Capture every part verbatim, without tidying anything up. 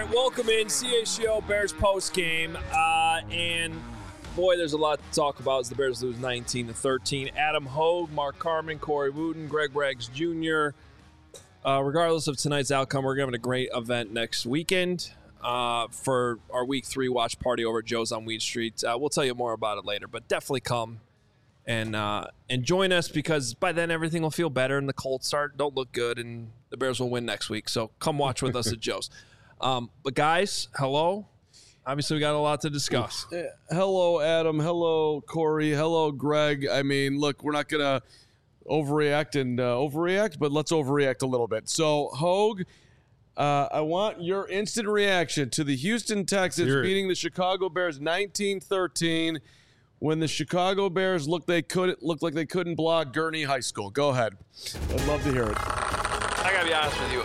right, welcome in C H G O Bears post game, uh, and boy, there's a lot to talk about as the Bears lose nineteen to thirteen. Adam Hogue, Mark Carman, Corey Wooten, Greg Braggs Junior Uh, regardless of tonight's outcome, we're having a great event next weekend uh, for our week three watch party over at Joe's on Weed Street. Uh, we'll tell you more about it later, but definitely come and uh, and join us, because by then everything will feel better and the Colts start don't look good and the Bears will win next week. So come watch with us at Joe's. Um, but guys, hello. Obviously, we got a lot to discuss. Uh, hello, Adam. Hello, Corey. Hello, Greg. I mean, look, we're not going to overreact and uh, overreact, but let's overreact a little bit. So, Hogue, uh, I want your instant reaction to the Houston Texans Sure. beating the Chicago Bears nineteen thirteen when the Chicago Bears looked they could looked like they couldn't block Gurney High School. Go ahead. I'd love to hear it. I got to be honest with you.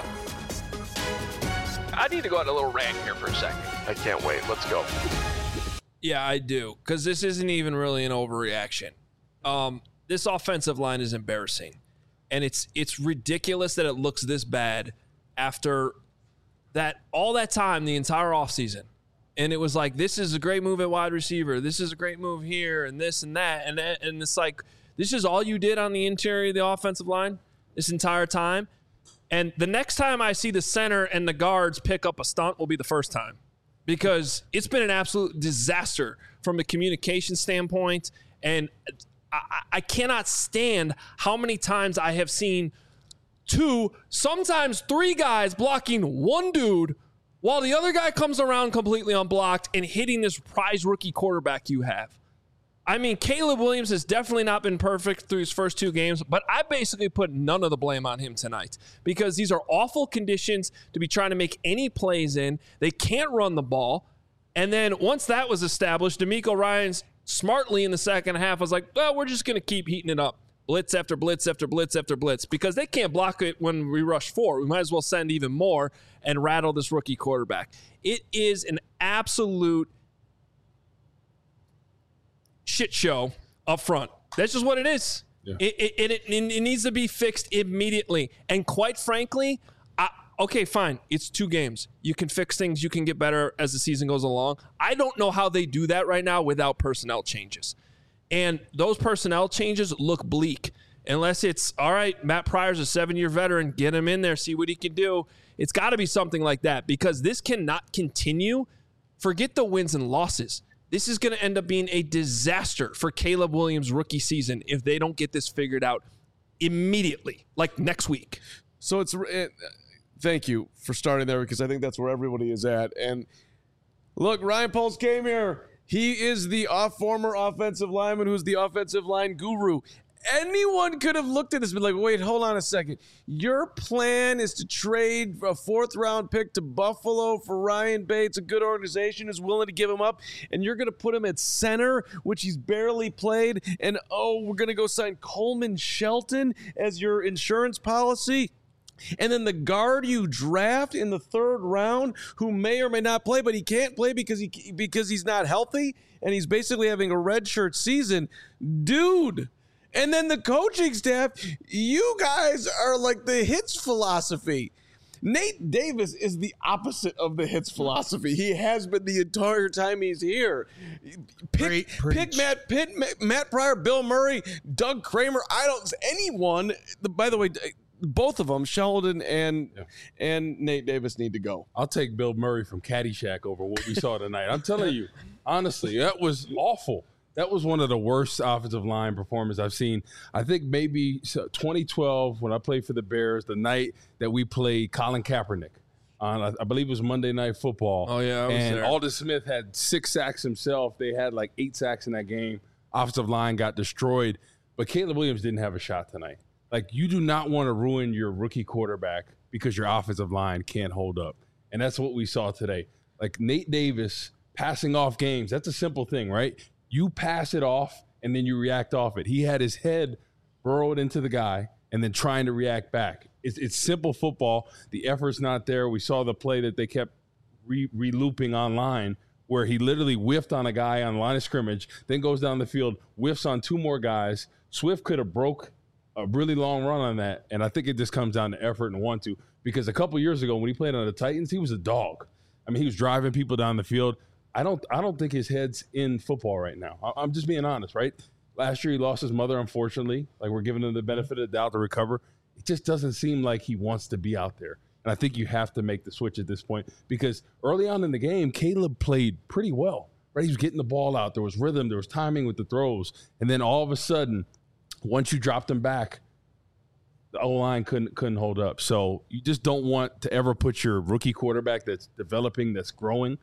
I need to go on a little rant here for a second. I can't wait. Let's go. Yeah, I do, because this isn't even really an overreaction. Um, this offensive line is embarrassing, and it's it's ridiculous that it looks this bad after that all that time, the entire offseason. And it was like, this is a great move at wide receiver. This is a great move here, and this and that. And, and it's like, this is all you did on the interior of the offensive line this entire time. And the next time I see the center and the guards pick up a stunt will be the first time, because it's been an absolute disaster from a communication standpoint. And I, I cannot stand how many times I have seen two, sometimes three guys blocking one dude while the other guy comes around completely unblocked and hitting this prize rookie quarterback you have. I mean, Caleb Williams has definitely not been perfect through his first two games, but I basically put none of the blame on him tonight, because these are awful conditions to be trying to make any plays in. They can't run the ball. And then once that was established, DeMeco Ryans smartly in the second half was like, well, we're just going to keep heating it up. Blitz after blitz after blitz after blitz, because they can't block it when we rush four. We might as well send even more and rattle this rookie quarterback. It is an absolute shit show up front. That's just what it is. Yeah. It, it, it, it needs to be fixed immediately. And quite frankly, I, okay, fine. It's two games. You can fix things. You can get better as the season goes along. I don't know how they do that right now without personnel changes. And those personnel changes look bleak. Unless it's, all right, Matt Pryor's a seven-year veteran. Get him in there. See what he can do. It's got to be something like that, because this cannot continue. Forget the wins and losses. This is going to end up being a disaster for Caleb Williams' rookie season if they don't get this figured out immediately, like next week. So it's it, thank you for starting there, because I think that's where everybody is at. And look, Ryan Poles came here. He is the off former offensive lineman who's the offensive line guru. Anyone could have looked at this and been like, wait, hold on a second. Your plan is to trade a fourth round pick to Buffalo for Ryan Bates, a good organization is willing to give him up, and you're going to put him at center, which he's barely played, and oh, we're going to go sign Coleman Shelton as your insurance policy. And then the guard you draft in the third round, who may or may not play, but he can't play because he because he's not healthy, and he's basically having a redshirt season. Dude. And then the coaching staff, you guys are like the hits philosophy. Nate Davis is the opposite of the hits philosophy. He has been the entire time he's here. Pick, pick Matt Pitt, Matt Pryor, Bill Murray, Doug Kramer. I don't anyone. By the way, both of them, Sheldon and yeah. and Nate Davis, need to go. I'll take Bill Murray from Caddyshack over what we saw tonight. I'm telling you, honestly, that was awful. That was one of the worst offensive line performances I've seen. I think maybe twenty twelve, when I played for the Bears, the night that we played Colin Kaepernick on, I believe it was Monday Night Football. Oh, yeah, I was and there. Aldon Smith had six sacks himself. They had like eight sacks in that game. Offensive line got destroyed. But Caleb Williams didn't have a shot tonight. Like, you do not want to ruin your rookie quarterback because your offensive line can't hold up. And that's what we saw today. Like, Nate Davis passing off games, that's a simple thing, right? You pass it off, and then you react off it. He had his head burrowed into the guy and then trying to react back. It's, it's simple football. The effort's not there. We saw the play that they kept re- re-looping online where he literally whiffed on a guy on the line of scrimmage, then goes down the field, whiffs on two more guys. Swift could have broke a really long run on that, and I think it just comes down to effort and want to. Because a couple years ago when he played on the Titans, he was a dog. I mean, he was driving people down the field. I don't I don't think his head's in football right now. I, I'm just being honest, right? Last year he lost his mother, unfortunately. Like, we're giving him the benefit of the doubt to recover. It just doesn't seem like he wants to be out there. And I think you have to make the switch at this point because early on in the game, Caleb played pretty well, right? He was getting the ball out. There was rhythm. There was timing with the throws. And then all of a sudden, once you dropped him back, the O-line couldn't couldn't hold up. So you just don't want to ever put your rookie quarterback that's developing, that's growing,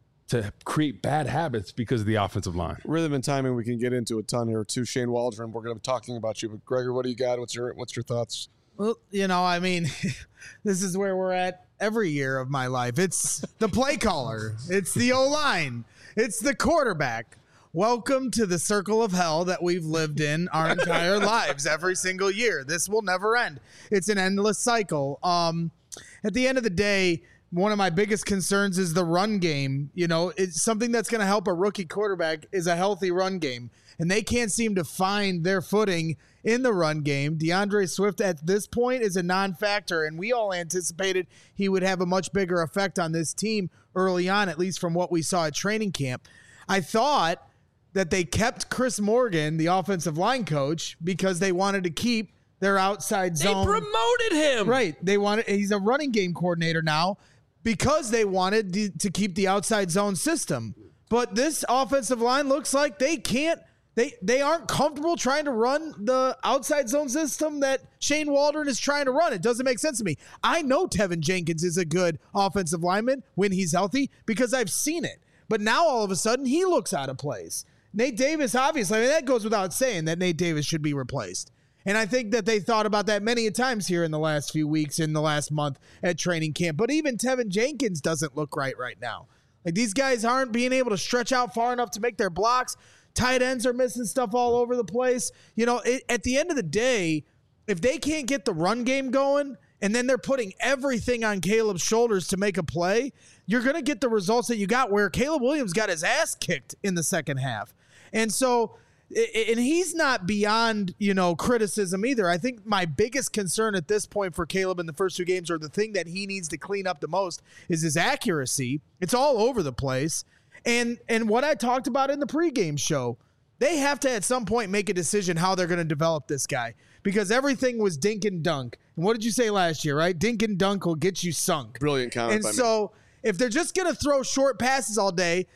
to create bad habits because of the offensive line. Rhythm and timing we can get into a ton here too. Shane Waldron, we're going to be talking about you. But Gregor, what do you got? What's your what's your thoughts? Well, you know, I mean, this is where we're at every year of my life. It's the play caller. It's the O-line. It's the quarterback. Welcome to the circle of hell that we've lived in our entire lives every single year. This will never end. It's an endless cycle. Um, at the end of the day, one of my biggest concerns is the run game. You know, it's something that's going to help a rookie quarterback is a healthy run game. And they can't seem to find their footing in the run game. DeAndre Swift at this point is a non-factor, and we all anticipated he would have a much bigger effect on this team early on, at least from what we saw at training camp. I thought that they kept Chris Morgan, the offensive line coach, because they wanted to keep their outside zone. They promoted him. Right. They wanted. He's a running game coordinator now because they wanted to, to keep the outside zone system. But this offensive line looks like they can't. They they aren't comfortable trying to run the outside zone system that Shane Waldron is trying to run. It doesn't make sense to me. I know Tevin Jenkins is a good offensive lineman when he's healthy because I've seen it. But now all of a sudden he looks out of place. Nate Davis, obviously, I mean, that goes without saying that Nate Davis should be replaced. And I think that they thought about that many times here in the last few weeks, in the last month at training camp. But even Tevin Jenkins doesn't look right right now. Like, these guys aren't being able to stretch out far enough to make their blocks. Tight ends are missing stuff all over the place. You know, it, at the end of the day, if they can't get the run game going and then they're putting everything on Caleb's shoulders to make a play, you're going to get the results that you got where Caleb Williams got his ass kicked in the second half. And so, and he's not beyond, you know, criticism either. I think my biggest concern at this point for Caleb in the first two games, or the thing that he needs to clean up the most, is his accuracy. It's all over the place. And and what I talked about in the pregame show, they have to at some point make a decision how they're going to develop this guy, because everything was dink and dunk. And what did you say last year, right? Dink and dunk will get you sunk. Brilliant comment. And by so me. If they're just going to throw short passes all day,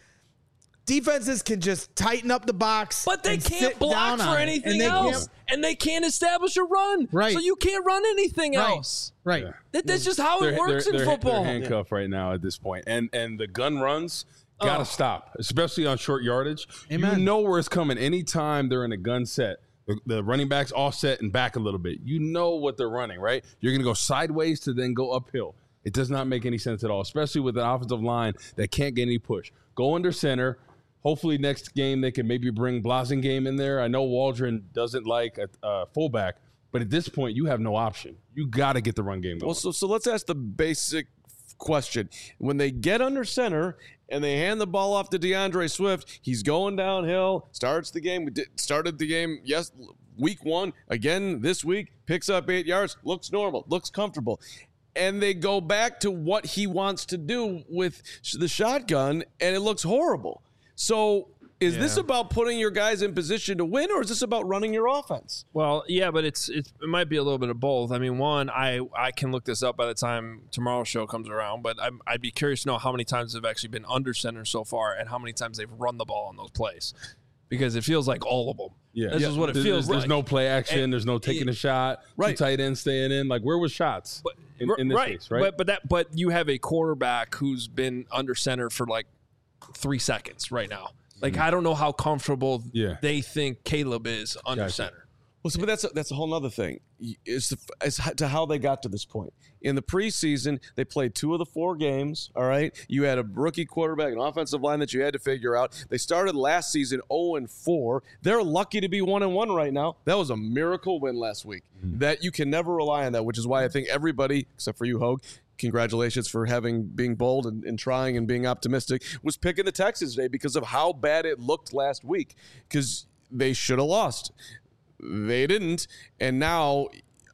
defenses can just tighten up the box. But they and can't sit block down for on it. anything And they else. can't- And they can't establish a run. Right. So you can't run anything Right. else. Right. Yeah. That, that's just how it They're- works they're- in they're- football. They're handcuffed right now at this point. And and the gun runs got to Oh. stop, especially on short yardage. Amen. You know where it's coming. Anytime they're in a gun set, the, the running backs offset and back a little bit. You know what they're running, right? You're going to go sideways to then go uphill. It does not make any sense at all, especially with an offensive line that can't get any push. Go under center. Hopefully next game they can maybe bring Blasingame in there. I know Waldron doesn't like a, a fullback, but at this point you have no option. You got to get the run game going. Well, so so let's ask the basic question. When they get under center and they hand the ball off to DeAndre Swift, he's going downhill, starts the game, started the game, yes, week one, again this week, picks up eight yards, looks normal, looks comfortable. And they go back to what he wants to do with the shotgun, and it looks horrible. So is this about putting your guys in position to win, or is this about running your offense? Well, yeah, but it's, it's it might be a little bit of both. I mean, one, I I can look this up by the time tomorrow's show comes around, but I'm, I'd be curious to know how many times they've actually been under center so far and how many times they've run the ball on those plays, because it feels like all of them. Yeah, This yeah. is what it There's- feels there's, like. There's no play action. And- there's no taking a shot. Right. Two tight ends staying in. Like, where was shots But, in, in this right, case, right? But but that but you have a quarterback who's been under center for like three seconds right now. Like, I don't know how comfortable Yeah. they think Caleb is under Gotcha. center. Well, so, but that's a, that's a whole nother thing. Is as to how they got to this point. In the preseason, they played two of the four games. All right, you had a rookie quarterback, an offensive line that you had to figure out. They started last season zero and four. They're lucky to be one and one right now. That was a miracle win last week. Mm-hmm. That you can never rely on that, which is why I think everybody, except for you, Hogue, congratulations for having being bold and, and trying and being optimistic, was picking the Texans today because of how bad it looked last week. Because they should have lost. They didn't, and now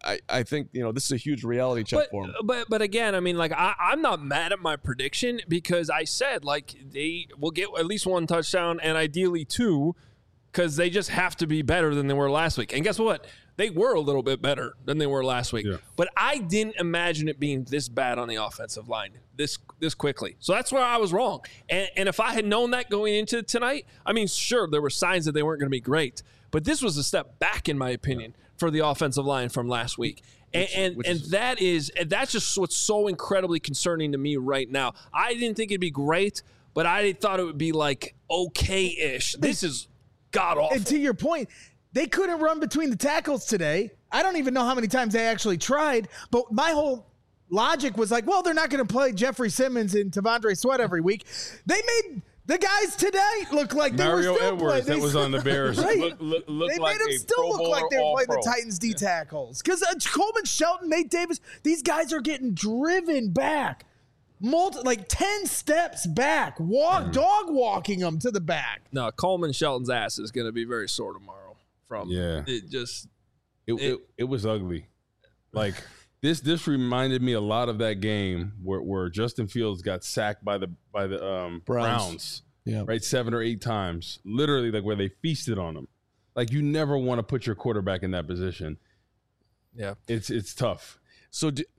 I, I think, you know, this is a huge reality check but, for him. But but again, I mean, like I, I'm not mad at my prediction because I said like they will get at least one touchdown and ideally two, because they just have to be better than they were last week. And guess what? They were a little bit better than they were last week. Yeah. But I didn't imagine it being this bad on the offensive line this this quickly. So that's where I was wrong. And, and if I had known that going into tonight, I mean, sure, there were signs that they weren't going to be great. But this was a step back, in my opinion, yeah. for the offensive line from last week. And which, and, which and is, that is and that's just what's so incredibly concerning to me right now. I didn't think it'd be great, but I thought it would be like okay-ish. This is god-awful. And to your point, they couldn't run between the tackles today. I don't even know how many times they actually tried, but my whole logic was like, well, they're not going to play Jeffrey Simmons and Tavondre Sweat every week. They made the guys today look like they Mario were still Edwards playing. that was on the Bears. Right? Look, look, look they like made them still look like they were playing the Titans D tackles. Because uh, Coleman Shelton, Nate Davis, these guys are getting driven back. Multi, like ten steps back, walk, mm. dog walking them to the back. No, Coleman Shelton's ass is going to be very sore tomorrow. From yeah, it just it it, it, it was ugly. Like this this reminded me a lot of that game where, where Justin Fields got sacked by the by the um, Browns. Browns, yeah, right, seven or eight times, literally like where they feasted on him. Like you never want to put your quarterback in that position. Yeah, it's it's tough. So. Do,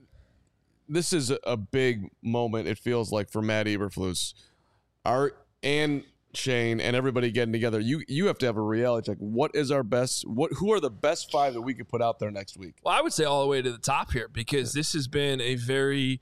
This is a big moment, it feels like, for Matt Eberflus. Art and Shane and everybody getting together. You you have to have a reality check. What is our best? What who are the best five that we could put out there next week? Well, I would say all the way to the top here because this has been a very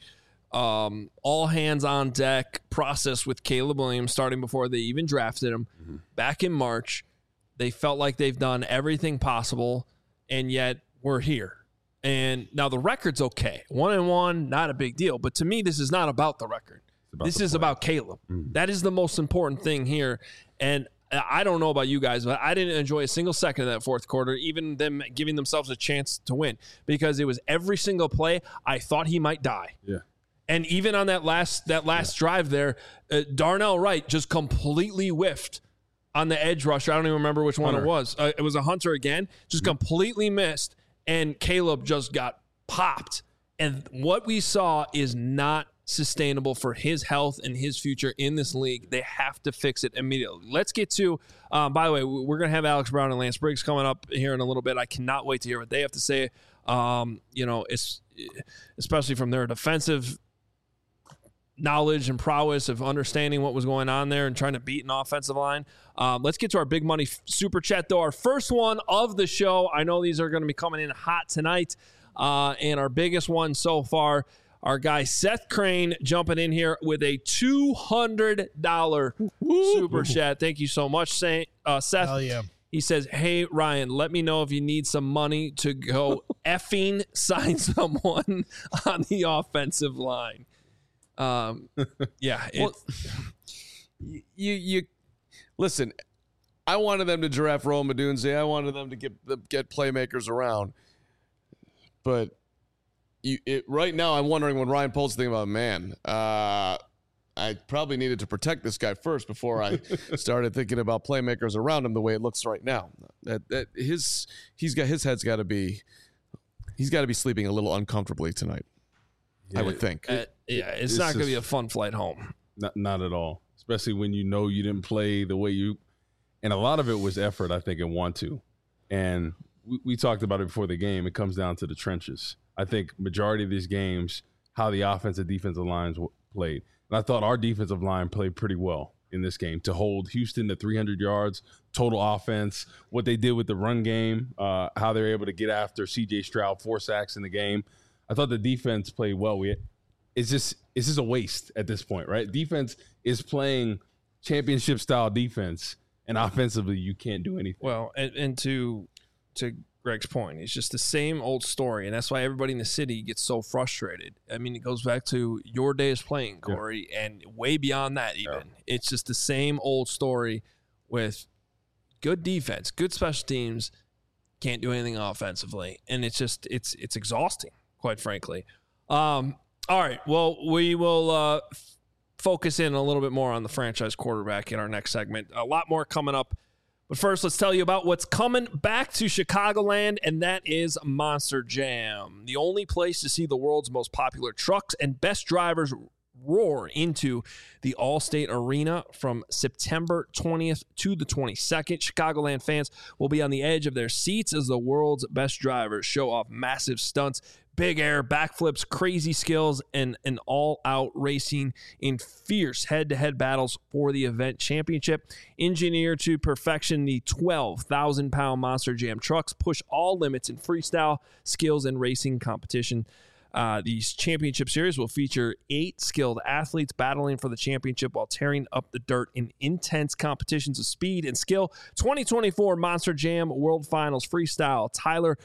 um, all hands on deck process with Caleb Williams starting before they even drafted him. Mm-hmm. Back in March, they felt like they've done everything possible, and yet we're here. And now the record's okay. One and one, not a big deal. But to me, this is not about the record. About this the is play. about Caleb. Mm-hmm. That is the most important thing here. And I don't know about you guys, but I didn't enjoy a single second of that fourth quarter, even them giving themselves a chance to win, because it was every single play I thought he might die. Yeah. And even on that last that last yeah. drive there, uh, Darnell Wright just completely whiffed on the edge rusher. I don't even remember which one Hunter. it was. Uh, it was a Hunter again, just mm-hmm. completely missed. And Caleb just got popped. And what we saw is not sustainable for his health and his future in this league. They have to fix it immediately. Let's get to, um, by the way, we're going to have Alex Brown and Lance Briggs coming up here in a little bit. I cannot wait to hear what they have to say, um, you know, it's, especially from their defensive knowledge and prowess of understanding what was going on there and trying to beat an offensive line. Um, let's get to our big money super chat, though. Our first one of the show. I know these are going to be coming in hot tonight. Uh, and our biggest one so far, our guy Seth Crane jumping in here with a two hundred dollars super chat. Thank you so much, uh, Seth. Hell yeah. He says, hey, Ryan, let me know if you need some money to go effing sign someone on the offensive line. Um, yeah. It, well, you, you listen, I wanted them to draft Rome Odunze. I wanted them to get get playmakers around. But you, it, right now, I'm wondering when Ryan Poles thinking about, man, uh, I probably needed to protect this guy first before I started thinking about playmakers around him the way it looks right now. That, that his he's got his head's got to be he's got to be sleeping a little uncomfortably tonight. Yeah, I would think. Uh, yeah, it's, it's not going to be a fun flight home. Not, not at all. Especially when you know you didn't play the way you, and a lot of it was effort, I think, and want to. And we, we talked about it before the game. It comes down to the trenches. I think majority of these games, how the offensive defensive lines w- played. And I thought our defensive line played pretty well in this game to hold Houston to three hundred yards, total offense, what they did with the run game, uh, how they were able to get after C J Stroud, four sacks in the game. I thought the defense played well. We, it's just it's just a waste at this point, right? Defense is playing championship-style defense, and offensively you can't do anything. Well, and, and to to Greg's point, it's just the same old story, and that's why everybody in the city gets so frustrated. I mean, it goes back to your days playing, Corey, yeah. and way beyond that even. Yeah. It's just the same old story with good defense, good special teams, can't do anything offensively, and it's just it's it's exhausting, quite frankly. Um, all right, well, we will uh, f- focus in a little bit more on the franchise quarterback in our next segment. A lot more coming up But first, let's tell you about what's coming back to Chicagoland, and that is Monster Jam, the only place to see the world's most popular trucks and best drivers roar into the Allstate Arena from September twentieth to the twenty-second. Chicagoland fans will be on the edge of their seats as the world's best drivers show off massive stunts, big air, backflips, crazy skills, and an all-out racing in fierce head-to-head battles for the event championship. Engineered to perfection, the twelve thousand pound Monster Jam trucks push all limits in freestyle, skills, and racing competition. Uh, these championship series will feature eight skilled athletes battling for the championship while tearing up the dirt in intense competitions of speed and skill. twenty twenty-four Monster Jam World Finals Freestyle. Tyler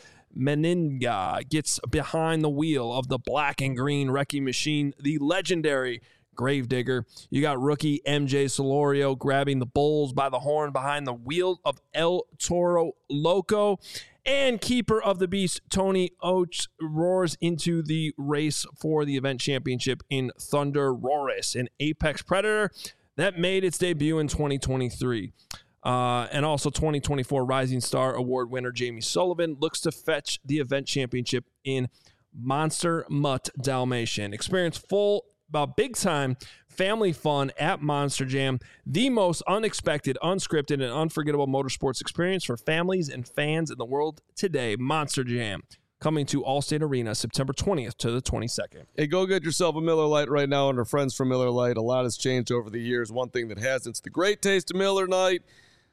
Meninga gets behind the wheel of the black and green wrecking machine, the legendary Gravedigger. You got rookie M J Solorio grabbing the bulls by the horn behind the wheel of El Toro Loco. And keeper of the beast, Tony Oates, roars into the race for the event championship in Thunder Roris, an Apex Predator that made its debut in twenty twenty-three. Uh, and also twenty twenty-four Rising Star Award winner Jamie Sullivan looks to fetch the event championship in Monster Mutt Dalmatian. Experience full, about big-time family fun at Monster Jam, the most unexpected, unscripted, and unforgettable motorsports experience for families and fans in the world today. Monster Jam, coming to Allstate Arena September twentieth to the twenty-second. Hey, go get yourself a Miller Lite right now, and our friends from Miller Lite. A lot has changed over the years. One thing that hasn't, it's the great taste of Miller Lite.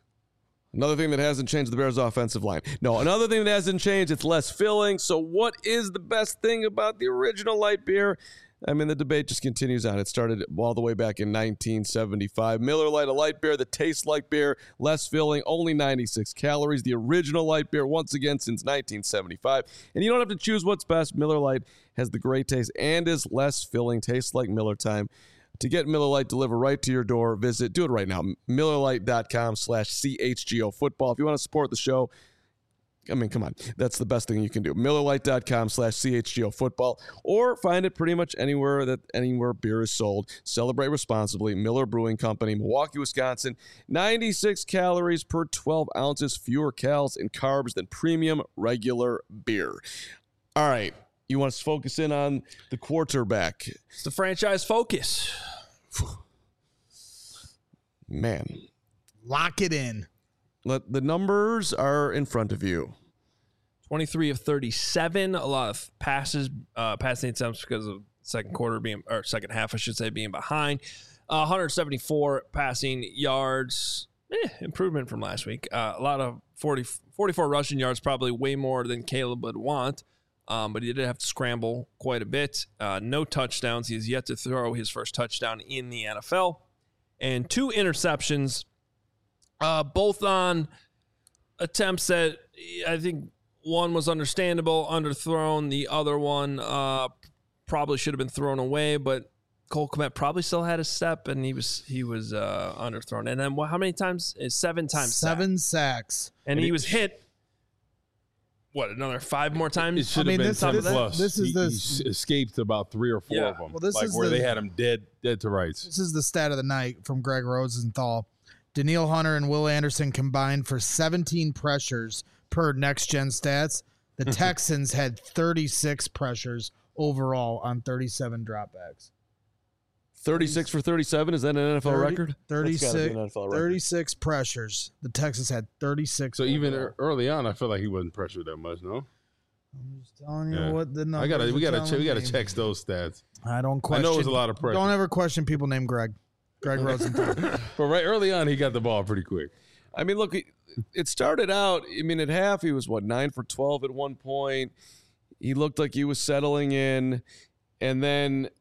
Another thing that hasn't changed, the Bears' offensive line. No, another thing that hasn't changed, it's less filling. So what is the best thing about the original light beer? I mean, the debate just continues on. It started all the way back in nineteen seventy-five. Miller Lite, a light beer that tastes like beer, less filling, only ninety-six calories. The original light beer, once again, since nineteen seventy-five. And you don't have to choose what's best. Miller Lite has the great taste and is less filling. Tastes like Miller time. To get Miller Lite delivered right to your door, visit, do it right now, MillerLite.com slash CHGO football. If you want to support the show, I mean, come on. That's the best thing you can do. MillerLite.com slash CHGO football, or find it pretty much anywhere that anywhere beer is sold. Celebrate responsibly. Miller Brewing Company, Milwaukee, Wisconsin. ninety-six calories per twelve ounces, fewer calories and carbs than premium regular beer. All right. You want us to focus in on the quarterback. It's the franchise focus. Man. Lock it in. Let, the numbers are in front of you. twenty-three of thirty-seven. A lot of passes, uh, passing attempts because of second quarter being, or second half, I should say, being behind. Uh, one hundred seventy-four passing yards. Eh, improvement from last week. Uh, a lot of forty, forty-four rushing yards, probably way more than Caleb would want. Um, but he did have to scramble quite a bit. Uh, no touchdowns. He has yet to throw his first touchdown in the N F L. And two interceptions, uh, both on attempts that I think one was understandable, underthrown. The other one uh, probably should have been thrown away, but Cole Kmet probably still had a step, and he was he was uh, underthrown. And then what, how many times? Seven times. Seven sacked. sacks. And, and he was hit. What, another five more times? It should I mean, have been this- ten this- plus. this is he, the- he escaped about three or four Yeah. of them. Well, this like is where the- they had him dead, dead to rights. This is the stat of the night from Greg Rosenthal. Daniil Hunter and Will Anderson combined for seventeen pressures per Next Gen Stats. The Texans had thirty-six pressures overall on thirty-seven dropbacks. thirty-six for thirty-seven. Is that an N F L thirty record? That's gotta be thirty-six, an N F L record. thirty-six pressures. The Texans had thirty-six. So even overall. ear- early on, I feel like he wasn't pressured that much. No, I'm just telling you Yeah. what the numbers I gotta, we are gotta, telling check, we gotta me. check those stats. I don't I question. know it was a lot of pressure, Don't ever question people named Greg. Greg Rosenthal. but right early on, he got the ball pretty quick. I mean, look, it- it started out, I mean, at half, he was, what, nine for twelve at one point. He looked like he was settling in. And then,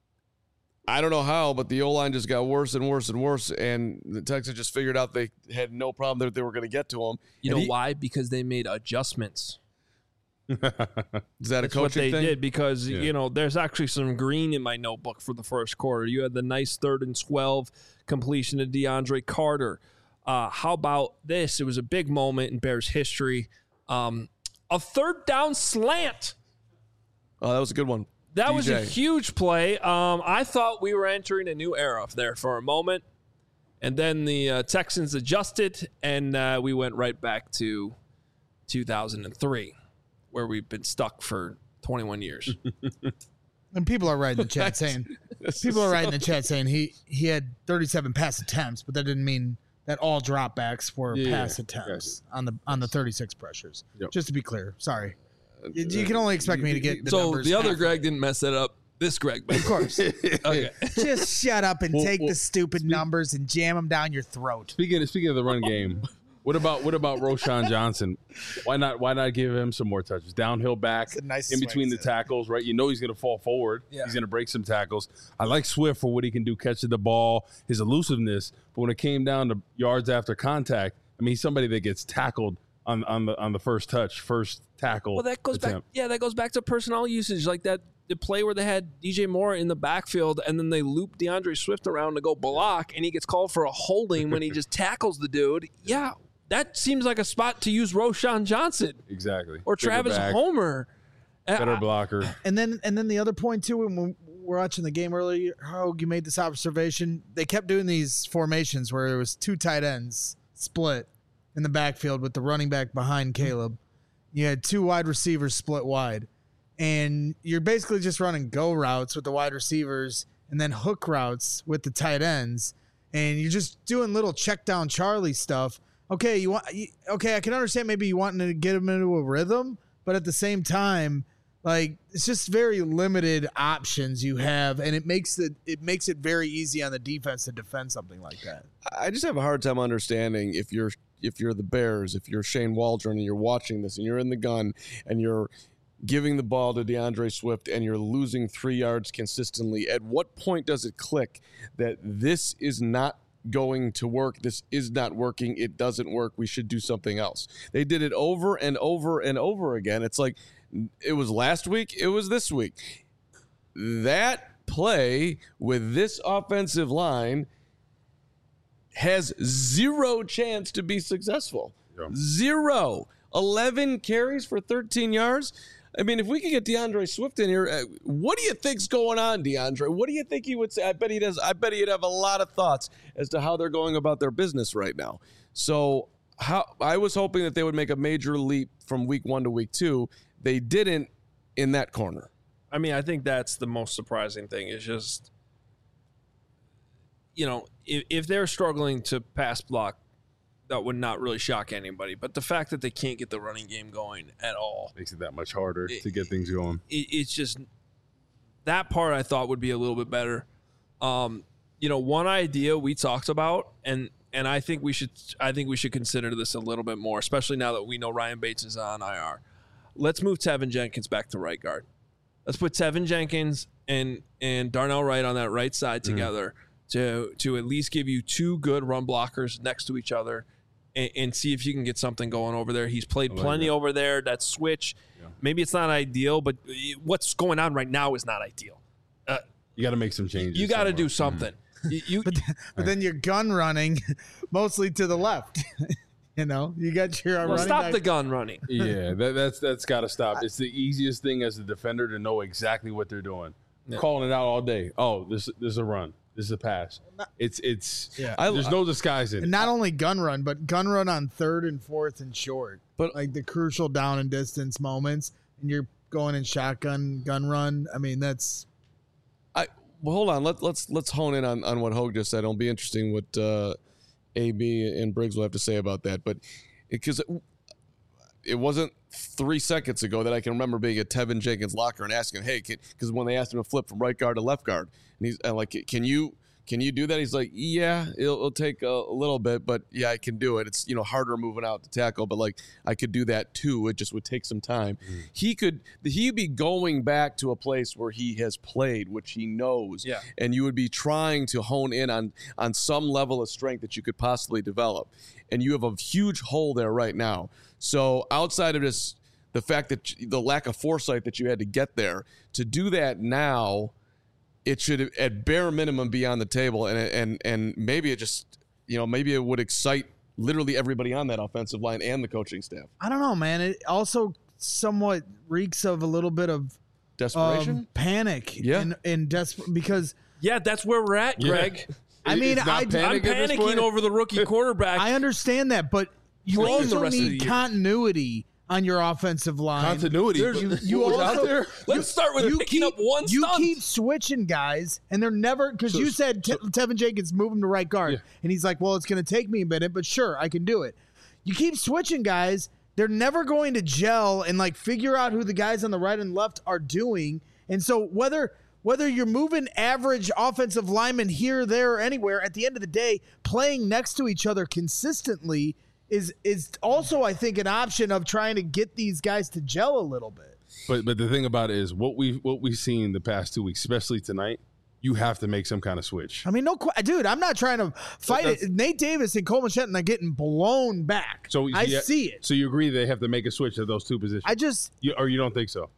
I don't know how, but the O-line just got worse and worse and worse. And the Texans just figured out they had no problem that they were going to get to him. You And know he- why? Because they made adjustments. Is that a That's what coaching they thing? did because, Yeah. you know, there's actually some green in my notebook for the first quarter. You had the nice third and twelve completion of DeAndre Carter. Uh, how about this? It was a big moment in Bears history. Um, a third down slant. Oh, that was a good one. That D J. was a huge play. Um, I thought we were entering a new era there for a moment. And then the uh, Texans adjusted, and uh, we went right back to two thousand three, where we've been stuck for twenty-one years. And people are right in the chat saying people are right in the chat saying he he had thirty-seven pass attempts, but that didn't mean that all dropbacks were Yeah, pass attempts on the on the thirty-six pressures. Yep. Just to be clear, sorry. You, you can only expect me to get the so numbers. the other half. Greg didn't mess that up. This Greg, Of course. okay. Just shut up and Well, take well, the stupid numbers and jam them down your throat. Speaking of, speaking of the run game, what about what about Roshan Johnson? Why not why not give him some more touches? Downhill back, That's the nicest in way between to the say it. tackles, right? You know he's going to fall forward. Yeah. He's going to break some tackles. I like Swift for what he can do catching the ball, his elusiveness. But when it came down to yards after contact, I mean, he's somebody that gets tackled on on the on the first touch, first tackle. Well, that goes back. attempt. Yeah, that goes back to personnel usage, like that the play where they had D J Moore in the backfield, and then they loop DeAndre Swift around to go block, and he gets called for a holding when he just tackles the dude. Yeah, that seems like a spot to use Roshan Johnson Exactly. or Bigger Travis back, Homer. Uh, better I- blocker. And then and then the other point too, when we were watching the game earlier, Hogue, you made this observation. They kept doing these formations where there was two tight ends split in the backfield with the running back behind Caleb. You had two wide receivers split wide. And you're basically just running go routes with the wide receivers and then hook routes with the tight ends. And you're just doing little check down Charlie stuff. Okay, you want you- okay, I can understand maybe you wanting to get him into a rhythm, but at the same time, like it's just very limited options you have, and it makes it it makes it very easy on the defense to defend something like that. I just have a hard time understanding if you're if you're the Bears, if you're Shane Waldron and you're watching this and you're in the gun and you're giving the ball to DeAndre Swift and you're losing three yards consistently, at what point does it click that this is not going to work? This is not working. It doesn't work. We should do something else. They did it over and over and over again. It's like it was last week. It was this week. That play with this offensive line has zero chance to be successful. Yeah. Zero. eleven carries for thirteen yards. I mean, if we could get DeAndre Swift in here, uh, what do you think's going on, DeAndre? What do you think he would say? I bet he does. I bet he'd have a lot of thoughts as to how they're going about their business right now. So, how I was hoping that they would make a major leap from week one to week two. They didn't in that corner. I mean, I think that's the most surprising thing is just, you know, if, if they're struggling to pass block, that would not really shock anybody. But the fact that they can't get the running game going at all, Makes it that much harder It- to get things going. it, it's just that part I thought would be a little bit better. Um, you know, one idea we talked about, and and I think we should I think we should consider this a little bit more, especially now that we know Ryan Bates is on I R. Let's move Tevin Jenkins back to right guard. Let's put Tevin Jenkins and and Darnell Wright on that right side together to to at least give you two good run blockers next to each other. And, and see if you can get something going over there. He's played like plenty that. over there. That switch, Yeah. maybe it's not ideal, but what's going on right now is not ideal. Uh, You got to make some changes. you got to somewhere. do something. You, you But but then you're gun running mostly to the left. You know, you got your well, running stop back. the gun running. Yeah, that, that's that's got to stop. It's the easiest thing as a defender to know exactly what they're doing. Yeah. Calling it out all day. Oh, this this is a run. This is a pass. It's it's. Yeah. I- There's no disguising. And not only gun run, but gun run on third and fourth and short. But- like the crucial down and distance moments, and you're going in shotgun gun run. I mean, that's I well, hold on. Let, let's let's hone in on, on what Hogue just said. It'll be interesting what uh, A B and Briggs will have to say about that. But because it, it wasn't three seconds ago that I can remember being at Tevin Jenkins' locker and asking, "Hey," because when they asked him to flip from right guard to left guard, and he's and like, "Can you?" Can you do that? He's like, yeah, it'll, it'll take a, a little bit, but yeah, I can do it. It's, you know, harder moving out to tackle, but like I could do that too. It just would take some time. Mm. He could, he'd be going back to a place where he has played, which he knows. Yeah. And you would be trying to hone in on, on some level of strength that you could possibly develop. And you have a huge hole there right now. So outside of this, the fact that the lack of foresight that you had to get there, to do that now, it should at bare minimum be on the table, and and and maybe it just, you know, maybe it would excite literally everybody on that offensive line and the coaching staff. I don't know, man. It also somewhat reeks of a little bit of Desperation. um, panic. Yeah. and, and desperate because Yeah, that's where we're at, Yeah. Greg. I mean, It's not I, panic I'm at this panicking point? over the rookie quarterback. I understand that, but you Playing the also rest of the need year. continuity on your offensive line. Continuity. There's- but you what was also- out there? Let's start with you picking keep, up one You stunt. keep switching guys, and they're never because So- you said Te- Tevin Jenkins move him to right guard, Yeah. and he's like, "Well, it's going to take me a minute, but sure, I can do it." You keep switching guys; they're never going to gel and like figure out who the guys on the right and left are doing. And so whether whether you're moving average offensive linemen here, there, or anywhere, at the end of the day, playing next to each other consistently is is also, I think, an option of trying to get these guys to gel a little bit. But but the thing about it is what we what we've seen the past two weeks, especially tonight, you have to make some kind of switch. I mean, no, qu- dude, I'm not trying to fight That's- it. Nate Davis and Coleman Shelton are getting blown back. So I yeah, see it. So you agree they have to make a switch at those two positions? I just you, or you don't think so?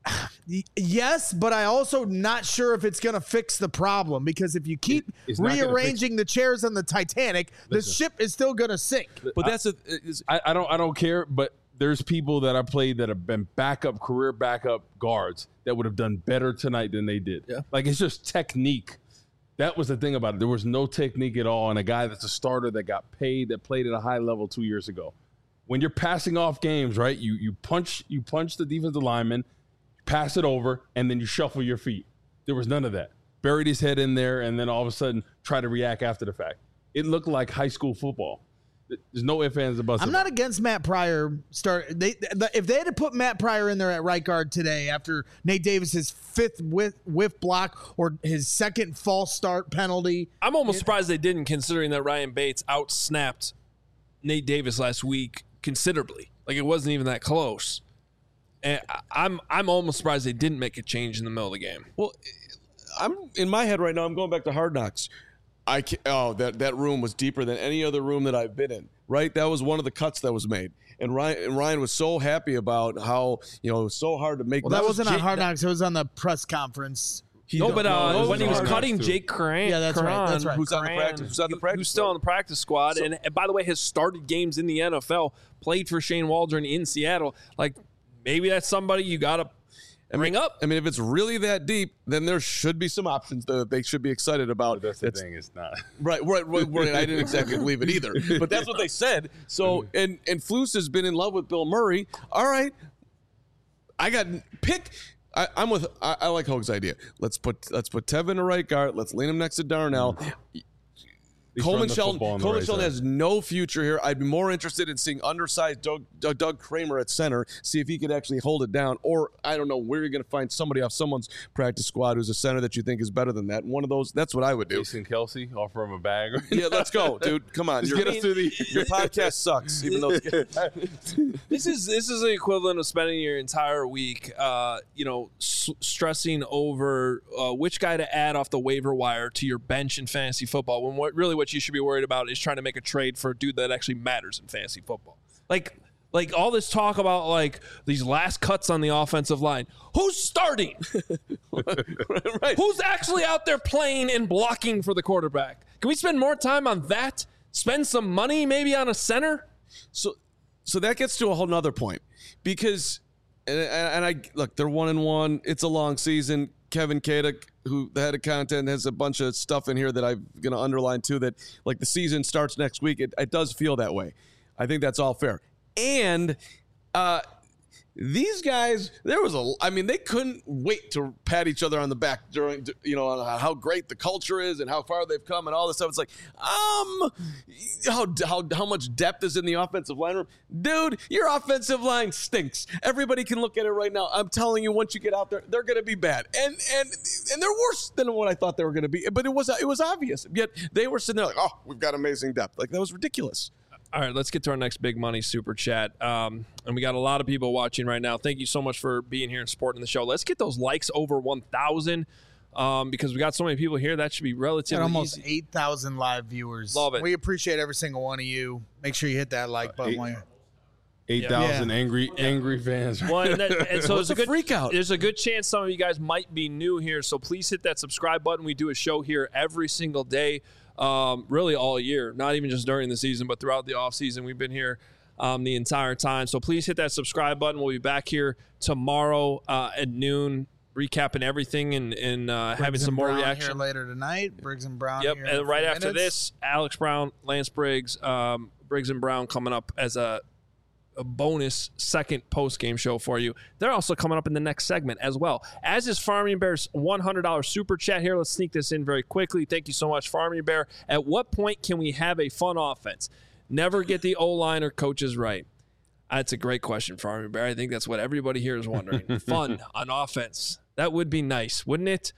y- yes, but I also not sure if it's going to fix the problem because if you keep it's not gonna rearranging the chairs on the Titanic, the ship is still going to sink. But that's a, is, I, I don't I don't care, but there's people that I played that have been backup career backup guards that would have done better tonight than they did. Yeah. Like it's just technique. That was the thing about it. There was no technique at all, and a guy that's a starter that got paid that played at a high level two years ago. When you're passing off games, right? You you punch you punch the defensive lineman, pass it over, and then you shuffle your feet. There was none of that. Buried his head in there, and then all of a sudden try to react after the fact. It looked like high school football. There's no ifs, ands, or buts. I'm about not it. against Matt Pryor. Start they the, if they had to put Matt Pryor in there at right guard today after Nate Davis's fifth whiff, whiff block or his second false start penalty. I'm almost surprised they didn't, considering that Ryan Bates outsnapped Nate Davis last week considerably. Like it wasn't even that close. And I- I'm I'm almost surprised they didn't make a change in the middle of the game. well, I'm in my head right now. I'm going back to Hard Knocks. I can, oh that that room was deeper than any other room that I've been in. Right, that was one of the cuts that was made, and Ryan and Ryan was so happy about how you know it was so hard to make. Well, that, wasn't on Jake- Hard Knocks. It was on the press conference. he- No, but uh, no, when he was Hard cutting Knocks, too. Jake Curran, Yeah, that's right, that's right. Who's on the Curran, practice- who's on the who- practice who's still squad. on the practice squad, and, and by the way, has started games in the N F L, played for Shane Waldron in Seattle. Like maybe that's somebody you got to bring up. I mean, if it's really that deep, then there should be some options that they should be excited about. That's the That's- thing. It's not. Right, right, right, right. I didn't exactly believe it either, but that's what they said. So, and and Flus has been in love with Bill Murray. All right, I got pick. I, I'm with. I, I like Hoag's idea. Let's put let's put Tevin in right guard. Let's lean him next to Darnell. Least Coleman run the Shelton. football on the Coleman right Shelton side. has no future here. I'd be more interested in seeing undersized Doug, Doug, Doug Kramer at center, see if he could actually hold it down. Or I don't know where you're going to find somebody off someone's practice squad who's a center that you think is better than that. One of those. That's what I would do. Jason Kelsey, offer him a bag. Yeah, let's go, dude. Come on. Just Your- get us to the. Your podcast sucks, even though it's This is this is the equivalent of spending your entire week, uh, you know, s- stressing over uh, which guy to add off the waiver wire to your bench in fantasy football. When what really what you should be worried about is trying to make a trade for a dude that actually matters in fantasy football. Like like all this talk about like these last cuts on the offensive line. Who's starting? right. Who's actually out there playing and blocking for the quarterback? Can we spend more time on that? Spend some money maybe on a center? So, so that gets to a whole nother point because, and, and I look, they're one and one. It's a long season. Kevin Kadek, who the head of content, has a bunch of stuff in here that I'm going to underline too. That like the season starts next week. It, it does feel that way. I think that's all fair. And uh, these guys, there was a, I mean, they couldn't wait to pat each other on the back during, you know, on how great the culture is and how far they've come and all this stuff. It's like, um, how how how much depth is in the offensive line room, dude? Your offensive line stinks. Everybody can look at it right now. I'm telling you, once you get out there, they're going to be bad, and and and they're worse than what I thought they were going to be. But it was it was obvious. Yet they were sitting there like, oh, we've got amazing depth. Like that was ridiculous. All right, let's get to our next big money super chat. Um, and we got a lot of people watching right now. Thank you so much for being here and supporting the show. Let's get those likes over one thousand um, because we got so many people here. That should be relatively Got almost easy. eight thousand live viewers. Love it. We appreciate every single one of you. Make sure you hit that like button. eight- while you're- Eight thousand angry angry fans. Well, and, that, and so What's there's a the good freak out? There's a good chance some of you guys might be new here, so please hit that subscribe button. We do a show here every single day, um, really all year, not even just during the season, but throughout the off season. We've been here um, the entire time, so please hit that subscribe button. We'll be back here tomorrow uh, at noon. recapping everything and, and uh, Briggs having and some more Brown reaction. Here later tonight. Briggs and Brown. Yep, Here in and a right few after minutes. this, Alex Brown, Lance Briggs, um, Briggs and Brown coming up as a, a bonus second post-game show for you. They're also coming up in the next segment as well. As is Farming Bear's one hundred dollars super chat here. Let's sneak this in very quickly. Thank you so much, Farming Bear. At what point can we have a fun offense? Never get the O-line or coaches right. That's a great question, Farming Bear. I think that's what everybody here is wondering. Fun on offense. That would be nice, wouldn't it?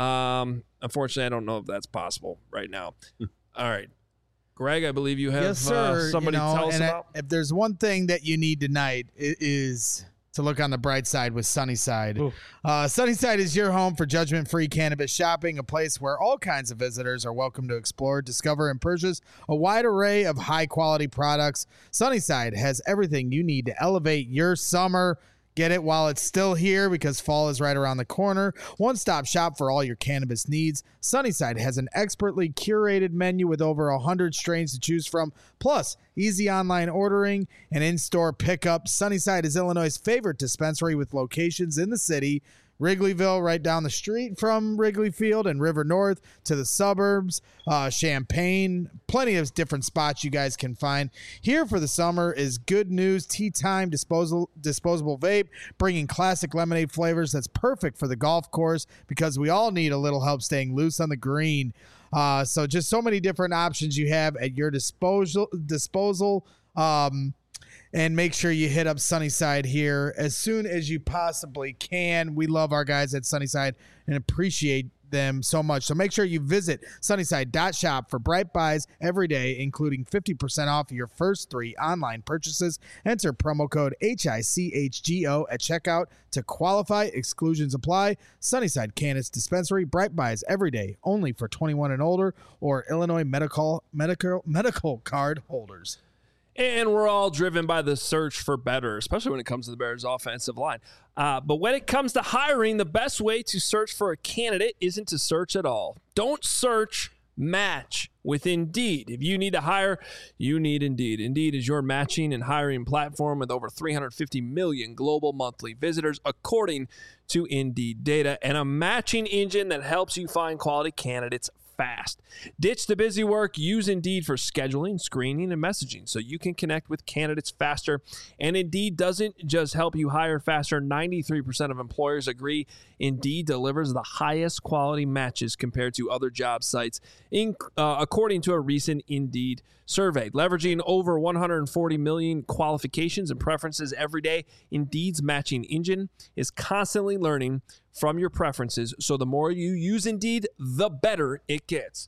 Um, unfortunately, I don't know if that's possible right now. All right. Greg, I believe you have yes, sir. Uh, somebody you know, tell us and about. I, if there's one thing that you need tonight, it is to look on the bright side with Sunnyside. Uh, Sunnyside is your home for judgment-free cannabis shopping, a place where all kinds of visitors are welcome to explore, discover, and purchase a wide array of high-quality products. Sunnyside has everything you need to elevate your summer. Get it while it's still here because fall is right around the corner. One-stop shop for all your cannabis needs. Sunnyside has an expertly curated menu with over one hundred strains to choose from, plus easy online ordering and in-store pickup. Sunnyside is Illinois' favorite dispensary with locations in the city. Wrigleyville, right down the street from Wrigley Field, and River North to the suburbs, uh, Champaign, plenty of different spots you guys can find. Here for the summer is Good News Tea Time disposal, disposable vape, bringing classic lemonade flavors that's perfect for the golf course because we all need a little help staying loose on the green. Uh, so just so many different options you have at your disposal. disposal. Um, And make sure you hit up Sunnyside here as soon as you possibly can. We love our guys at Sunnyside and appreciate them so much. So make sure you visit sunnyside dot shop for bright buys every day, including fifty percent off your first three online purchases. Enter promo code H I C H G O at checkout to qualify. Exclusions apply. Sunnyside Cannabis Dispensary, bright buys every day, only for twenty-one and older or Illinois medical medical medical card holders. And we're all driven by the search for better, especially when it comes to the Bears' offensive line. Uh, but when it comes to hiring, the best way to search for a candidate isn't to search at all. Don't search, match with Indeed. If you need to hire, you need Indeed. Indeed is your matching and hiring platform with over three hundred fifty million global monthly visitors, according to Indeed data, and a matching engine that helps you find quality candidates fast. Ditch the busy work. Use Indeed for scheduling, screening, and messaging so you can connect with candidates faster. And Indeed doesn't just help you hire faster. ninety-three percent of employers agree Indeed delivers the highest quality matches compared to other job sites, in, uh, according to a recent Indeed survey. Leveraging over one hundred forty million qualifications and preferences every day, Indeed's matching engine is constantly learning from your preferences, so the more you use Indeed, the better it gets.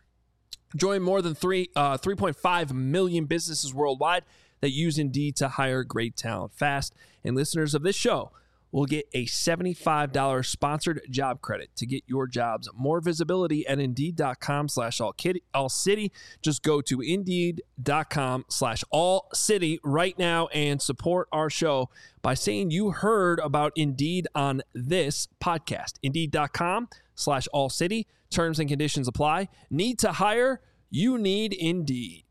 Join more than three, uh, three point five million businesses worldwide that use Indeed to hire great talent fast. And listeners of this show will get a seventy-five dollars sponsored job credit to get your jobs more visibility at Indeed.com slash all city. Just go to Indeed.com slash all city right now and support our show by saying you heard about Indeed on this podcast. Indeed.com slash all city. Terms and conditions apply. Need to hire? You need Indeed.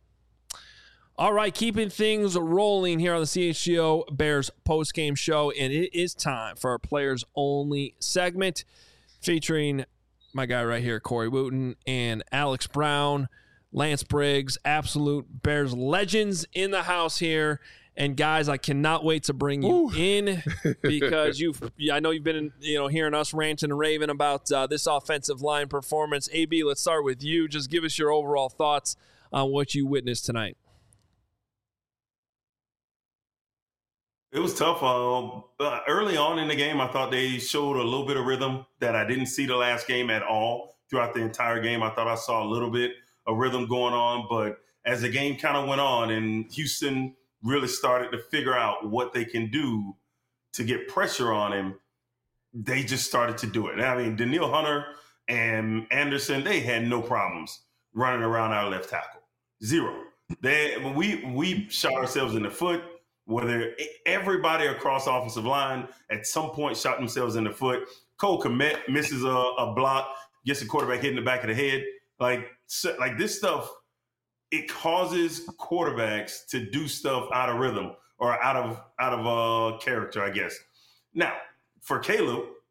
All right, keeping things rolling here on the C H G O Bears postgame show, and it is time for our players only segment featuring my guy right here, Corey Wooten, and Alex Brown, Lance Briggs, absolute Bears legends in the house here. And guys, I cannot wait to bring you Ooh. in because you've, I know you've been, you know, hearing us ranting and raving about uh, this offensive line performance. A B, let's start with you. Just give us your overall thoughts on what you witnessed tonight. It was tough. Uh, uh, early on in the game, I thought they showed a little bit of rhythm that I didn't see the last game at all. Throughout the entire game, I thought I saw a little bit of rhythm going on. But as the game kind of went on and Houston really started to figure out what they can do to get pressure on him, they just started to do it. I mean, Danielle Hunter and Anderson, they had no problems running around our left tackle. Zero. They, we, we shot ourselves in the foot. Whether everybody across the offensive line at some point shot themselves in the foot. Cole Kmet misses a, a block, gets the quarterback hit in the back of the head. Like, so, like this stuff, it causes quarterbacks to do stuff out of rhythm or out of out of uh, character, I guess. Now, for Caleb,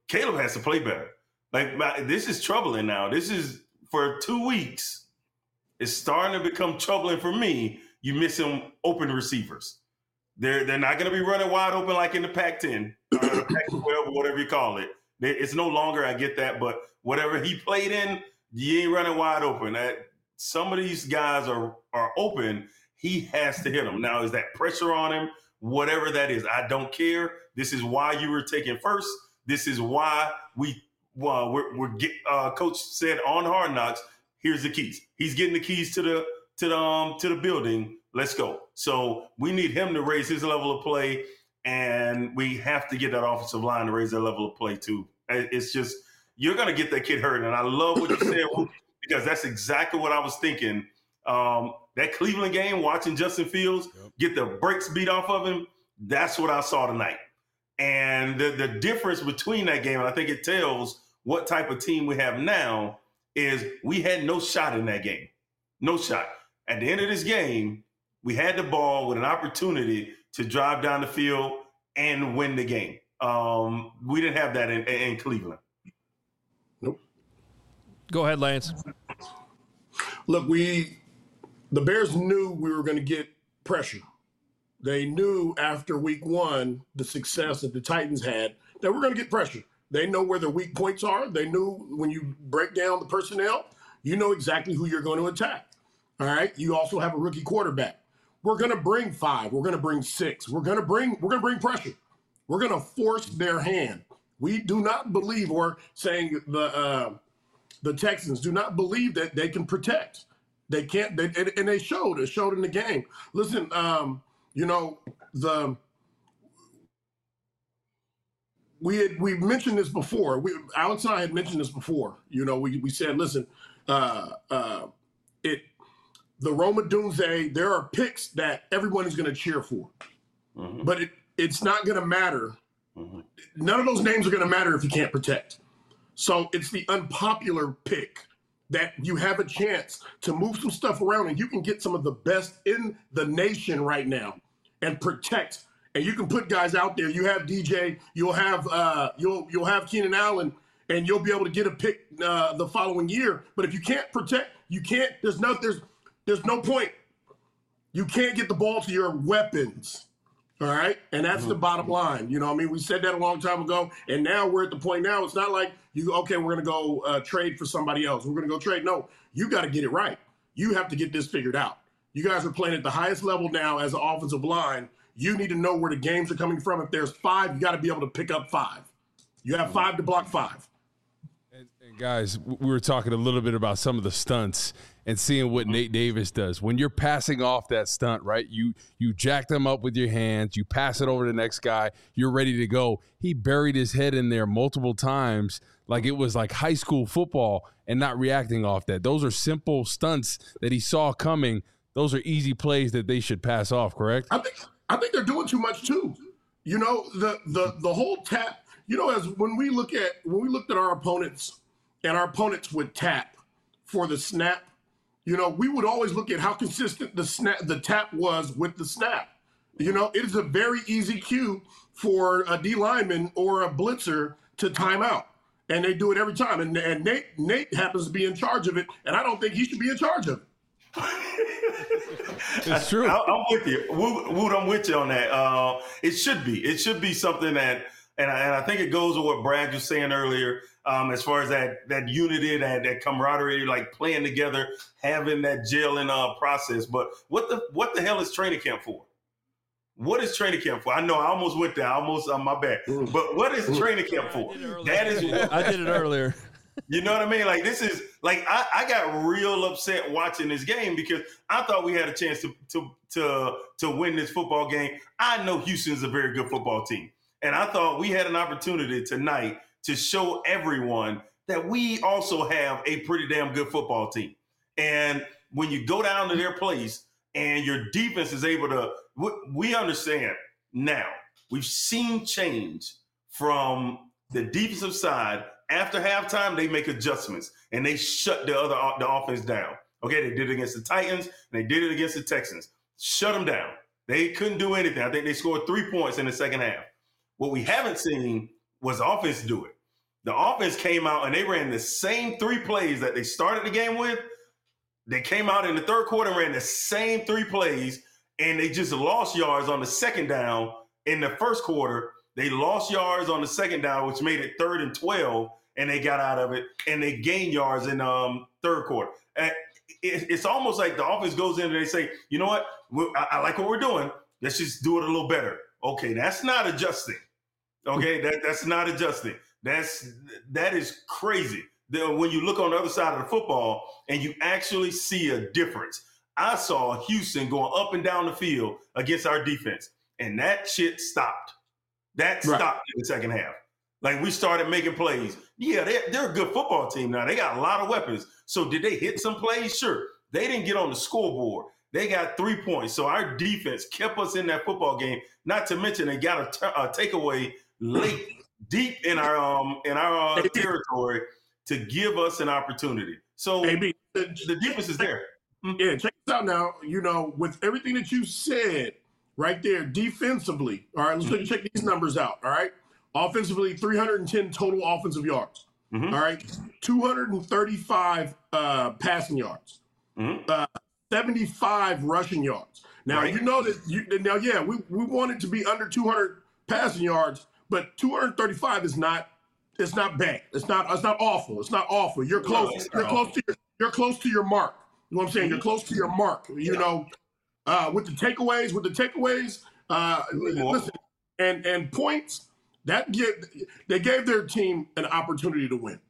Caleb has to play better. Like my, this is troubling now. This is for two weeks. It's starting to become troubling for me. You missing open receivers. They're they're not going to be running wide open like in the Pac ten, or the Pac twelve, or whatever you call it. It's no longer. I get that, but whatever he played in, you ain't running wide open. That some of these guys are are open. He has to hit them. Now, is that pressure on him? Whatever that is, I don't care. This is why you were taken first. This is why we. Well, we're, we're get, uh, Coach said on Hard Knocks, here's the keys. He's getting the keys to the to the um, to the building. Let's go. So we need him to raise his level of play, and we have to get that offensive line to raise their level of play too. It's just you're going to get that kid hurt, and I love what you said because that's exactly what I was thinking. Um, that Cleveland game, watching Justin Fields yep. get the brakes beat off of him, that's what I saw tonight. And the, the difference between that game, and I think it tells what type of team we have now, is we had no shot in that game. No shot. At the end of this game, we had the ball with an opportunity to drive down the field and win the game. Um, we didn't have that in, in Cleveland. Nope. Go ahead, Lance. Look, we the Bears knew we were going to get pressure. They knew after week one, the success that the Titans had, that we're going to get pressure. They know where their weak points are. They knew when you break down the personnel, you know exactly who you're going to attack. All right. You also have a rookie quarterback. We're going to bring five. We're going to bring six. We're going to bring, we're going to bring pressure. We're going to force their hand. We do not believe, or saying the, uh, the Texans do not believe that they can protect. They can't, they, and, and they showed, it showed in the game. Listen, um, you know, the, we had, we mentioned this before. We, Alex and I had mentioned this before. You know, we, we said, listen, uh, uh, it, the Roma Dunze, there are picks that everyone is going to cheer for, mm-hmm. but it, it's not going to matter. Mm-hmm. None of those names are going to matter if you can't protect. So it's the unpopular pick that you have a chance to move some stuff around, and you can get some of the best in the nation right now and protect. And you can put guys out there. You have D J, you'll have uh, you'll you'll have Keenan Allen, and you'll be able to get a pick uh, the following year. But if you can't protect, you can't. There's no there's there's no point. You can't get the ball to your weapons. All right, and that's mm-hmm. the bottom line. You know, I mean, we said that a long time ago, and now we're at the point now. It's not like you okay, we're gonna go uh, trade for somebody else. We're gonna go trade. No, you got to get it right. You have to get this figured out. You guys are playing at the highest level now as an offensive line. You need to know where the games are coming from. If there's five, you got to be able to pick up five. You have five to block five. And, and guys, we were talking a little bit about some of the stunts and seeing what Nate Davis does. When you're passing off that stunt, right, you you jack them up with your hands, you pass it over to the next guy, you're ready to go. He buried his head in there multiple times like it was like high school football and not reacting off that. Those are simple stunts that he saw coming. Those are easy plays that they should pass off, correct? I think I think they're doing too much too. You know, the the the whole tap, you know, as when we look at when we looked at our opponents and our opponents would tap for the snap, you know, we would always look at how consistent the snap the tap was with the snap. You know, it is a very easy cue for a D lineman or a blitzer to time out. And they do it every time. And, and Nate Nate happens to be in charge of it, and I don't think he should be in charge of it. It's true. I, I'm with you, Wood. Wood, I'm with you on that. Uh, it should be. It should be something that, and I, and I think it goes with what Brad was saying earlier, um, as far as that that unity, that that camaraderie, like playing together, having that gelling uh, process. But what the what the hell is training camp for? What is training camp for? I know I almost went there. I almost on my back. But what is training camp for? That is. I did it earlier. You know what I mean? Like, this is like I, I got real upset watching this game because I thought we had a chance to to to to win this football game. I know Houston's a very good football team, and I thought we had an opportunity tonight to show everyone that we also have a pretty damn good football team. And when you go down to their place and your defense is able to, we understand now. We've seen change from the defensive side. After halftime, they make adjustments, and they shut the other the offense down. Okay, they did it against the Titans, and they did it against the Texans. Shut them down. They couldn't do anything. I think they scored three points in the second half. What we haven't seen was offense do it. The offense came out and they ran the same three plays that they started the game with. They came out in the third quarter and ran the same three plays, and they just lost yards on the second down in the first quarter. They lost yards on the second down, which made it third and twelve, and they got out of it, and they gained yards in um third quarter. And it, it's almost like the offense goes in and they say, you know what, I, I like what we're doing. Let's just do it a little better. Okay, that's not adjusting. Okay, that, that's not adjusting. That's that is crazy. The, when you look on the other side of the football and you actually see a difference. I saw Houston going up and down the field against our defense, and that shit stopped. That stopped right. in the second half. Like, we started making plays. Yeah, they're, they're a good football team now. They got a lot of weapons. So did they hit some plays? Sure. They didn't get on the scoreboard. They got three points. So our defense kept us in that football game. Not to mention they got a, t- a takeaway late, deep in our um in our uh, territory to give us an opportunity. So A B, the, the defense is there. Yeah, check this out now. You know, with everything that you said right there, defensively, all right, let's mm-hmm. check these numbers out, all right? Offensively, three hundred ten total offensive yards, mm-hmm. all right? two hundred thirty-five uh, passing yards, mm-hmm. uh, seventy-five rushing yards. Now, right. you know that, you, now, yeah, we, we want it to be under two hundred passing yards, but two hundred thirty-five is not, it's not bad. It's not, it's not awful. It's not awful. You're close. No, you're close awful. to your, you're close to your mark. You know what I'm saying? You're close to your mark. You yeah. know, uh, with the takeaways, with the takeaways, uh, listen, and and points that give they gave their team an opportunity to win.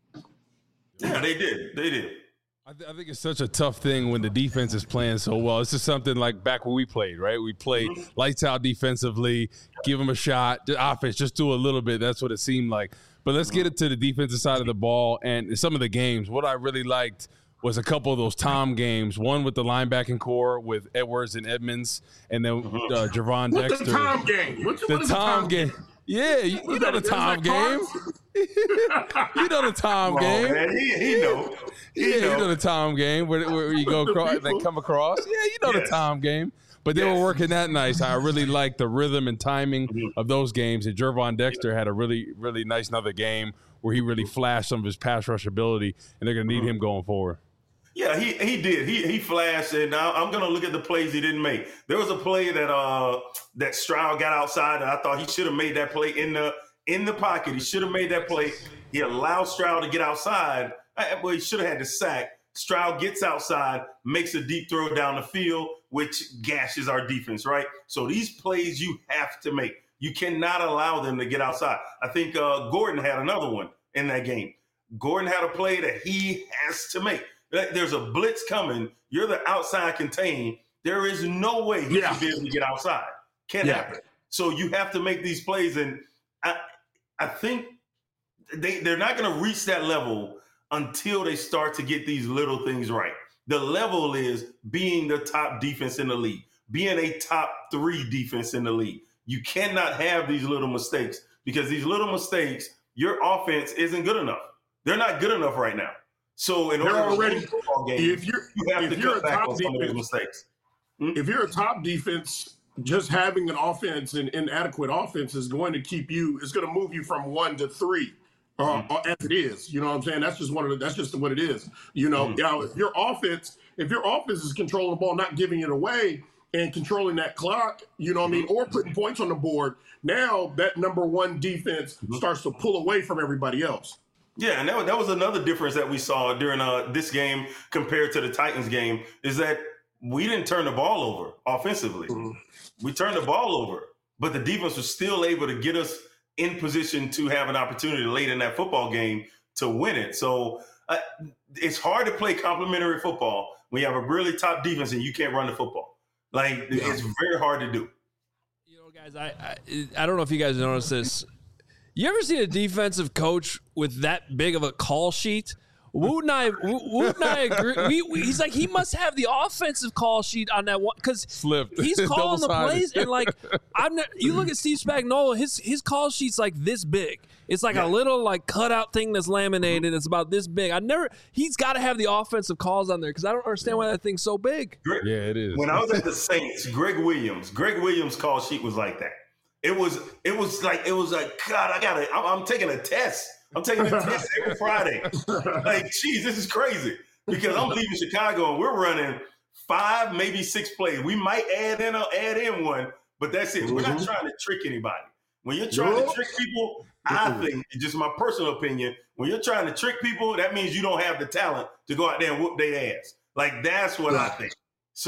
Yeah, they did. They did. I, th- I think it's such a tough thing when the defense is playing so well. It's just something like back when we played, right? We played mm-hmm. lights out defensively, give them a shot. The offense, just do a little bit. That's what it seemed like. But let's get it to the defensive side of the ball and some of the games. What I really liked was a couple of those Tom games, one with the linebacking core with Edwards and Edmonds, and then uh, Gervon What's Dexter. The Tom game. What's, the what Tom, Tom game. game. Yeah, you, you know the Tom game. You know the Tom Wrong, game. Man. He, he know. He yeah, know. you know the Tom game where, where you go across, they come across. Yeah, you know yes. the Tom game. But they yes. were working that nice. I really liked the rhythm and timing mm-hmm. of those games. And Gervon Dexter had a really, really nice another game where he really flashed some of his pass rush ability, and they're going to need mm-hmm. him going forward. Yeah, he he did. He he flashed, and now I'm gonna look at the plays he didn't make. There was a play that uh that Stroud got outside, and I thought he should have made that play in the in the pocket. He should have made that play. He allowed Stroud to get outside. Well, he should have had the sack. Stroud gets outside, makes a deep throw down the field, which gashes our defense. Right. So these plays you have to make. You cannot allow them to get outside. I think uh, Gordon had another one in that game. Gordon had a play that he has to make. There's a blitz coming. You're the outside contain. There is no way he yeah. should be able to get outside. Can't yeah. happen. So you have to make these plays. And I I think they, they're not going to reach that level until they start to get these little things right. The level is being the top defense in the league, being a top three defense in the league. You cannot have these little mistakes because these little mistakes, your offense isn't good enough. They're not good enough right now. So in order They're already, to win a football game, if you're, you have if to you're cut a back top on some of those mistakes. Hmm? If you're a top defense, just having an offense, an inadequate offense is going to keep you, it's going to move you from one to three, uh, mm-hmm. as it is. You know what I'm saying? That's just one of the, that's just what it is. You know, mm-hmm. now if your offense, if your offense is controlling the ball, not giving it away and controlling that clock, you know what mm-hmm. I mean, or putting points on the board, now that number one defense mm-hmm. starts to pull away from everybody else. Yeah, and that, that was another difference that we saw during uh, this game compared to the Titans game is that we didn't turn the ball over offensively. Mm-hmm. We turned the ball over, but the defense was still able to get us in position to have an opportunity late in that football game to win it. So uh, it's hard to play complementary football when you have a really top defense and you can't run the football. Like, yeah. it's very hard to do. You know, guys, I, I I don't know if you guys noticed this. You ever seen a defensive coach with that big of a call sheet? Woot and I, Woot and I agree. We, we, he's like, he must have the offensive call sheet on that one because he's calling the plays and like, I'm not, you look at Steve Spagnuolo, his his call sheet's like this big. It's like yeah. a little like cutout thing that's laminated. It's about this big. I never. He's got to have the offensive calls on there because I don't understand why that thing's so big. Greg, yeah, it is. When I was at the Saints, Greg Williams, Greg Williams' call sheet was like that. It was, it was like, it was like, God, I gotta, I'm, I'm taking a test I'm taking a test every Friday. Like, geez, this is crazy. Because I'm leaving Chicago and we're running five, maybe six plays. We might add in a, add in one, but that's it. Mm-hmm. We're not trying to trick anybody. When you're trying no. to trick people, I think, just my personal opinion, when you're trying to trick people, that means you don't have the talent to go out there and whoop their ass. Like, that's what I think.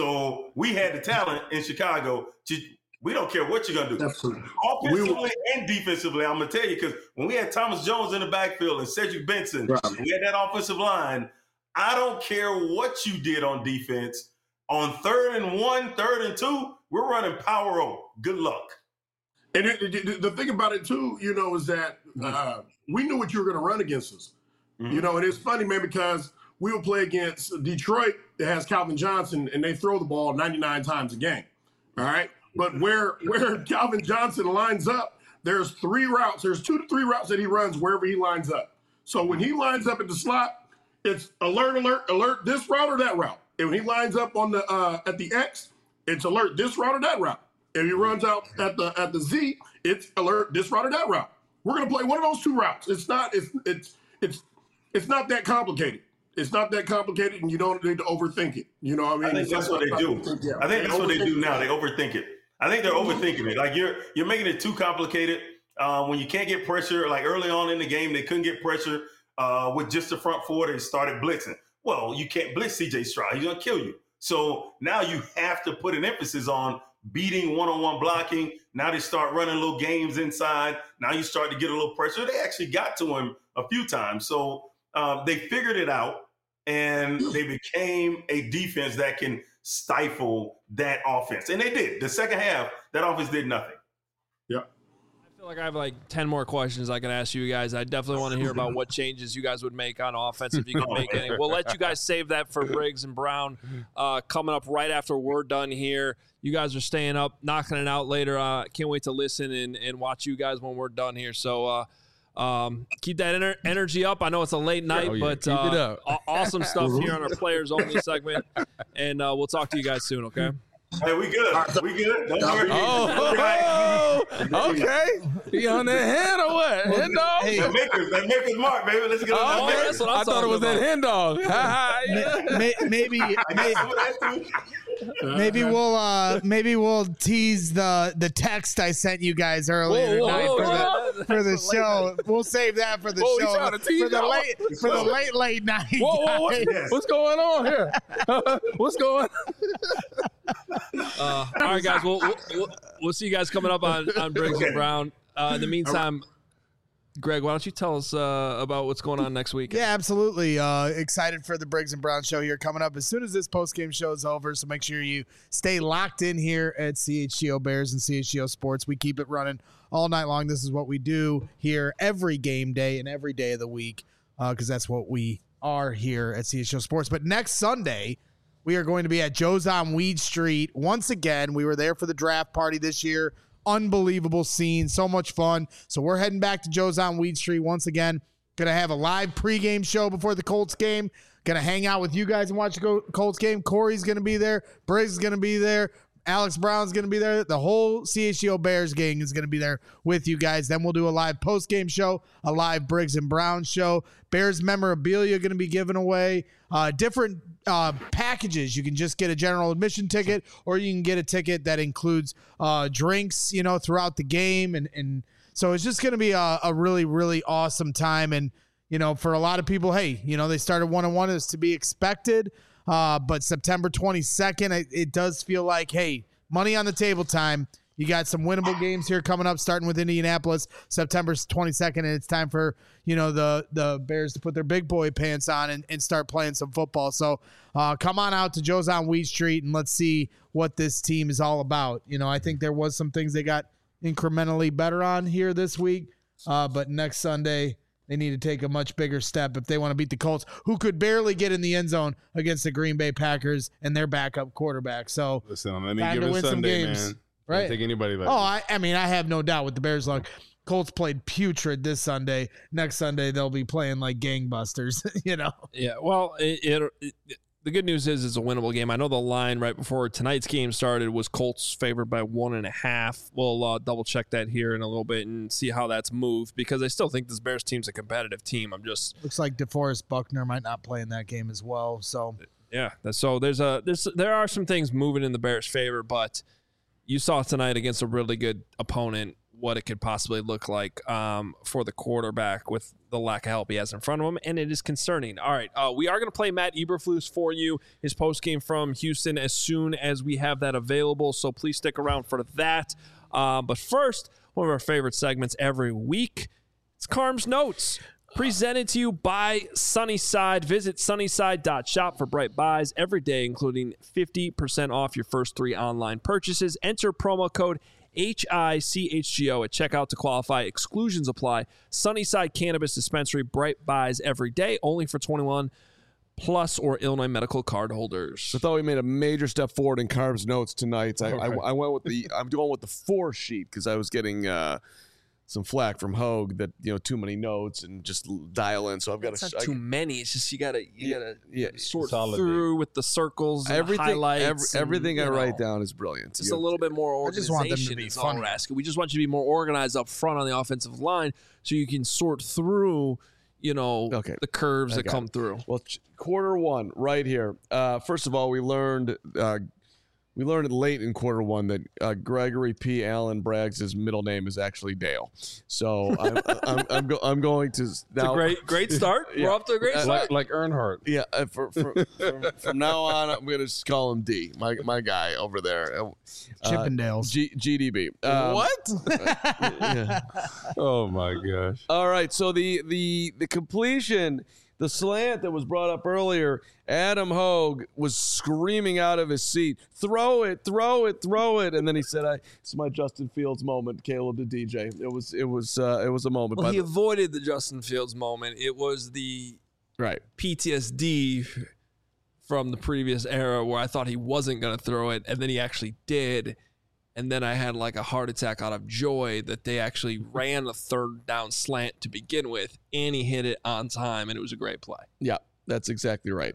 So we had the talent in Chicago. To, we don't care what you're going to do. Absolutely. Offensively we, and defensively, I'm going to tell you, because when we had Thomas Jones in the backfield and Cedric Benson, right. we had that offensive line, I don't care what you did on defense. On third and one, third and two, we're running power O. Good luck. And it, it, the thing about it, too, you know, is that uh, we knew what you were going to run against us. Mm-hmm. You know, and it's funny, man, because we will play against Detroit that has Calvin Johnson, and they throw the ball ninety-nine times a game. All right? But where where Calvin Johnson lines up, there's three routes. There's two to three routes that he runs wherever he lines up. So when he lines up at the slot, it's alert, alert, alert, this route or that route. And when he lines up on the uh, at the X, it's alert, this route or that route. If he runs out at the at the Z, it's alert, this route or that route. We're gonna play one of those two routes. It's not it's it's it's it's not that complicated. It's not that complicated, and you don't need to overthink it. You know what I mean? I think that's what they do. Yeah. I think that's what they do now. They overthink it. I think they're overthinking it. Like you're you're making it too complicated. Uh, when you can't get pressure, like early on in the game, they couldn't get pressure uh, with just the front four. They started blitzing. Well, you can't blitz C J Stroud. He's gonna kill you. So now you have to put an emphasis on beating one-on-one blocking. Now they start running little games inside. Now you start to get a little pressure. They actually got to him a few times. So um, they figured it out, and they became a defense that can stifle that offense. And they did. The second half, that offense did nothing. Yep. I feel like I have like ten more questions I can ask you guys. I definitely want to hear about what changes you guys would make on offense if you can make any. We'll let you guys save that for Briggs and Brown uh, coming up right after we're done here. You guys are staying up, knocking it out later. Uh, can't wait to listen and, and watch you guys when we're done here. So uh, um, keep that ener- energy up. I know it's a late night, oh, yeah. but keep uh, it up. aw- awesome stuff here on our Players Only segment. And uh, we'll talk to you guys soon, okay? Hey, we good. We good. Don't worry. Oh, oh, okay. You on that hand or what? Hen dog? Hey. That Maker's, that Maker's Mark, baby. Let's get on oh, that. That's what I thought it was about. That hen dog. maybe, maybe, maybe we'll uh, maybe we'll tease the the text I sent you guys earlier whoa, tonight whoa, for whoa, the for the show. We'll save that for the whoa, show for the late for the late late night. Whoa, whoa, what, what's going on here? What's going? Uh, all right, guys. We'll, we'll we'll see you guys coming up on, on Briggs and Brown. Uh, in the meantime, Greg, why don't you tell us uh, about what's going on next week? Yeah, absolutely. Uh, excited for the Briggs and Brown show here coming up as soon as this post-game show is over. So make sure you stay locked in here at C H G O Bears and C H G O Sports. We keep it running all night long. This is what we do here every game day and every day of the week because uh, that's what we are here at C H G O Sports. But next Sunday, we are going to be at Joe's on Weed Street. Once again, we were there for the draft party this year. Unbelievable scene. So much fun. So we're heading back to Joe's on Weed Street once again. Going to have a live pregame show before the Colts game. Going to hang out with you guys and watch the Colts game. Corey's going to be there. Briggs is going to be there. Alex Brown's going to be there. The whole C H G O Bears gang is going to be there with you guys. Then we'll do a live post-game show, a live Briggs and Brown show. Bears memorabilia going to be given away. Uh, different uh, packages. You can just get a general admission ticket, or you can get a ticket that includes uh, drinks, you know, throughout the game. And, and so it's just going to be a, a really, really awesome time. And, you know, for a lot of people, hey, you know, they started one-on-one as to be expected. Uh, but September twenty-second, it, it does feel like, hey, money on the table time. You got some winnable games here coming up, starting with Indianapolis, September twenty-second, and it's time for, you know, the the Bears to put their big boy pants on and, and start playing some football. So uh, come on out to Joe's on Weed Street, and let's see what this team is all about. You know, I think there was some things they got incrementally better on here this week, uh, but next Sunday they need to take a much bigger step if they want to beat the Colts, who could barely get in the end zone against the Green Bay Packers and their backup quarterback. So listen, let me give it Sunday, man. Right? Take anybody like oh, I, I mean, I have no doubt with the Bears' luck. Colts played putrid this Sunday. Next Sunday they'll be playing like gangbusters. You know. Yeah. Well, it, it, it the good news is it's a winnable game. I know the line right before tonight's game started was Colts favored by one and a half. We'll uh, double check that here in a little bit and see how that's moved because I still think this Bears team's a competitive team. I'm just looks like DeForest Buckner might not play in that game as well. So yeah, so there's a there's there are some things moving in the Bears' favor, but you saw tonight against a really good opponent what it could possibly look like um, for the quarterback with the lack of help he has in front of him, and it is concerning. All right, uh, we are going to play Matt Eberflus for you, his postgame from Houston, as soon as we have that available, so please stick around for that. Uh, but first, one of our favorite segments every week, it's Carm's Notes, presented to you by Sunnyside. Visit sunnyside dot shop for bright buys every day, including fifty percent off your first three online purchases. Enter promo code H I C H G O at checkout to qualify. Exclusions apply. Sunnyside Cannabis Dispensary, bright buys every day, only for twenty-one plus or Illinois medical card holders. I thought we made a major step forward in Carb's notes tonight. I, Okay. I, I went with the I'm going with the four sheet because I was getting uh, some flack from Hogue that you know too many notes and just dial in. So I've got It's to not too many. It's just you gotta you Yeah, gotta yeah. sort Consolidate. through with the circles, and the everything. highlights, every- everything and, I you wait know, down is brilliant. Just You- a little bit more I just want them to organization be is all we're funny. asking. We just want you to be more organized up front on the offensive line so you can sort through, you know, Okay. the curves I that got come it. through. Well, ch- quarter one, right here. Uh, first of all, we learned uh, we learned it late in quarter one that uh, Gregory P. Allen Braggs' middle name is actually Dale. So I'm I'm, I'm, go- I'm going to It's now. a great, great start. Yeah. We're off to a great Uh, start. Like, like Earnhardt. Yeah, uh, for, for, from, from now on, I'm going to just call him D, my my guy over there. Uh, Chippendales. G- GDB. Um, what? yeah. Oh my gosh. All right, so the the the completion, the slant that was brought up earlier, Adam Hogue was screaming out of his seat, "Throw it, throw it, throw it!" And then he said, "I it's my Justin Fields moment." Caleb to D J. It was it was uh, it was a moment. Well, by he the- avoided the Justin Fields moment. It was the right. P T S D from the previous era where I thought he wasn't going to throw it, and then he actually did. And then I had like a heart attack out of joy that they actually ran a third down slant to begin with, and he hit it on time, and it was a great play. Yeah, that's exactly right.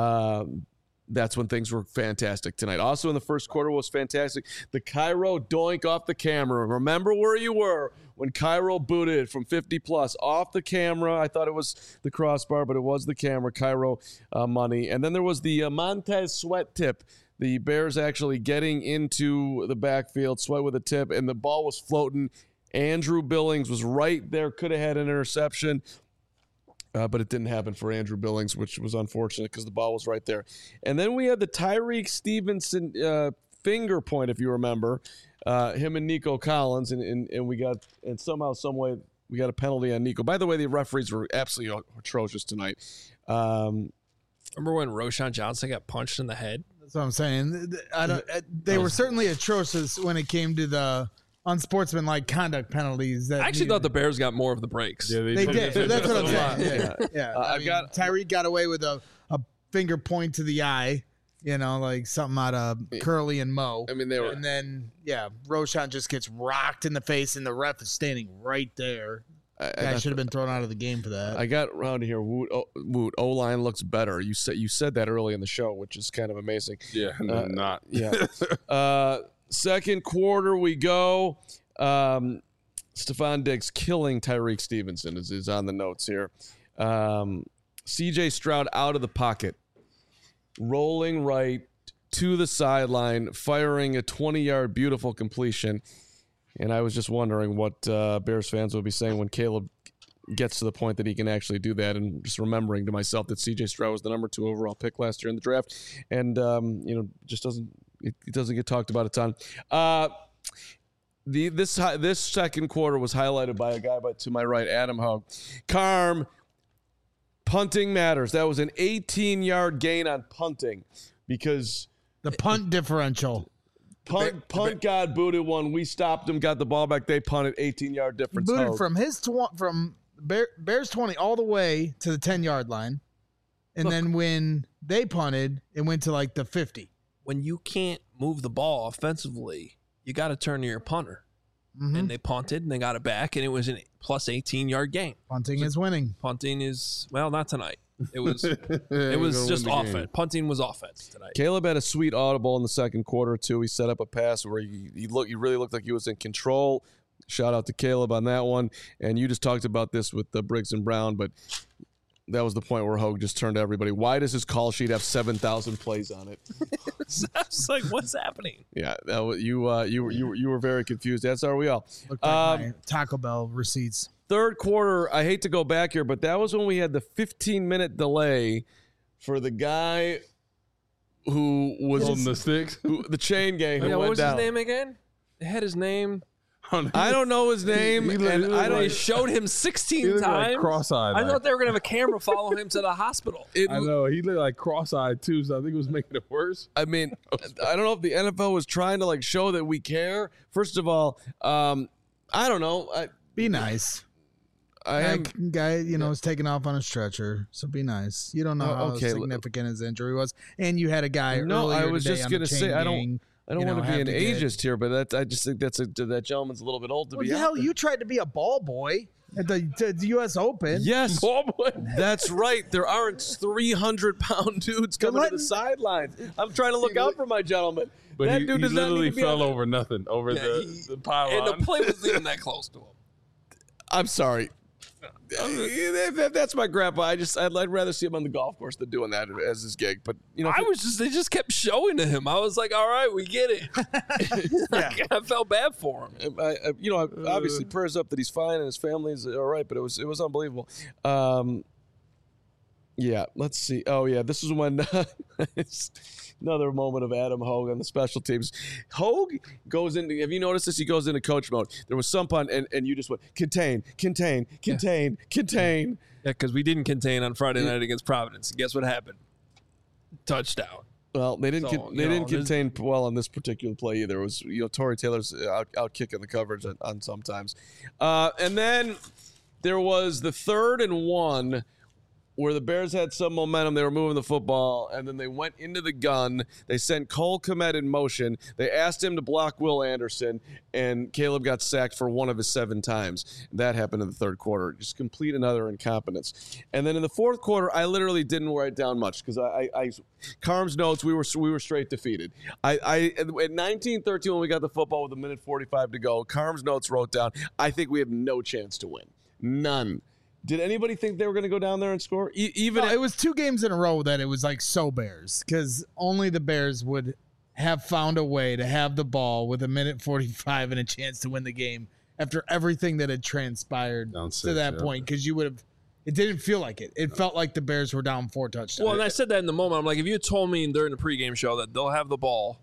Um, that's when things were fantastic tonight. Also in the first quarter was fantastic. The Cairo doink off the camera. Remember where you were when Cairo booted from fifty plus off the camera. I thought it was the crossbar, but it was the camera. Cairo uh, money. And then there was the uh, Montez Sweat tip. The Bears actually getting into the backfield, Sweat with a tip, and the ball was floating. Andrew Billings was right there, could have had an interception. Uh, but it didn't happen for Andrew Billings, which was unfortunate because the ball was right there. And then we had the Tyreek Stevenson uh, finger point, if you remember, uh, him and Nico Collins, and, and and we got and somehow, some way, we got a penalty on Nico. By the way, the referees were absolutely atrocious tonight. Um, Remember when Roshan Johnson got punched in the head? That's what I'm saying. I don't. uh, They were certainly atrocious when it came to the unsportsmanlike conduct penalties. That I actually needed- thought the Bears got more of the breaks. Yeah, they did. That's what I'm Yeah. saying. Yeah, yeah. Uh, I I've mean, got- Tyreek got away with a, a finger point to the eye. You know, like something out of Curly and Mo. I mean, they were. And then, yeah, Roshan just gets rocked in the face, and the ref is standing right there. I, I Guy got- should have been thrown out of the game for that. I got around here. Woot, oh, Woot, O line looks better. You said you said that early in the show, which is kind of amazing. Yeah, no, Uh, not. Yeah. uh, second quarter, we go. Um, Stephon Diggs killing Tyreek Stevenson is, is on the notes here. Um, C J Stroud out of the pocket, rolling right to the sideline, firing a twenty-yard beautiful completion. And I was just wondering what uh, Bears fans would be saying when Caleb gets to the point that he can actually do that, and just remembering to myself that C J Stroud was the number two overall pick last year in the draft, and um, you know just doesn't it, it doesn't get talked about a ton. Uh, the this hi- this second quarter was highlighted by a guy by to my right, Adam Hogue. Carm, punting matters. That was an eighteen-yard gain on punting because the punt differential. punt punt God booted one. We stopped him, got the ball back. They punted, eighteen-yard difference. Booted Hogue. from his tw- from Bear, Bears twenty all the way to the ten-yard line. And Look. then when they punted, it went to like the fifty. When you can't move the ball offensively, you got to turn to your punter. Mhm. And they punted, and they got it back, and it was a plus eighteen-yard gain. Punting is winning. Punting is, well, not tonight. It was it was just offense. Punting was offense tonight. Caleb had a sweet audible in the second quarter too. He set up a pass where he he looked he really looked like he was in control. Shout out to Caleb on that one. And you just talked about this with the Briggs and Brown, but that was the point where Hogue just turned to everybody. Why does his call sheet have seven thousand plays on it? I was like, what's happening? Yeah, that was, you uh, you were you were you were very confused. As are we all. Looked like Um, my Taco Bell receipts. Third quarter, I hate to go back here, but that was when we had the fifteen minute delay for the guy who was Holding the sticks. who, the chain gang who Yeah, went what was down. his name again? They had his name. I don't know his name, He- he looked- and he looked I don't. They like- showed him He sixteen looked like times. cross-eyed. I like. thought they were gonna have a camera follow him to the hospital. It, I know he looked like cross-eyed too, so I think it was making it worse. I mean, I don't know if the N F L was trying to like show that we care. First of all, um, I don't know. I, Be nice. I am. Guy, guy, you know, is taking off on a stretcher, so be nice. You don't know Oh, how okay. significant his injury was, and you had a guy. No, I earlier was today just on the gonna chain say, I don't- gang. I don't you know, want to be have an to get- ageist here, but that I just think that's a that gentleman's a little bit old to What be the out hell? there. You tried to be a ball boy at the, to the U S Open. Yes, Oh boy. that's right. There aren't three hundred pound dudes coming to letting- the sidelines. I'm trying to look out for my gentleman. But that he, dude he does not literally need to be fell on- over nothing over Yeah, the, he- the pylon. And the play wasn't even that close to him. I'm sorry. If, if that's my grandpa, I just I'd, I'd rather see him on the golf course than doing that as his gig. But you know, I was just they just kept showing to him. I was like, all right, we get it. Like, I felt bad for him. I, I, you know, obviously prayers up that he's fine and his family's all right. But it was it was unbelievable. Um, yeah, let's see. Oh yeah, this is when it's another moment of Adam Hogue on the special teams. Hogue goes into. Have you noticed this? He goes into coach mode. There was some punt, and, and you just went contain, contain, contain, contain. Yeah, because we didn't contain on Friday night against Providence. And guess what happened? Touchdown. Well, they didn't. So, con- you they know, didn't there's- contain well on this particular play either. It was you know Torrey Taylor's out, out kicking the coverage on, on sometimes, uh, and then there was the third and one where the Bears had some momentum. They were moving the football, and then they went into the gun. They sent Cole Kmet in motion. They asked him to block Will Anderson, and Caleb got sacked for one of his seven times. That happened in the third quarter. Just complete another incompetence. And then in the fourth quarter, I literally didn't write down much because I, I, I, Carm's notes, we were we were straight defeated. I, I at nineteen thirteen when we got the football with a minute forty-five to go, Carm's notes wrote down, I think we have no chance to win. None. Did anybody think they were going to go down there and score? E- even No, at- it was two games in a row that it was like so Bears because only the Bears would have found a way to have the ball with a minute forty-five and a chance to win the game after everything that had transpired Down to six, that yeah. point because you would have. It didn't feel like it. It felt like the Bears were down four touchdowns. Well, and I said that in the moment. I'm like, if you had told me during the pregame show that they'll have the ball,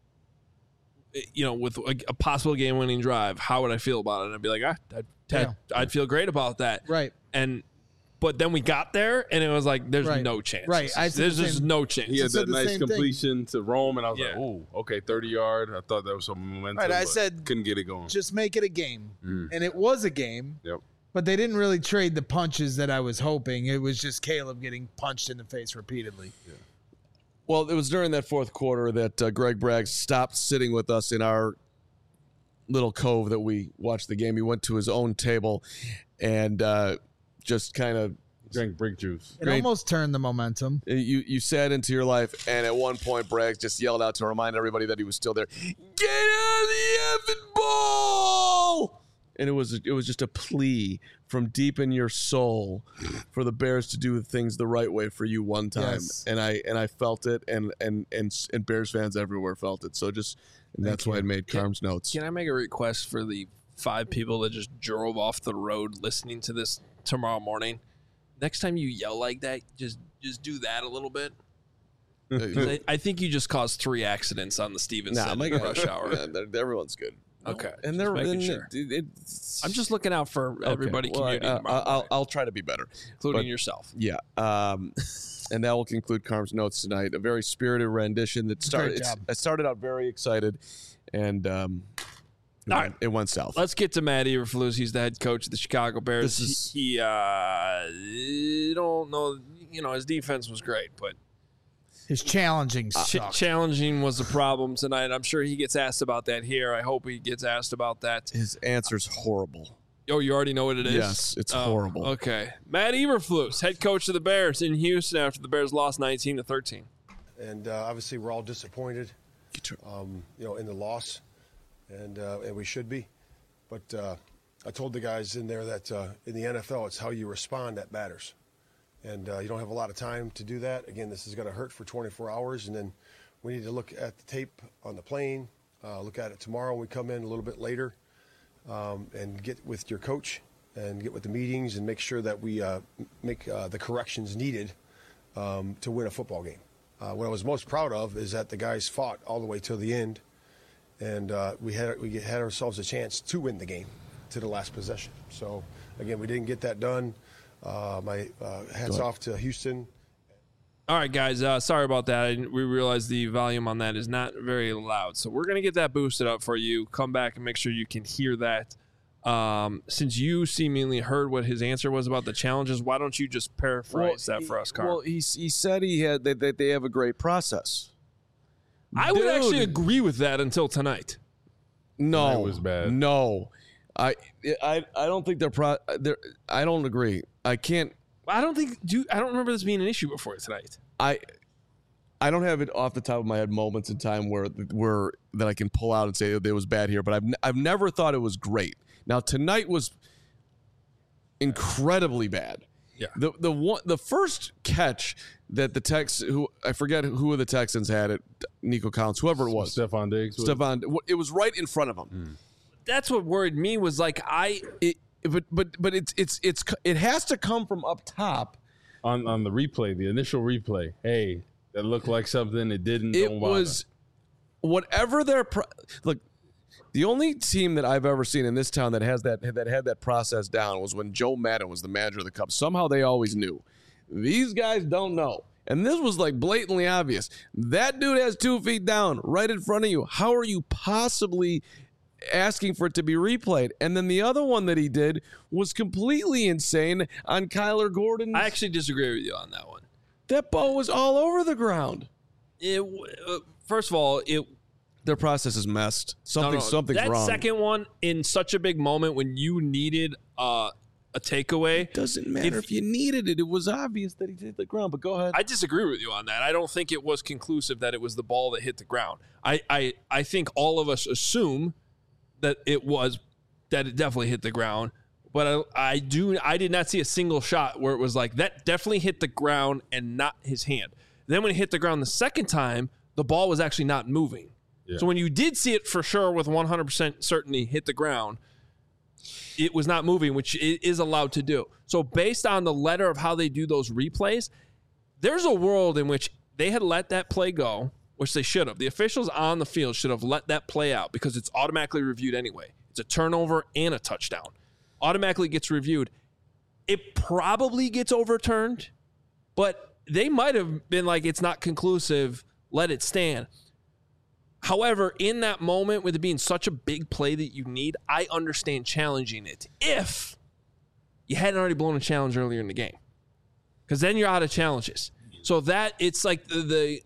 you know, with a, a possible game-winning drive, how would I feel about it? And I'd be like, ah, I'd, I'd, I'd feel great about that. Right. And but then we got there, and it was like, there's Right. no chance. Right. I said There's the just same- no chance. He had said that the nice same thing. completion to Rome, and I was Yeah. like, "Ooh, okay, thirty yard." I thought that was some momentum. Right, I but said- couldn't get it going. Just make it a game, Mm. and it was a game. Yep. But they didn't really trade the punches that I was hoping. It was just Caleb getting punched in the face repeatedly. Well, it was during that fourth quarter that uh, Greg Bragg stopped sitting with us in our little cove that we watched the game. He went to his own table and uh, just kind of Drank brick juice. It Great. almost turned the momentum. you you sat into your life, and at one point Bragg just yelled out to remind everybody that he was still there. Get out of the effing ball! And it was it was just a plea from deep in your soul for the Bears to do things the right way for you one time, Yes. and I and I felt it, and and and and Bears fans everywhere felt it. So just and that's why I made Carm's notes. Can I make a request for the five people that just drove off the road listening to this tomorrow morning? Next time you yell like that, just just do that a little bit. 'Cause I, I think you just caused three accidents on the Stevenson Nah, my rush hour. Yeah, they're- everyone's good. Okay, and just they're making and sure. it- it's- I'm just looking out for okay, everybody well, I- commuting I, tomorrow I'll, morning, I'll try to be better. including but- yourself. Yeah. Um, and that will conclude Carm's notes tonight. A very spirited rendition that started. Great It's, job. I started out very excited, and um, it, All went, right. it went south. Let's get to Matt Eberflus. He's the head coach of the Chicago Bears. This is- he, he uh, you don't know, you know, his defense was great, but His challenging ch- sucked. challenging was the problem tonight. I'm sure he gets asked about that here. I hope he gets asked about that. His answer's horrible. Oh, you already know what it is? Yes, it's Oh, horrible. Okay. Matt Eberflus, head coach of the Bears in Houston after the Bears lost nineteen to thirteen. And uh, obviously we're all disappointed, um, you know, in the loss, and uh, and we should be. But uh, I told the guys in there that uh, in the N F L, it's how you respond that matters. And uh, you don't have a lot of time to do that. Again, this is going to hurt for twenty-four hours, and then we need to look at the tape on the plane, uh, look at it tomorrow when we come in a little bit later, um, and get with your coach and get with the meetings and make sure that we uh, make uh, the corrections needed um, to win a football game. Uh, what I was most proud of is that the guys fought all the way till the end, and uh, we had we had ourselves a chance to win the game to the last possession. So again, we didn't get that done. Uh, my uh, hats off to Houston. All right, guys. Uh, sorry about that. I, we realize the volume on that is not very loud, so we're gonna get that boosted up for you. Come back and make sure you can hear that. Um, since you seemingly heard what his answer was about the challenges, why don't you just paraphrase Well, that for us, Carl? Well, he he said he had that they, they have a great process. I would Dude. actually agree with that until tonight. No, Tonight was bad. No, I I I don't think they're pro. They're, I don't agree. I can't. I don't think. Do you, I don't remember this being an issue before tonight. I I don't have it off the top of my head moments in time where where that I can pull out and say it was bad here, but I've I've never thought it was great. Now tonight was incredibly bad. Yeah. The the one the first catch that the Tex who I forget who of the Texans had it, Nico Collins, whoever it was, Stephon Diggs. was- Stephon. It was right in front of him. Mm. That's what worried me. Was like I. It, but but but it's it's it's it has to come from up top. on on the replay, the initial replay. Hey, that looked like something. It didn't. It don't bother. was whatever their pro- look. The only team that I've ever seen in this town that has that that had that process down was when Joe Madden was the manager of the Cubs. Somehow they always knew. These guys don't know. And this was like blatantly obvious. That dude has two feet down right in front of you. How are you possibly asking for it to be replayed? And then the other one that he did was completely insane on Kyler Gordon. I actually disagree with you on that one. That ball was all over the ground. It. Uh, first of all, it. Their process is messed. Something, no, no, something's that wrong. That second one in such a big moment when you needed uh, a takeaway. Doesn't matter if, if you needed it. It was obvious that he hit the ground. But go ahead. I disagree with you on that. I don't think it was conclusive that it was the ball that hit the ground. I, I, I think all of us assume that it was that it definitely hit the ground. But I, I do I did not see a single shot where it was like that definitely hit the ground and not his hand. Then when it hit the ground the second time, the ball was actually not moving. Yeah. So when you did see it for sure with one hundred percent certainty hit the ground, it was not moving, which it is allowed to do. So based on the letter of how they do those replays, there's a world in which they had let that play go, which they should have. The officials on the field should have let that play out because it's automatically reviewed anyway. It's a turnover and a touchdown. Automatically gets reviewed. It probably gets overturned, but they might have been like, it's not conclusive, let it stand. However, in that moment, with it being such a big play that you need, I understand challenging it if you hadn't already blown a challenge earlier in the game. Because then you're out of challenges. So that, it's like the... the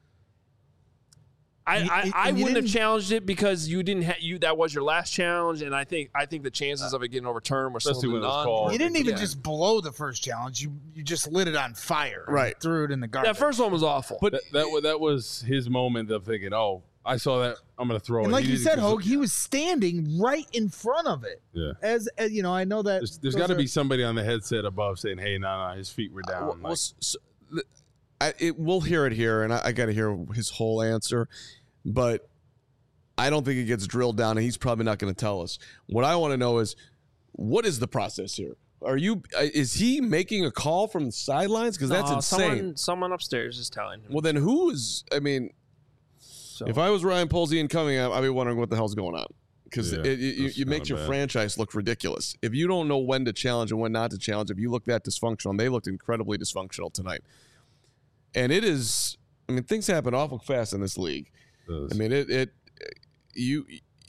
I, I, I wouldn't have challenged it because you didn't have you that was your last challenge, and I think I think the chances of it getting overturned were slim to none. You didn't even Yeah. just blow the first challenge; you you just lit it on fire, Right? And threw it in the garbage. That first one was awful. But that, that wa- that was his moment of thinking, "Oh, I saw that. I'm going to throw and it." like He you didn't said, cons- Hogue, he was standing right in front of it. Yeah. As, as you know, I know that There's, there's those got to are- be somebody on the headset above saying, "Hey, no, nah, no, nah, his feet were down." Well, Like, well, so, the- I, it, we'll hear it here, and I, I got to hear his whole answer. But I don't think it gets drilled down, and he's probably not going to tell us. What I want to know is, what is the process here? Are you? Is he making a call from the sidelines? Because that's No, insane. Someone, someone upstairs is telling him. Well, then who is? I mean, So, if I was Ryan Polsey and coming up, I'd be wondering what the hell's going on. Because Yeah, it, it, you, that's you makes kinda your bad. franchise look ridiculous. If you don't know when to challenge and when not to challenge, if you look that dysfunctional, and they looked incredibly dysfunctional tonight. And it is, I mean, things happen awful fast in this league. does. I mean, it, it you,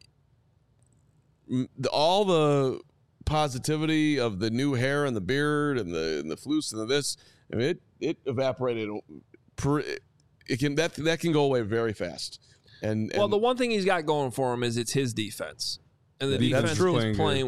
m- the, all the positivity of the new hair and the beard and the and the floose and the this, I mean, it it evaporated. Per, it can that that can go away very fast. And, and well, the one thing he's got going for him is it's his defense, and the Yeah, that's defense true. is Playing playing good. well.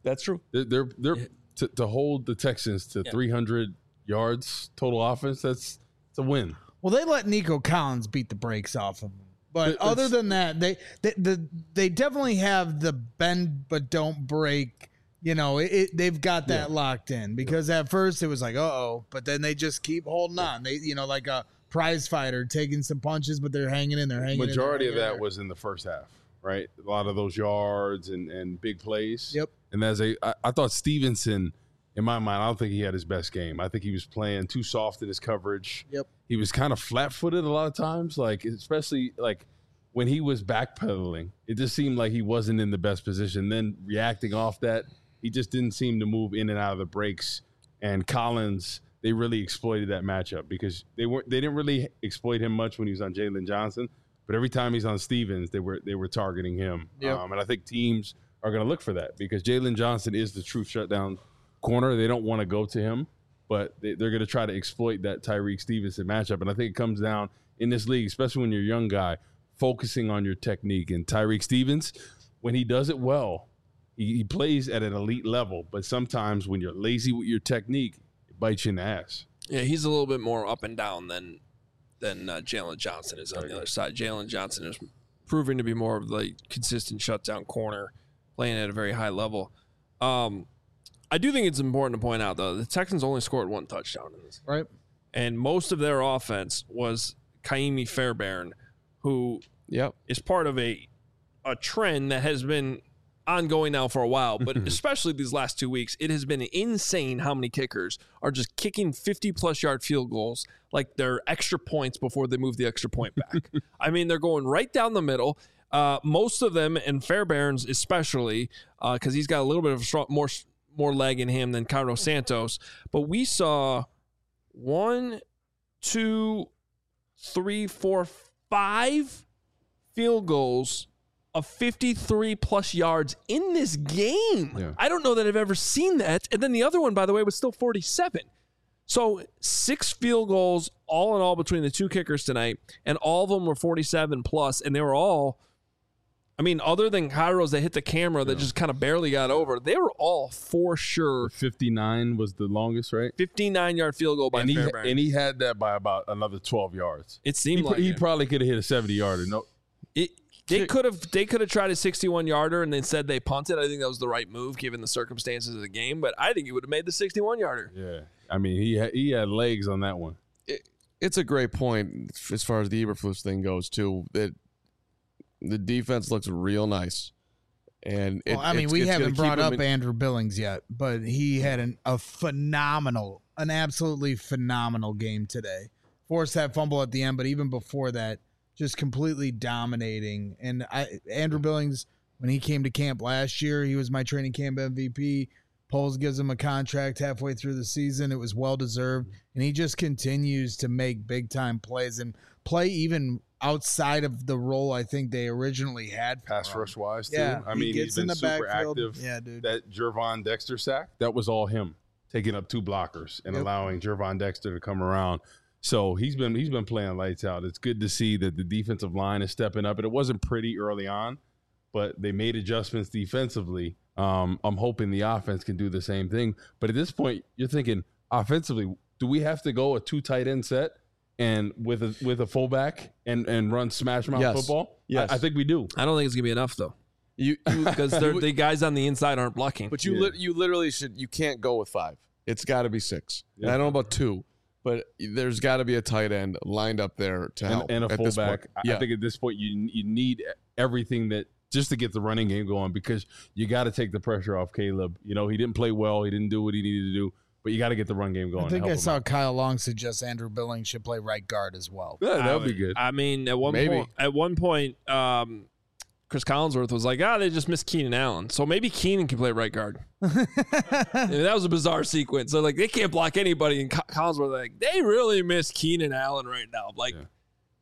That's true. They're they're, they're to, to hold the Texans to Yeah. three hundred yards total offense. That's it's a win. Well, they let Nico Collins beat the brakes off of him. But It- other it's- than that, they, they the they definitely have the bend but don't break. You know, it, it, they've got that Yeah. locked in because at first it was like, uh oh, but then they just keep holding on. They, you know, like a prize fighter taking some punches, but they're hanging in. They're hanging. in, Majority they're of hanging that in. was in the first half, right? A lot of those yards and, and big plays. Yep. And as a, I, I thought Stevenson, in my mind, I don't think he had his best game. I think he was playing too soft in his coverage. Yep. He was kind of flat-footed a lot of times, like especially like when he was backpedaling. It just seemed like he wasn't in the best position. Then reacting off that, he just didn't seem to move in and out of the breaks. And Collins, they really exploited that matchup because they weren't they didn't really exploit him much when he was on Jalen Johnson, but every time he's on Stevens, they were they were targeting him. Yep. Um, and I think teams are going to look for that because Jalen Johnson is the true shutdown corner. They don't want to go to him, but they, they're going to try to exploit that Tyreek Stevenson matchup. And I think it comes down in this league, especially when you're a young guy, focusing on your technique. And Tyreek Stevens, when he does it well, he, he plays at an elite level. But sometimes when you're lazy with your technique, it bites you in the ass. Yeah, he's a little bit more up and down than than uh, Jalen Johnson is on the other side. Jalen Johnson is proving to be more of the consistent shutdown corner, playing at a very high level. Um, I do think it's important to point out, though, the Texans only scored one touchdown in this. right. And most of their offense was Kaimi Fairbairn, who Yep. is part of a a trend that has been ongoing now for a while, but especially these last two weeks, it has been insane how many kickers are just kicking fifty-plus yard field goals like they're extra points before they move the extra point back. I mean, they're going right down the middle. Uh, most of them, and Fairbairn's especially, because uh, he's got a little bit of a strong, more more leg in him than Cairo Santos. But we saw one, two, three, four, five field goals of fifty-three plus yards in this game. Yeah. I don't know that I've ever seen that. And then the other one, by the way, was still forty-seven. So six field goals all in all between the two kickers tonight, and all of them were forty-seven plus, and they were all, I mean, other than Kairos that hit the camera that just kind of barely got over, they were all for sure fifty-nine was the longest, right? fifty-nine yard field goal by And he, Fairbairn. and he had that by about another twelve yards. it seemed He, like he it. probably could have hit a seventy yarder. No, It, they could have they could have tried a sixty-one yarder and then said they punted. I think that was the right move given the circumstances of the game. But I think he would have made the sixty-one yarder. yeah. I mean, he had, he had legs on that one. It, it's a great point as far as the Eberflus thing goes too. That the defense looks real nice, and it, Well, I mean, it's- we it's gonna haven't keep brought them up in- Andrew Billings yet, but he had an, a phenomenal, an absolutely phenomenal game today. Forced that fumble at the end, but even before that, just completely dominating. And I, Andrew Billings, when he came to camp last year, he was my training camp M V P. Poles gives him a contract halfway through the season. It was well deserved, and he just continues to make big time plays and play even outside of the role I think they originally had. For Pass him. rush wise, too. Yeah, I he mean, gets he's in been the super backfield. active. Yeah, dude. That Jervon Dexter sack, that was all him taking up two blockers and Yep. allowing Jervon Dexter to come around. So he's been he's been playing lights out. It's good to see that the defensive line is stepping up. And it wasn't pretty early on, but they made adjustments defensively. Um, I'm hoping the offense can do the same thing. But at this point, you're thinking offensively, do we have to go a two tight end set and with a with a fullback and, and run smash mouth Yes. football? Yes. I, I think we do. I don't think it's gonna be enough though, You, you because the guys on the inside aren't blocking. But you Yeah. lit you literally should you can't go with five. It's got to be six. And Yeah. I don't know about two, but there's got to be a tight end lined up there to help and, and a at this fullback. point. I- Yeah. I think at this point you you need everything that just to get the running game going because you got to take the pressure off Caleb. You know, he didn't play well. He didn't do what he needed to do, but you got to get the run game going. I think to I help him saw out. Kyle Long suggest Andrew Billings should play right guard as well. Yeah, that I would be good. I mean, at one Maybe. point, at one point, um, Chris Collinsworth was like, "Ah, they just missed Keenan Allen, so maybe Keenan can play right guard." I mean, that was a bizarre sequence. So like, they can't block anybody, and Co- Collinsworth like, they really miss Keenan Allen right now. Like, Yeah.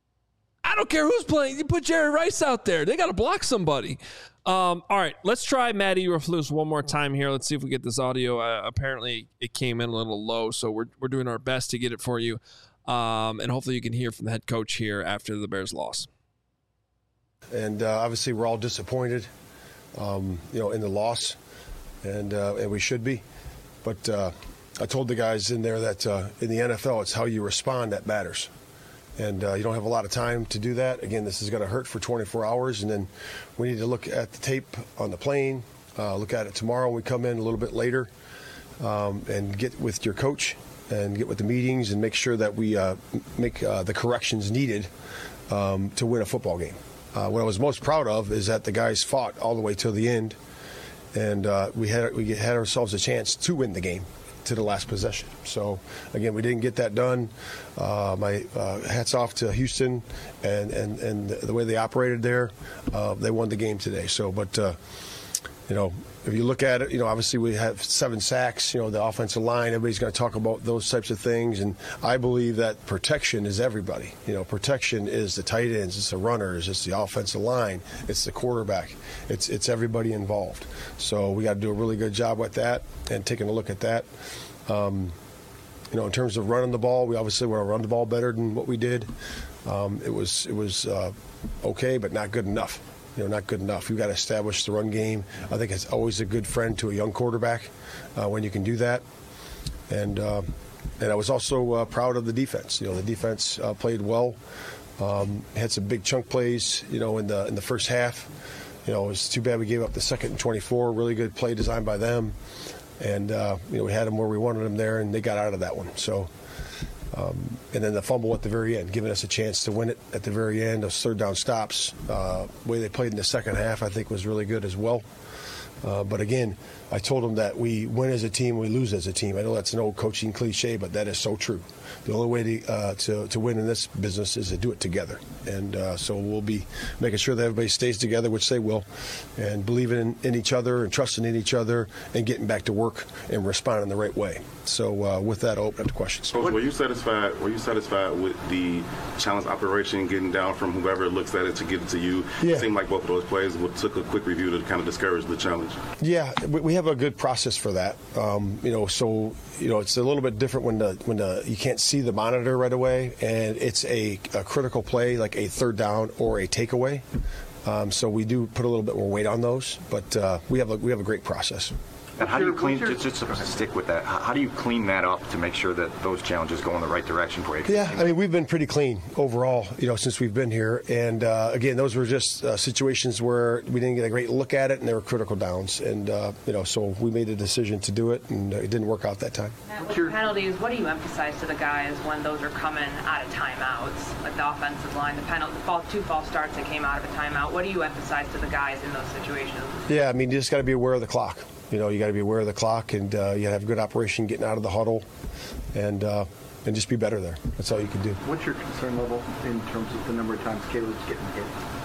I don't care who's playing. You put Jerry Rice out there. They got to block somebody. Um, all right, let's try Matt Eberflus one more time here. Let's see if we get this audio. Uh, apparently, it came in a little low, so we're we're doing our best to get it for you, um, and hopefully, you can hear from the head coach here after the Bears loss. And uh, obviously, we're all disappointed, um, you know, in the loss. and uh, and we should be. But uh, I told the guys in there that uh, in the N F L, it's how you respond that matters. And uh, you don't have a lot of time to do that. Again, this is going to hurt for twenty-four hours, and then we need to look at the tape on the plane, uh, look at it tomorrow when we come in a little bit later, um, and get with your coach and get with the meetings and make sure that we uh, make uh, the corrections needed um, to win a football game. Uh, what I was most proud of is that the guys fought all the way till the end, and uh, we had we had ourselves a chance to win the game to the last possession. So, again, we didn't get that done. Uh, my uh, hats off to Houston and, and, and the way they operated there. Uh, they won the game today. So, but, uh, you know, if you look at it, you know, obviously we have seven sacks, you know, the offensive line, everybody's going to talk about those types of things. And I believe that protection is everybody. You know, protection is the tight ends, it's the runners, it's the offensive line, it's the quarterback. It's it's everybody involved. So we got to do a really good job with that and taking a look at that. Um, you know, in terms of running the ball, we obviously want to run the ball better than what we did. Um, it was, it was uh, okay, but not good enough. You know, not good enough. We've got to establish the run game. I think it's always a good friend to a young quarterback uh, when you can do that. And uh, and I was also uh, proud of the defense. You know, the defense uh, played well. Um, had some big chunk plays. You know, in the in the first half. You know, it was too bad we gave up the second and twenty-four. Really good play designed by them. And uh, you know, we had them where we wanted them there, and they got out of that one. So. Um, and then the fumble at the very end, giving us a chance to win it at the very end. Those third down stops, uh, the way they played in the second half, I think was really good as well. Uh, but again, I told them that we win as a team, we lose as a team. I know that's an old coaching cliche, but that is so true. The only way to uh, to, to win in this business is to do it together. And uh, so we'll be making sure that everybody stays together, which they will, and believing in, in each other and trusting in each other and getting back to work and responding the right way. So uh, with that, I'll open up to questions. Coach, were you satisfied? Were you satisfied with the challenge operation, getting down from whoever looks at it to get it to you? Yeah. It seemed like both of those plays took a quick review to kind of discourage the challenge. Yeah, we have a good process for that. Um, you know, so you know it's a little bit different when the when the you can't see the monitor right away, and it's a, a critical play like a third down or a takeaway. Um, so we do put a little bit more weight on those, but uh, we have a we have a great process. And how do you clean, just, just to stick with that, how do you clean that up to make sure that those challenges go in the right direction for you? Yeah, I mean, we've been pretty clean overall, you know, since we've been here. And, uh, again, those were just uh, situations where we didn't get a great look at it, and they were critical downs. And, uh, you know, so we made a decision to do it, and it didn't work out that time. With your penalties, what do you emphasize to the guys when those are coming out of timeouts? Like the offensive line, the penalty, the fall, two false starts that came out of a timeout. What do you emphasize to the guys in those situations? Yeah, I mean, you just got to be aware of the clock. You know, you got to be aware of the clock, and uh, you got to have good operation getting out of the huddle, and uh, and just be better there. That's all you can do. What's your concern level in terms of the number of times Caleb's getting hit?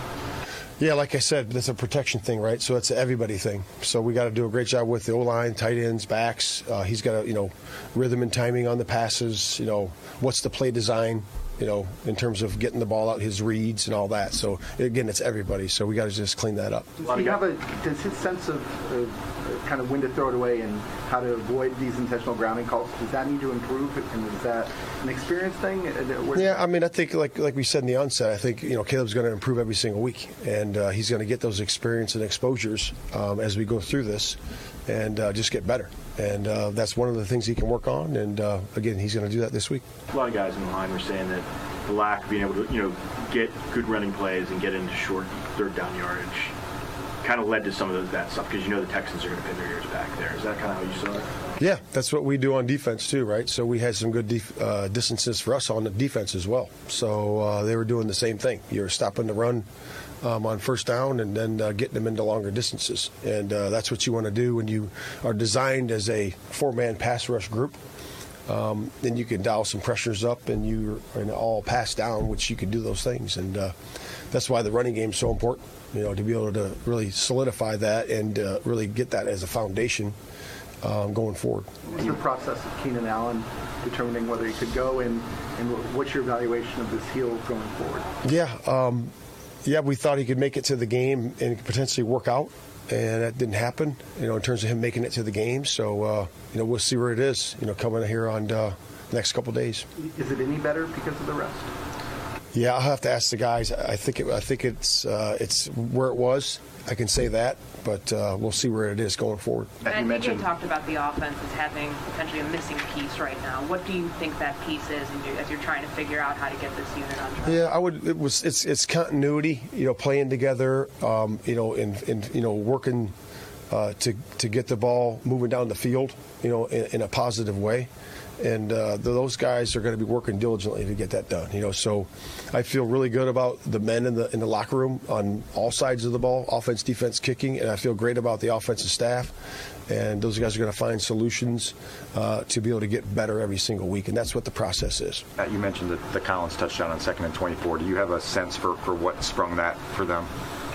Yeah, like I said, that's a protection thing, right? So it's an everybody thing. So we got to do a great job with the O-line, tight ends, backs. Uh, he's got to, you know, rhythm and timing on the passes. You know, what's the play design? You know, in terms of getting the ball out, his reads and all that. So again, it's everybody. So we got to just clean that up. Does he have a does his sense of uh, kind of when to throw it away and how to avoid these intentional grounding calls, does that need to improve? And is that an experience thing? Where yeah, I mean, I think like like we said in the onset, I think you know Caleb's going to improve every single week, and uh, he's going to get those experience and exposures um, as we go through this, and uh, just get better. And uh, that's one of the things he can work on. And uh, again, he's going to do that this week. A lot of guys in the line were saying that the lack of being able to, you know, get good running plays and get into short third down yardage kind of led to some of those, that stuff, because you know the Texans are going to pin their ears back there. Is that kind of how you saw it? Yeah, that's what we do on defense too, right? So we had some good def- uh, distances for us on the defense as well. So uh, they were doing the same thing. You're stopping the run um, on first down and then uh, getting them into longer distances. And uh, that's what you want to do when you are designed as a four-man pass rush group. Um, then you can dial some pressures up and you're and all pass down, which you can do those things. And uh, that's why the running game is so important, you know, to be able to really solidify that and uh, really get that as a foundation um, going forward. What's the process of Keenan Allen determining whether he could go, and, and what's your evaluation of this heel going forward? Yeah, um, yeah, we thought he could make it to the game and potentially work out. And that didn't happen, you know, in terms of him making it to the game. So, uh, you know, we'll see where it is, you know, coming here on uh, the next couple of days. Is it any better because of the rest? Yeah, I'll have to ask the guys. I think it, I think it's uh, it's where it was. I can say that, but uh, we'll see where it is going forward. I think you talked about the offense as having potentially a missing piece right now. What do you think that piece is, and as you're trying to figure out how to get this unit on track? Yeah, I would. It was. It's it's continuity. You know, playing together. Um, you know, in in you know working uh, to to get the ball moving down the field. You know, in, in a positive way. And uh, those guys are going to be working diligently to get that done. You know, so I feel really good about the men in the in the locker room on all sides of the ball, offense, defense, kicking, and I feel great about the offensive staff. And those guys are going to find solutions uh, to be able to get better every single week, and that's what the process is. Uh, you mentioned the, the Collins touchdown on second and twenty-four. Do you have a sense for, for what sprung that for them?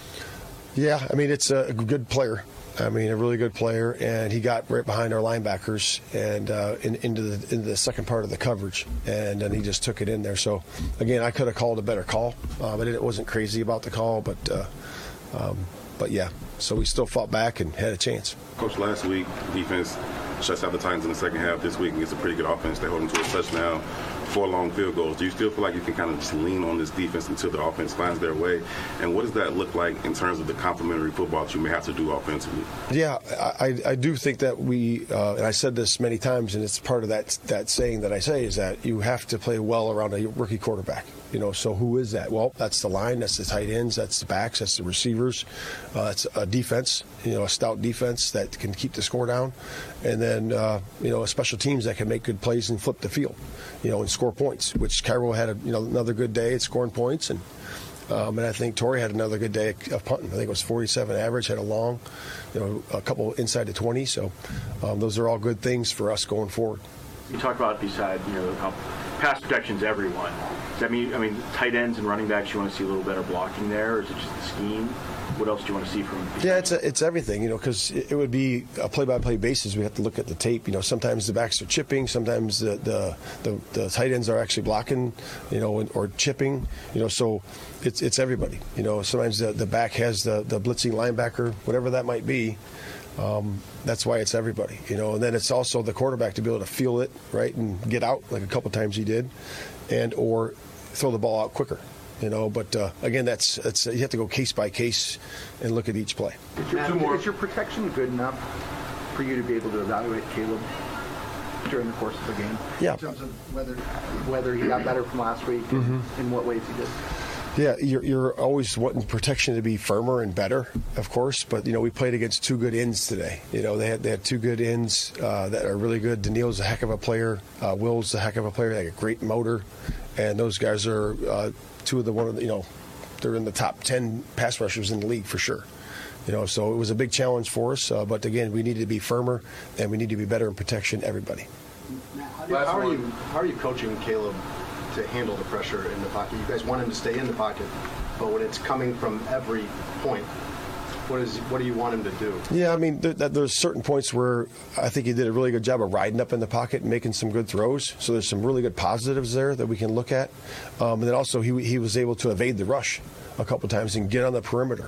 Yeah, I mean, it's a good player. I mean, a really good player, and he got right behind our linebackers and uh, in, into the into the second part of the coverage, and then he just took it in there. So, again, I could have called a better call, uh, but it wasn't crazy about the call. But, uh, um, but yeah, so we still fought back and had a chance. Coach, last week defense shuts out the Titans in the second half. This week against a pretty good offense, they hold them to a touchdown, four long field goals. Do you still feel like you can kind of just lean on this defense until the offense finds their way? And what does that look like in terms of the complementary football that you may have to do offensively? Yeah, I, I do think that we, uh, and I said this many times, and it's part of that that saying that I say, is that you have to play well around a rookie quarterback. You know, so who is that? Well, that's the line, that's the tight ends, that's the backs, that's the receivers, uh, it's a defense, you know, a stout defense that can keep the score down, and then, uh, you know, a special teams that can make good plays and flip the field, you know, and score points, which Cairo had, a, you know, another good day at scoring points, and um, and I think Torrey had another good day of punting. I think it was forty-seven average, had a long, you know, a couple inside the twenty, so um, those are all good things for us going forward. You talk about beside, you know, how pass protection's everyone. Does that mean, I mean, tight ends and running backs, you want to see a little better blocking there, or is it just the scheme? What else do you want to see from? Yeah, it's a, it's everything, you know, because it would be a play-by-play basis. We have to look at the tape. You know, sometimes the backs are chipping, sometimes the the, the, the tight ends are actually blocking, you know, or chipping. You know, so it's it's everybody. You know, sometimes the, the back has the, the blitzing linebacker, whatever that might be. Um, that's why it's everybody, you know, and then it's also the quarterback to be able to feel it, right, and get out like a couple times he did, and or throw the ball out quicker, you know. But uh, again, that's that's you have to go case by case and look at each play. Is your, is your protection good enough for you to be able to evaluate Caleb during the course of the game? Yeah. In terms of whether whether he got better from last week, Mm-hmm. and in what ways he did. Yeah, you're, you're always wanting protection to be firmer and better, of course. But you know, we played against two good ends today. You know, they had they had two good ends uh, that are really good. Daniil's a heck of a player. Uh, Will's a heck of a player. They have a great motor, and those guys are uh, two of the one of the, you know, they're in the top ten pass rushers in the league for sure. You know, so it was a big challenge for us. Uh, but again, we need to be firmer, and we need to be better in protection. Everybody. How, do, how are you? How are you coaching Caleb to handle the pressure in the pocket? You guys want him to stay in the pocket, but when it's coming from every point, what is what do you want him to do? Yeah, I mean, there, there's certain points where I think he did a really good job of riding up in the pocket and making some good throws. So there's some really good positives there that we can look at. Um, and then also he he was able to evade the rush a couple times and get on the perimeter.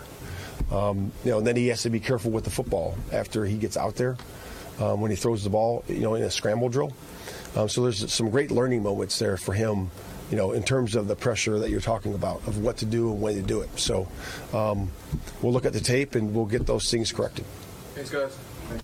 Um, you know, and then he has to be careful with the football after he gets out there um, when he throws the ball, you know, in a scramble drill. Um, so there's some great learning moments there for him, you know, in terms of the pressure that you're talking about, of what to do and when to do it. So um, we'll look at the tape and we'll get those things corrected. Thanks, guys.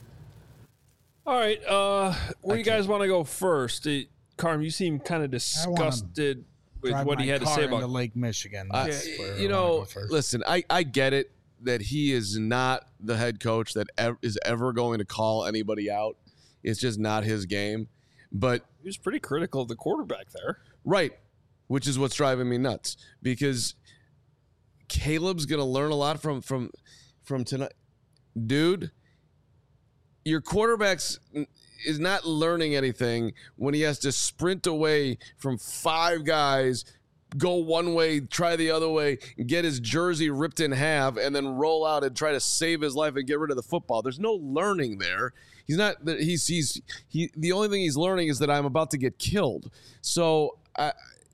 All right. Uh, where do you guys want to go first? Uh, Carm, you seem kind of disgusted with Drive what my he had to car say into about Lake Michigan. Uh, That's where I you wanna know, go first. listen, I, I get it that he is not the head coach that ev- is ever going to call anybody out. It's just not his game. But he was pretty critical of the quarterback there. Right, which is what's driving me nuts, because Caleb's going to learn a lot from from from tonight. Dude, your quarterback's is not learning anything when he has to sprint away from five guys, go one way, try the other way, get his jersey ripped in half, and then roll out and try to save his life and get rid of the football. There's no learning there. He's not. He's he's he. The only thing he's learning is that I'm about to get killed. So I,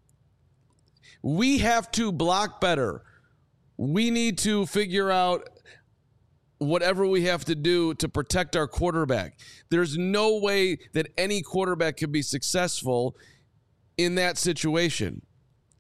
we have to block better. We need to figure out whatever we have to do to protect our quarterback. There's no way that any quarterback could be successful in that situation.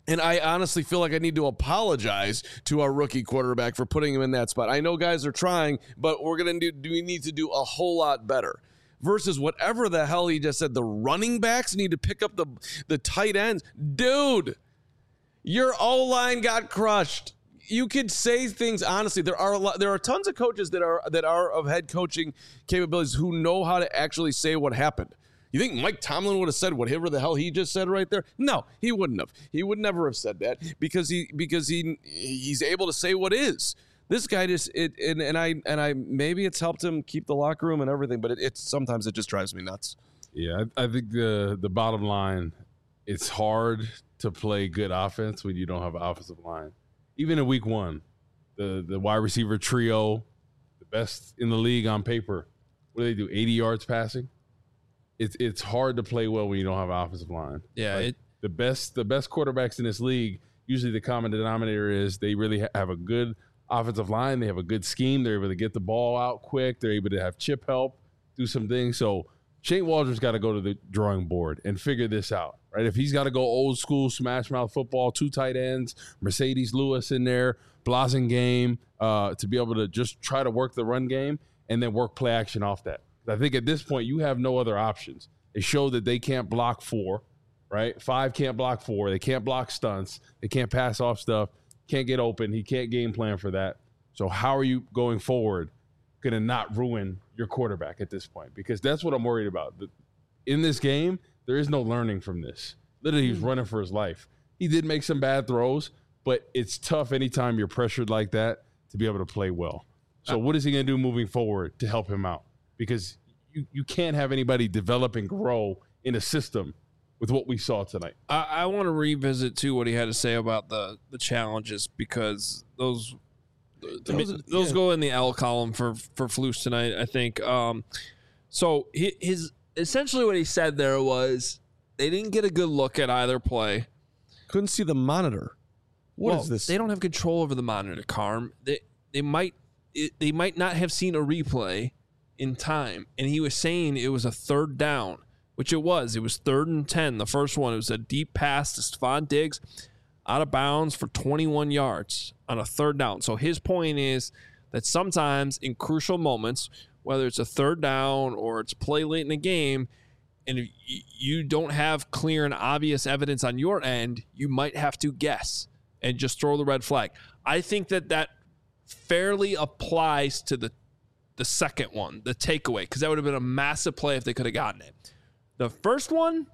And I honestly feel like I need to apologize to our rookie quarterback for putting him in that spot. I know guys are trying, but we're going to do, do we need to do a whole lot better versus whatever the hell he just said. The running backs need to pick up the, the tight ends. Dude, your O-line got crushed. You could say things honestly. There are a lot, there are tons of coaches that are that are of head coaching capabilities who know how to actually say what happened. You think Mike Tomlin would have said whatever the hell he just said right there? No, he wouldn't have. He would never have said that because he because he he's able to say what is. This guy just it and, and I and I maybe it's helped him keep the locker room and everything, but it, it's sometimes it just drives me nuts. Yeah, I, I think the the bottom line, it's hard to play good offense when you don't have an offensive line. Even in week one, the the wide receiver trio, the best in the league on paper. What do they do? eighty yards passing. It's it's hard to play well when you don't have an offensive line. Yeah, like it, the best the best quarterbacks in this league, usually the common denominator is they really ha- have a good offensive line. They have a good scheme. They're able to get the ball out quick. They're able to have chip help, do some things. So Shane Waldron's got to go to the drawing board and figure this out, right? If he's got to go old school smash mouth football, two tight ends, Mercedes Lewis in there, Blasingame, uh, to be able to just try to work the run game and then work play action off that. I think at this point you have no other options. They show that they can't block four, right? Five can't block four. They can't block stunts. They can't pass off stuff. Can't get open. He can't game plan for that. So how are you going forward going to not ruin your quarterback at this point? Because that's what I'm worried about. In this game, there is no learning from this. Literally, he's running for his life. He did make some bad throws, but it's tough anytime you're pressured like that to be able to play well. So what is he going to do moving forward to help him out? Because you, you can't have anybody develop and grow in a system with what we saw tonight. I, I want to revisit, too, what he had to say about the, the challenges because those those, those, those yeah. go in the L column for, for Flus tonight, I think. Um, so his essentially what he said there was they didn't get a good look at either play. Couldn't see the monitor. What well, is this? They don't have control over the monitor, Carm. They, they, might, it, they might not have seen a replay in time, and he was saying it was a third down, which it was. It was third and ten. The first one, it was a deep pass to Stephon Diggs out of bounds for twenty-one yards on a third down. So his point is that sometimes in crucial moments, whether it's a third down or it's play late in the game, and if you don't have clear and obvious evidence on your end, you might have to guess and just throw the red flag. I think that that fairly applies to the the second one, the takeaway, because that would have been a massive play if they could have gotten it. The first one,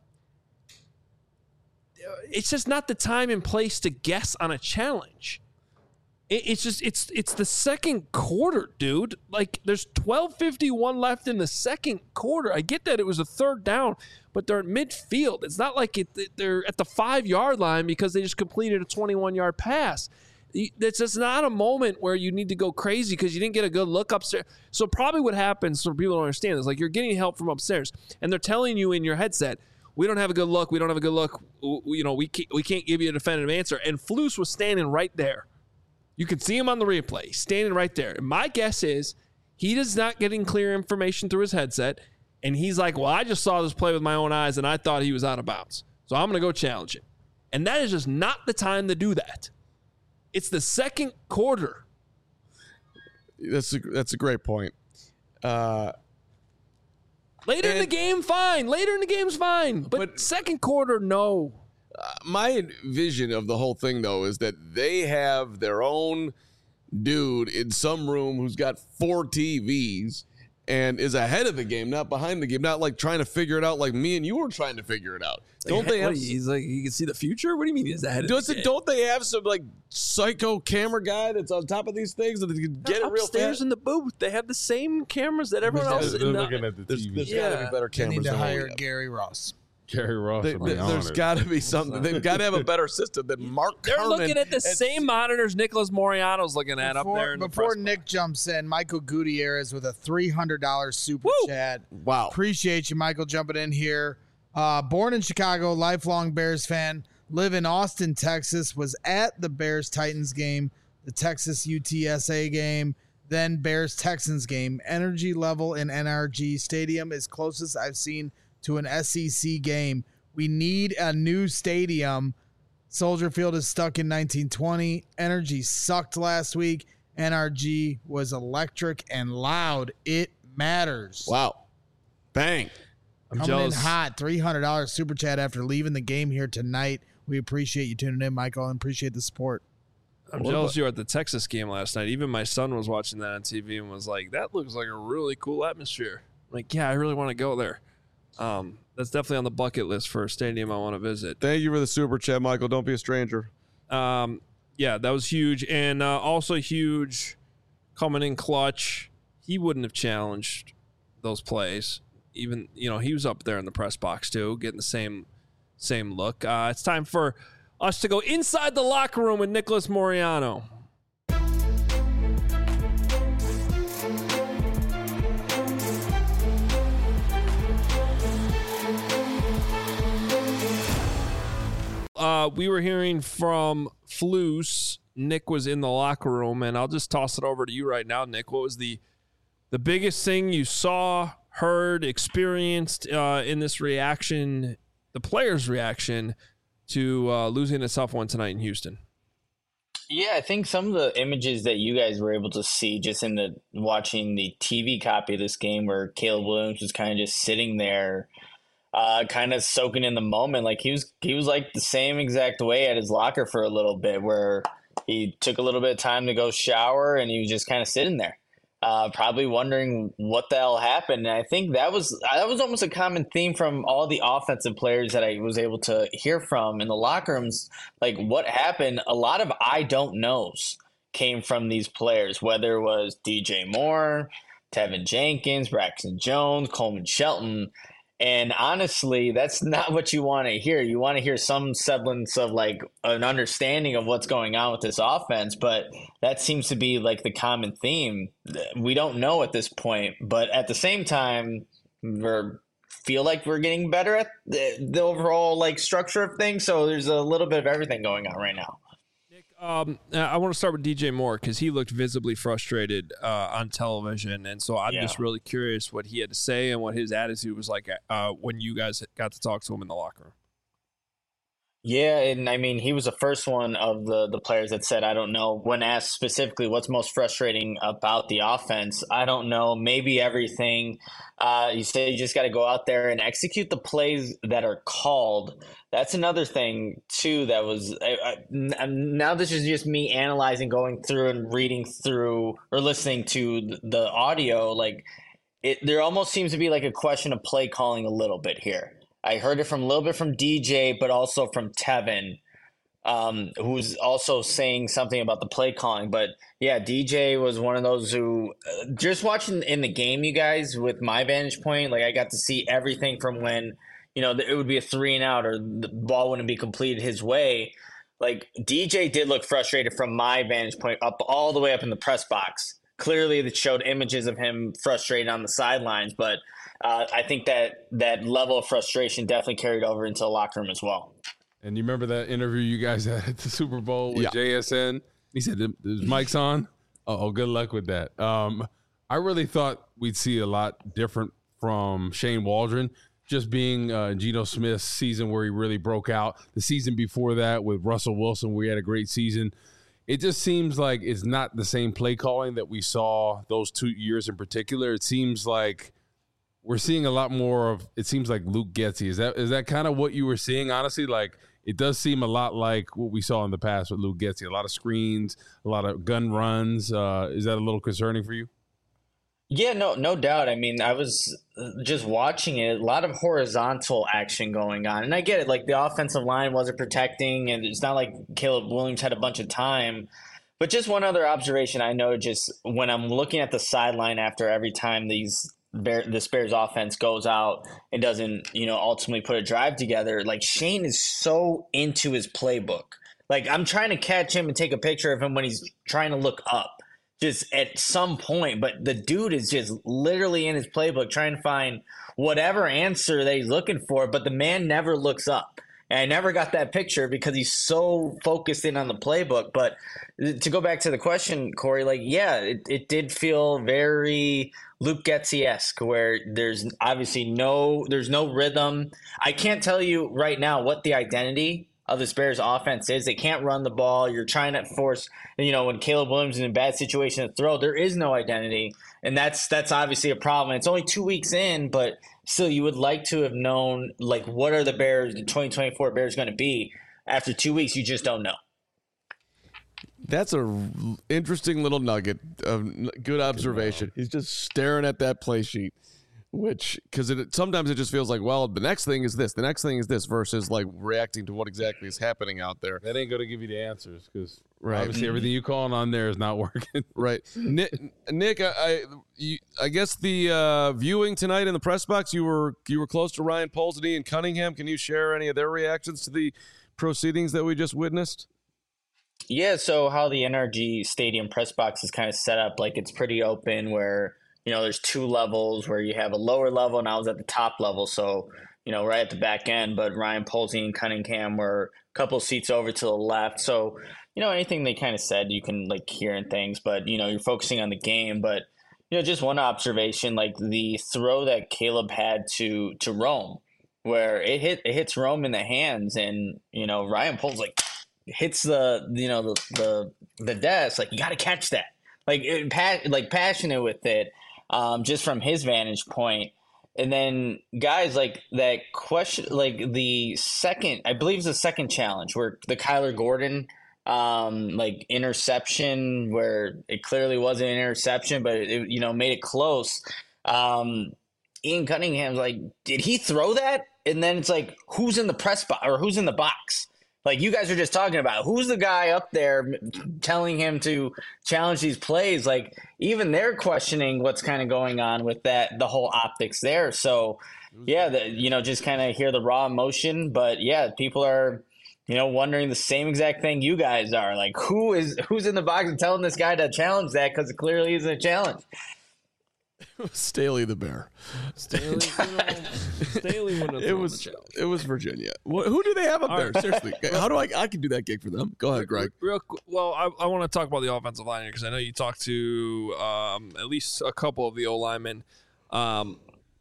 it's just not the time and place to guess on a challenge. It, it's just, it's it's the second quarter, dude. Like, there's twelve fifty-one left in the second quarter. I get that it was a third down, but they're at midfield. It's not like it, they're at the five-yard line because they just completed a twenty-one-yard pass. It's just not a moment where you need to go crazy because you didn't get a good look upstairs. So probably what happens, so people don't understand, is like you're getting help from upstairs, and they're telling you in your headset, we don't have a good look, we don't have a good look, you know, we can't, we can't give you a definitive answer. And Flus was standing right there. You can see him on the replay. He's standing right there. And my guess is he is not getting clear information through his headset, and he's like, well, I just saw this play with my own eyes, and I thought he was out of bounds. So I'm going to go challenge it. And that is just not the time to do that. It's the second quarter. That's a, that's a great point. Uh, Later in the game, fine. Later in the game's fine. But, but second quarter, no. Uh, my vision of the whole thing, though, is that they have their own dude in some room who's got four T Vs and is ahead of the game, not behind the game, not like trying to figure it out like me and you were trying to figure it out. Like, don't they have? What, he's like, he can see the future? What do you mean he's ahead of does the it, game? Don't they have some like psycho camera guy that's on top of these things that they can get They're it real upstairs fast? in the booth. They have the same cameras that everyone else. They're in looking the, at the There's, T V. there's Yeah. got to be better They cameras. need to than what we hire have. Gary Ross. Gary Ross. They, they, there's got to be something. They've got to have a better system than Mark They're Carman looking at the same monitors Nicholas Moriano's looking at Before, up there. In before the Nick jumps in, Michael Gutierrez with a three hundred dollars super Woo! chat. Wow. Appreciate you, Michael, jumping in here. Uh, born in Chicago, lifelong Bears fan. Live in Austin, Texas. Was at the Bears-Titans game, the Texas U T S A game, then Bears-Texans game. Energy level in N R G Stadium is closest I've seen to an S E C game. We need a new stadium Soldier Field is stuck in nineteen twenty. Energy sucked last week. N R G was electric and loud. It matters. Wow. Bang. I'm Coming jealous. in hot. three hundred dollars super chat after leaving the game here tonight. We appreciate you tuning in, Michael, and appreciate the support. I'm jealous you were at the Texas game last night. Even my son was watching that on T V and was like, that looks like a really cool atmosphere. I'm like, yeah, I really want to go there. Um, that's definitely on the bucket list for a stadium I want to visit. Thank you for the super chat, Michael. Don't be a stranger. Um, yeah, that was huge. And uh, also huge coming in clutch. He wouldn't have challenged those plays. Even, you know, he was up there in the press box too, getting the same same look. Uh, it's time for us to go inside the locker room with Nicholas Moreano. Uh, we were hearing from Flus. Nick was in the locker room, and I'll just toss it over to you right now, Nick. What was the the biggest thing you saw, heard, experienced uh, in this reaction, the players' reaction to uh, losing a tough one tonight in Houston? Yeah, I think some of the images that you guys were able to see just in the watching the T V copy of this game where Caleb Williams was kind of just sitting there, uh, kind of soaking in the moment. Like he was, he was like the same exact way at his locker for a little bit where he took a little bit of time to go shower and he was just kind of sitting there. Uh, probably wondering what the hell happened. And I think that was that was almost a common theme from all the offensive players that I was able to hear from in the locker rooms. Like what happened, a lot of I don't knows came from these players, whether it was D J Moore, Tevin Jenkins, Braxton Jones, Coleman Shelton. And honestly, that's not what you want to hear. You want to hear some semblance of like an understanding of what's going on with this offense, but that seems to be like the common theme. We don't know at this point, but at the same time, we feel like we're getting better at the, the overall like structure of things. So there's a little bit of everything going on right now. Um, I want to start with D J Moore because he looked visibly frustrated uh, on television, and so I'm Yeah. just really curious what he had to say and what his attitude was like uh, when you guys got to talk to him in the locker room. Yeah, and I mean, he was the first one of the, the players that said, I don't know, when asked specifically what's most frustrating about the offense, I don't know, maybe everything. Uh, you say you just got to go out there and execute the plays that are called. That's another thing, too, that was I, I, now this is just me analyzing, going through and reading through or listening to the audio. Like, it, there almost seems to be like a question of play calling a little bit here. I heard it from a little bit from D J, but also from Tevin, um, who's also saying something about the play calling. But yeah, D J was one of those who uh, just watching in the game, you guys, with my vantage point, like I got to see everything from when, you know, it would be a three and out or the ball wouldn't be completed his way. Like D J did look frustrated from my vantage point up all the way up in the press box. Clearly it showed images of him frustrated on the sidelines, but Uh, I think that that level of frustration definitely carried over into the locker room as well. And you remember that interview you guys had at the Super Bowl with Yeah. J S N? He said, "Is mic's on?" Oh, good luck with that. Um, I really thought we'd see a lot different from Shane Waldron, just being uh, Geno Smith's season where he really broke out. The season before that with Russell Wilson, we had a great season. It just seems like it's not the same play calling that we saw those two years in particular. It seems like we're seeing a lot more of, it seems like Luke Getsy. Is that is that kind of what you were seeing, honestly? Like, it does seem a lot like what we saw in the past with Luke Getsy. A lot of screens, a lot of gun runs. Uh, is that a little concerning for you? Yeah, no, no doubt. I mean, I was just watching it, a lot of horizontal action going on. And I get it, like the offensive line wasn't protecting, and it's not like Caleb Williams had a bunch of time. But just one other observation I know, just when I'm looking at the sideline after every time these Bear, this Bears offense goes out and doesn't, you know, ultimately put a drive together, like Shane is so into his playbook. Like I'm trying to catch him and take a picture of him when he's trying to look up just at some point, but the dude is just literally in his playbook trying to find whatever answer that he's looking for, but the man never looks up. And I never got that picture because he's so focused in on the playbook. But to go back to the question, Corey, like, yeah, it, it did feel very Luke Getsy-esque, where there's obviously no there's no rhythm. I can't tell you right now what the identity of this Bears offense is. They can't run the ball. You're trying to force, you know, when Caleb Williams is in a bad situation to throw, there is no identity. And that's that's obviously a problem. It's only two weeks in, but still you would like to have known, like, what are the Bears, the twenty twenty-four Bears going to be after two weeks? You just don't know. That's a interesting little nugget of good observation. He's just staring at that play sheet, which because it sometimes it just feels like, well, the next thing is this, the next thing is this, versus like reacting to what exactly is happening out there. That ain't going to give you the answers because right. obviously everything you calling on there is not working. Right, Nick. Nick, I, I, you, I guess the uh, viewing tonight in the press box, you were you were close to Ryan Poles and Ian Cunningham. Can you share any of their reactions to the proceedings that we just witnessed? Yeah, so how the N R G Stadium press box is kind of set up, like it's pretty open where, you know, there's two levels where you have a lower level and I was at the top level. So, you know, right at the back end, but Ryan Polsey and Cunningham were a couple seats over to the left. So, you know, anything they kind of said, you can like hear and things, but, you know, you're focusing on the game. But, you know, just one observation, like the throw that Caleb had to, to Rome, where it hit, it hits Rome in the hands and, you know, Ryan Poles like, hits the you know the the, the desk, like you got to catch that, like it, pa- like passionate with it, um, just from his vantage point. And then guys like that question, like the second, I believe it's the second challenge where the Kyler Gordon um, like interception, where it clearly wasn't an interception, but it, you know made it close. Um, Ian Cunningham's like, did he throw that? And then it's like, who's in the press box or who's in the box? Like you guys are just talking about who's the guy up there telling him to challenge these plays. Like even they're questioning what's kind of going on with that, the whole optics there. So yeah, the, you know, just kind of hear the raw emotion, but yeah, people are, you know, wondering the same exact thing you guys are. Like who is, who's in the box and telling this guy to challenge that? Cause it clearly isn't a challenge. Staley the Bear. Staley, you know, Staley wouldn't have it was the challenge. It was Virginia. What, who do they have up All there? right. Seriously, how do I? I can do that gig for them. Go ahead, Greg. Real qu- well, I, I want to talk about the offensive line here because I know you talked to um, at least a couple of the O linemen. Um,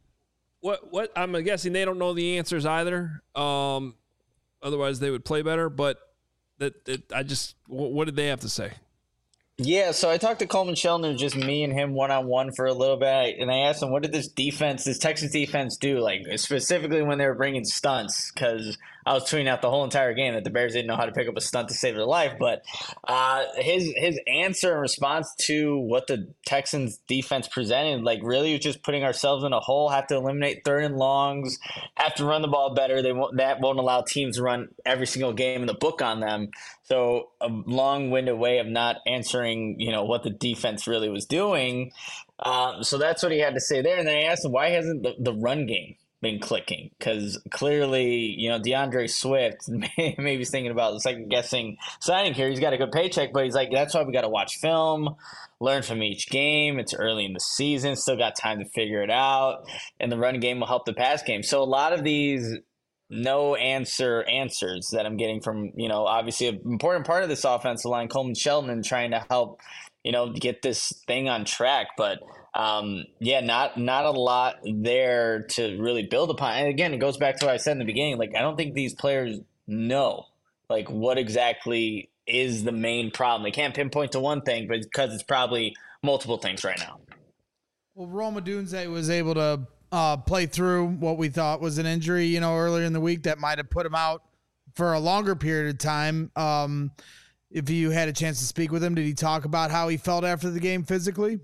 what what I'm guessing they don't know the answers either. Um, otherwise, they would play better. But that, that I just what, what did they have to say? Yeah, so I talked to Coleman Shelton, just me and him one-on-one for a little bit, and I asked him, what did this defense, this Texas defense do, like specifically when they were bringing stunts, because I was tweeting out the whole entire game that the Bears didn't know how to pick up a stunt to save their life, but uh, his his answer and response to what the Texans defense presented, like really was just putting ourselves in a hole, have to eliminate third and longs, have to run the ball better. They won't, that won't allow teams to run every single game in the book on them. So a long-winded way of not answering, you know, what the defense really was doing. Um, so that's what he had to say there. And then I asked him, why hasn't the, the run game been clicking? Because clearly, you know, DeAndre Swift, maybe he's thinking about the second-guessing signing here. He's got a good paycheck, but he's like, that's why we got to watch film, learn from each game. It's early in the season, still got time to figure it out. And the run game will help the pass game. So a lot of these – no answer answers that I'm getting from, you know, obviously an important part of this offensive line, Coleman Shelton, and trying to help, you know, get this thing on track. But um, yeah, not not a lot there to really build upon. And again, it goes back to what I said in the beginning. Like, I don't think these players know, like, what exactly is the main problem. They can't pinpoint to one thing, but because it's probably multiple things right now. Well, Rome Odunze was able to Uh, play through what we thought was an injury, you know, earlier in the week that might have put him out for a longer period of time. Um, if you had a chance to speak with him, did he talk about how he felt after the game physically?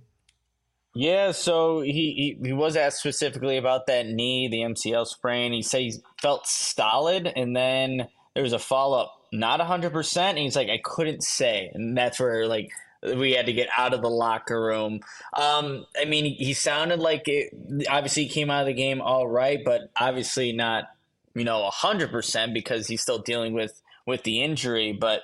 Yeah, so he, he, he was asked specifically about that knee, the M C L sprain. He said he felt stolid, and then there was a follow-up, not one hundred percent. And he's like, I couldn't say. And that's where, like, we had to get out of the locker room. Um, I mean, he, he sounded like it. Obviously, he came out of the game all right, but obviously not, you know, one hundred percent because he's still dealing with, with the injury. But,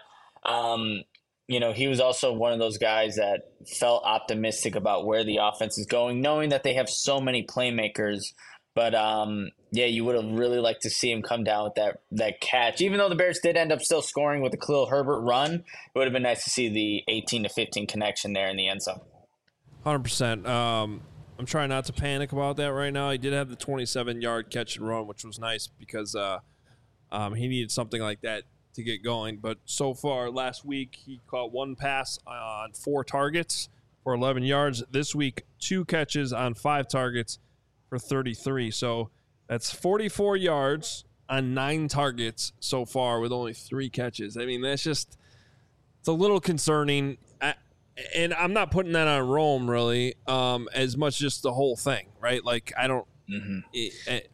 um, you know, he was also one of those guys that felt optimistic about where the offense is going, knowing that they have so many playmakers. But, um, yeah, you would have really liked to see him come down with that that catch. Even though the Bears did end up still scoring with the Khalil Herbert run, it would have been nice to see the eighteen to fifteen connection there in the end zone. one hundred percent. Um, I'm trying not to panic about that right now. He did have the twenty-seven-yard catch and run, which was nice because uh, um, he needed something like that to get going. But so far, last week, he caught one pass on four targets for eleven yards. This week, two catches on five targets for thirty-three. So that's forty-four yards on nine targets so far with only three catches. I mean, that's just, it's a little concerning. I, and I'm not putting that on Rome, really, um, as much just the whole thing, right? Like, I don't, mm-hmm. it, it,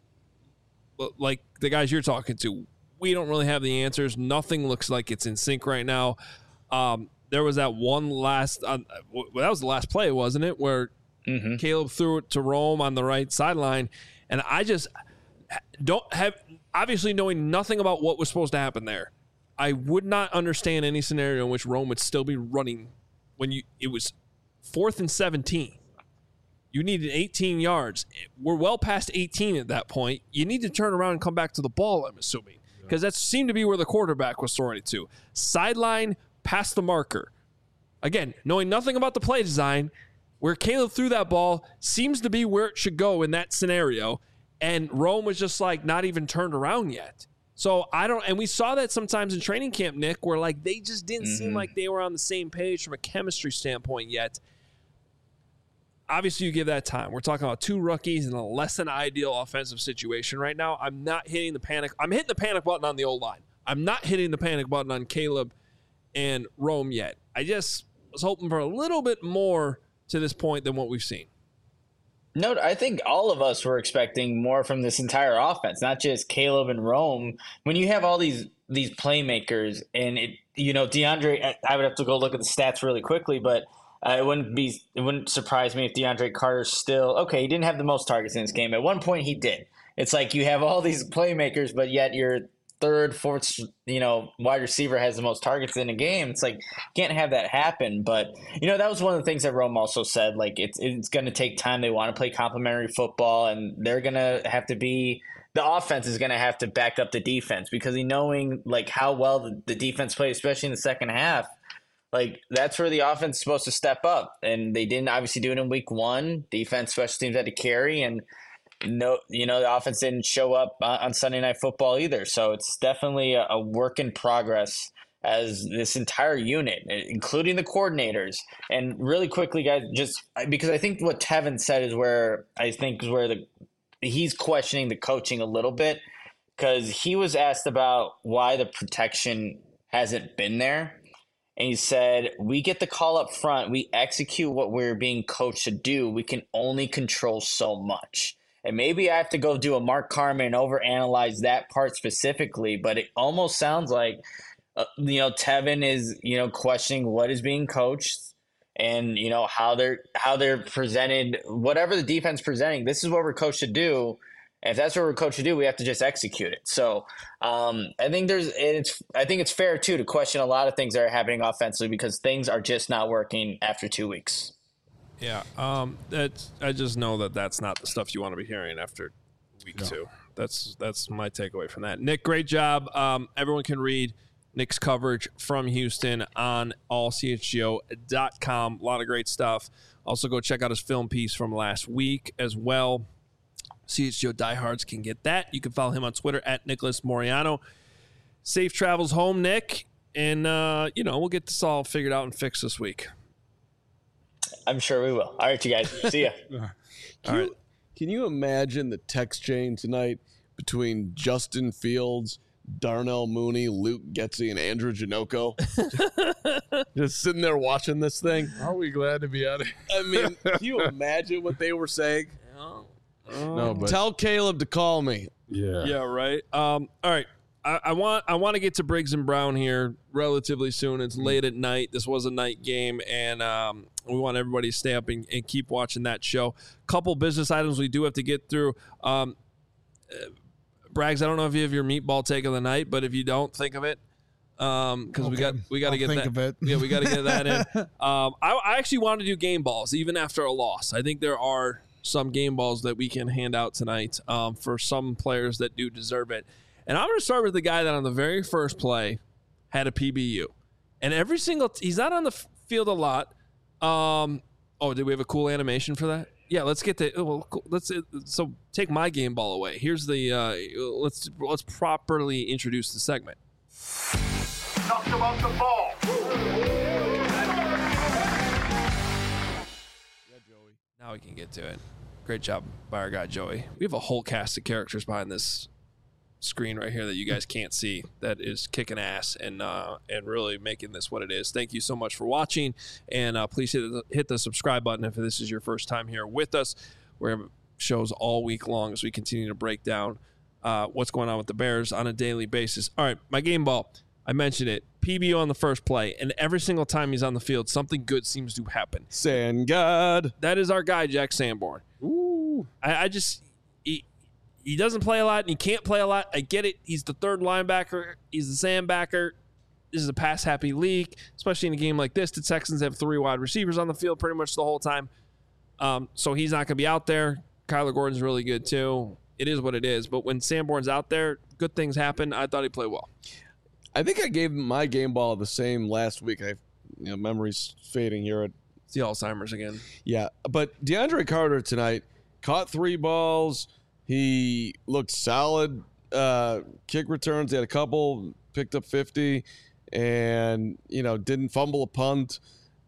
like the guys you're talking to, we don't really have the answers. Nothing looks like it's in sync right now. Um, there was that one last, uh, well, that was the last play, wasn't it? Where mm-hmm. Caleb threw it to Rome on the right sideline. And I just don't have, obviously knowing nothing about what was supposed to happen there, I would not understand any scenario in which Rome would still be running when you, it was fourth and seventeen. You needed eighteen yards. We're well past eighteen at that point. You need to turn around and come back to the ball, I'm assuming, because that seemed to be where the quarterback was throwing it to. Sideline, past the marker. Again, knowing nothing about the play design, where Caleb threw that ball seems to be where it should go in that scenario, and Rome was just like not even turned around yet. So I don't, and we saw that sometimes in training camp, Nick, where like they just didn't mm-hmm. seem like they were on the same page from a chemistry standpoint yet. Obviously, you give that time. We're talking about two rookies in a less than ideal offensive situation right now. I'm not hitting the panic. I'm hitting the panic button on the old line. I'm not hitting the panic button on Caleb and Rome yet. I just was hoping for a little bit more to this point than what we've seen. No, I think all of us were expecting more from this entire offense, not just Caleb and Rome. When you have all these these playmakers, and it, you know, DeAndre, I would have to go look at the stats really quickly, but uh, it wouldn't be it wouldn't surprise me if DeAndre Carter's still okay. He didn't have the most targets in this game. At one point, he did. It's like you have all these playmakers, but yet your third, fourth, you know, wide receiver has the most targets in a game. It's like you can't have that happen. But you know, that was one of the things that Rome also said. Like it's it's going to take time. They want to play complementary football, and they're going to have to be. The offense is going to have to back up the defense because he knowing like how well the, the defense played, especially in the second half. Like that's where the offense is supposed to step up, and they didn't obviously do it in week one. Defense, special teams had to carry, and no, you know the offense didn't show up on Sunday Night Football either. So it's definitely a, a work in progress as this entire unit, including the coordinators. And really quickly, guys, just because I think what Tevin said is where I think is where the he's questioning the coaching a little bit because he was asked about why the protection hasn't been there. And he said, we get the call up front. We execute what we're being coached to do. We can only control so much. And maybe I have to go do a Mark Carman and overanalyze that part specifically. But it almost sounds like, uh, you know, Tevin is, you know, questioning what is being coached and, you know, how they're how they're presented, whatever the defense presenting. This is what we're coached to do. And if that's what we're coached to do, we have to just execute it. So um, I think there's it's I think it's fair too to question a lot of things that are happening offensively because things are just not working after two weeks. Yeah, um, that's I just know that that's not the stuff you want to be hearing after week no. two. That's that's my takeaway from that. Nick, great job. Um, everyone can read Nick's coverage from Houston on all c h g o dot com. A lot of great stuff. Also, go check out his film piece from last week as well. C H G O diehards can get that. You can follow him on Twitter at Nicholas Moriano. Safe travels home, Nick. And, uh, you know, we'll get this all figured out and fixed this week. I'm sure we will. All right, you guys. See ya. Can, all you, right. Can you imagine the text chain tonight between Justin Fields, Darnell Mooney, Luke Getsy, and Andrew Janocko? Just sitting there watching this thing. Are we glad to be out of here? I mean, can you imagine what they were saying? No. No, but tell Caleb to call me. Yeah. Yeah, right. Um, all right. I, I want I want to get to Briggs and Brown here relatively soon. It's late at night. This was a night game, and um, we want everybody to stay up and, and keep watching that show. Couple business items we do have to get through. Um, uh, Braggs, I don't know if you have your meatball take of the night, but if you don't, think of it. Um, because okay. we got we got to get think that. Of it. Yeah, we got to get that in. Um, I, I actually want to do game balls even after a loss. I think there are some game balls that we can hand out tonight um, for some players that do deserve it. And I'm going to start with the guy that on the very first play had a P B U. And every single – he's not on the field a lot. Um, oh, did we have a cool animation for that? Yeah, let's get the well, – let's so take my game ball away. Here's the uh, – let's let's properly introduce the segment. Knocked him off the ball. Now we can get to it. Great job by our guy, Joey. We have a whole cast of characters behind this screen right here that you guys can't see that is kicking ass and uh, and really making this what it is. Thank you so much for watching, and uh, please hit the, hit the subscribe button if this is your first time here with us. We have shows all week long as we continue to break down uh, what's going on with the Bears on a daily basis. All right, my game ball. I mentioned it. P B O on the first play, and every single time he's on the field, something good seems to happen. Sand God. That is our guy, Jack Sanborn. Ooh. I, I just he, he doesn't play a lot, and he can't play a lot. I get it. He's the third linebacker. He's the sandbacker. This is a pass-happy league, especially in a game like this. The Texans have three wide receivers on the field pretty much the whole time. Um, so he's not going to be out there. Kyler Gordon's really good, too. It is what it is. But when Sanborn's out there, good things happen. I thought he played well. I think I gave my game ball the same last week. I, you know, memory's fading here. At, it's the Alzheimer's again. Yeah, but DeAndre Carter tonight caught three balls. He looked solid. Uh, kick returns, he had a couple, picked up fifty, and you know didn't fumble a punt.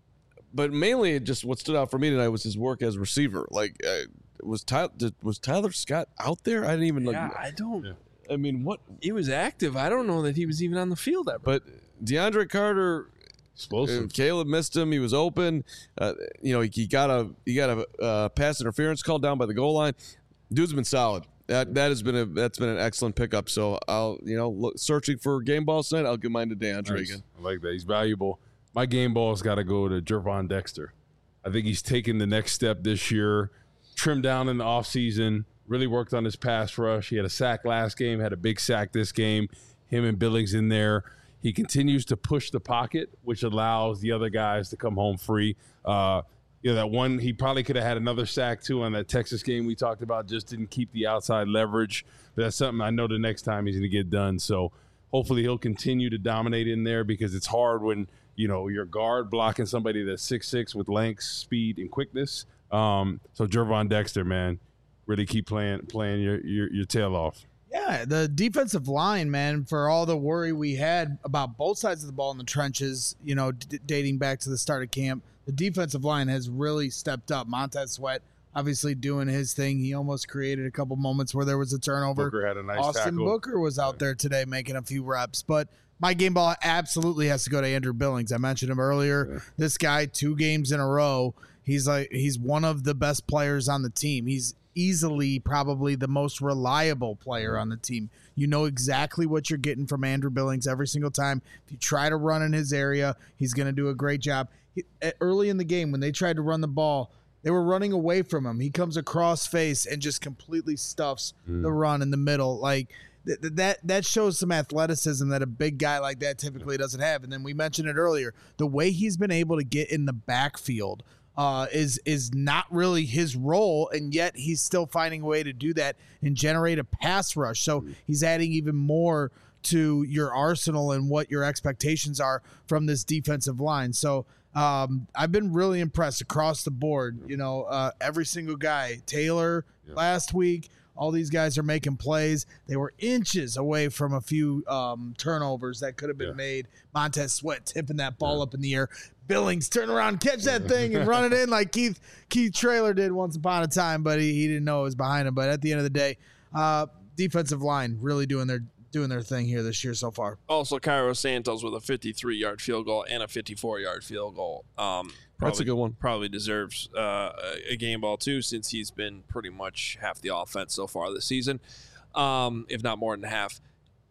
But mainly, just what stood out for me tonight was his work as receiver. Like, uh, was Tyler was Tyler Scott out there? I didn't even look. Yeah, I don't. Yeah. I mean, what? He was active. I don't know that he was even on the field ever. But DeAndre Carter, explosive. Uh, Caleb missed him. He was open. Uh, you know, he, he got a he got a uh, pass interference called down by the goal line. Dude's been solid. That that has been a that's been an excellent pickup. So I'll you know look, searching for game balls tonight. I'll give mine to DeAndre nice. again. I like that. He's valuable. My game ball's got to go to Gervon Dexter. I think he's taken the next step this year. Trimmed down in the offseason. Really worked on his pass rush. He had a sack last game, had a big sack this game. Him and Billings in there. He continues to push the pocket, which allows the other guys to come home free. Uh, you know, that one, he probably could have had another sack, too, on that Texas game we talked about. Just didn't keep the outside leverage. But that's something I know the next time he's going to get done. So hopefully he'll continue to dominate in there because it's hard when, you know, your guard blocking somebody that's six six with length, speed, and quickness. Um, so Gervon Dexter, man. Really keep playing playing your, your your tail off. Yeah, the defensive line, man, for all the worry we had about both sides of the ball in the trenches, you know, d- dating back to the start of camp, the defensive line has really stepped up. Montez Sweat obviously doing his thing. He almost created a couple moments where there was a turnover. Booker had a nice Austin tackle. Booker was out there today making a few reps, but my game ball absolutely has to go to Andrew Billings. I mentioned him earlier. Yeah. This guy, two games in a row, he's like he's one of the best players on the team. He's easily probably the most reliable player on the team. You know exactly what you're getting from Andrew Billings every single time. If you try to run in his area, he's going to do a great job. He, early in the game, when they tried to run the ball, they were running away from him. He comes across face and just completely stuffs mm. the run in the middle. Like th- that, that shows some athleticism that a big guy like that typically doesn't have. And then we mentioned it earlier, the way he's been able to get in the backfield Uh, is is not really his role, and yet he's still finding a way to do that and generate a pass rush. So he's adding even more to your arsenal and what your expectations are from this defensive line. So um, I've been really impressed across the board. You know, uh, every single guy, Taylor yeah. last week, all these guys are making plays. They were inches away from a few um, turnovers that could have been yeah. made. Montez Sweat tipping that ball yeah. up in the air. Billings turn around, catch that thing, and run it in like Keith Keith Traylor did once upon a time, but he, he didn't know it was behind him. But at the end of the day, uh, defensive line really doing their doing their thing here this year so far. Also, Cairo Santos with a fifty-three-yard field goal and a fifty-four-yard field goal. Um, probably, That's a good one. Probably deserves uh, a game ball, too, since he's been pretty much half the offense so far this season, um, if not more than half.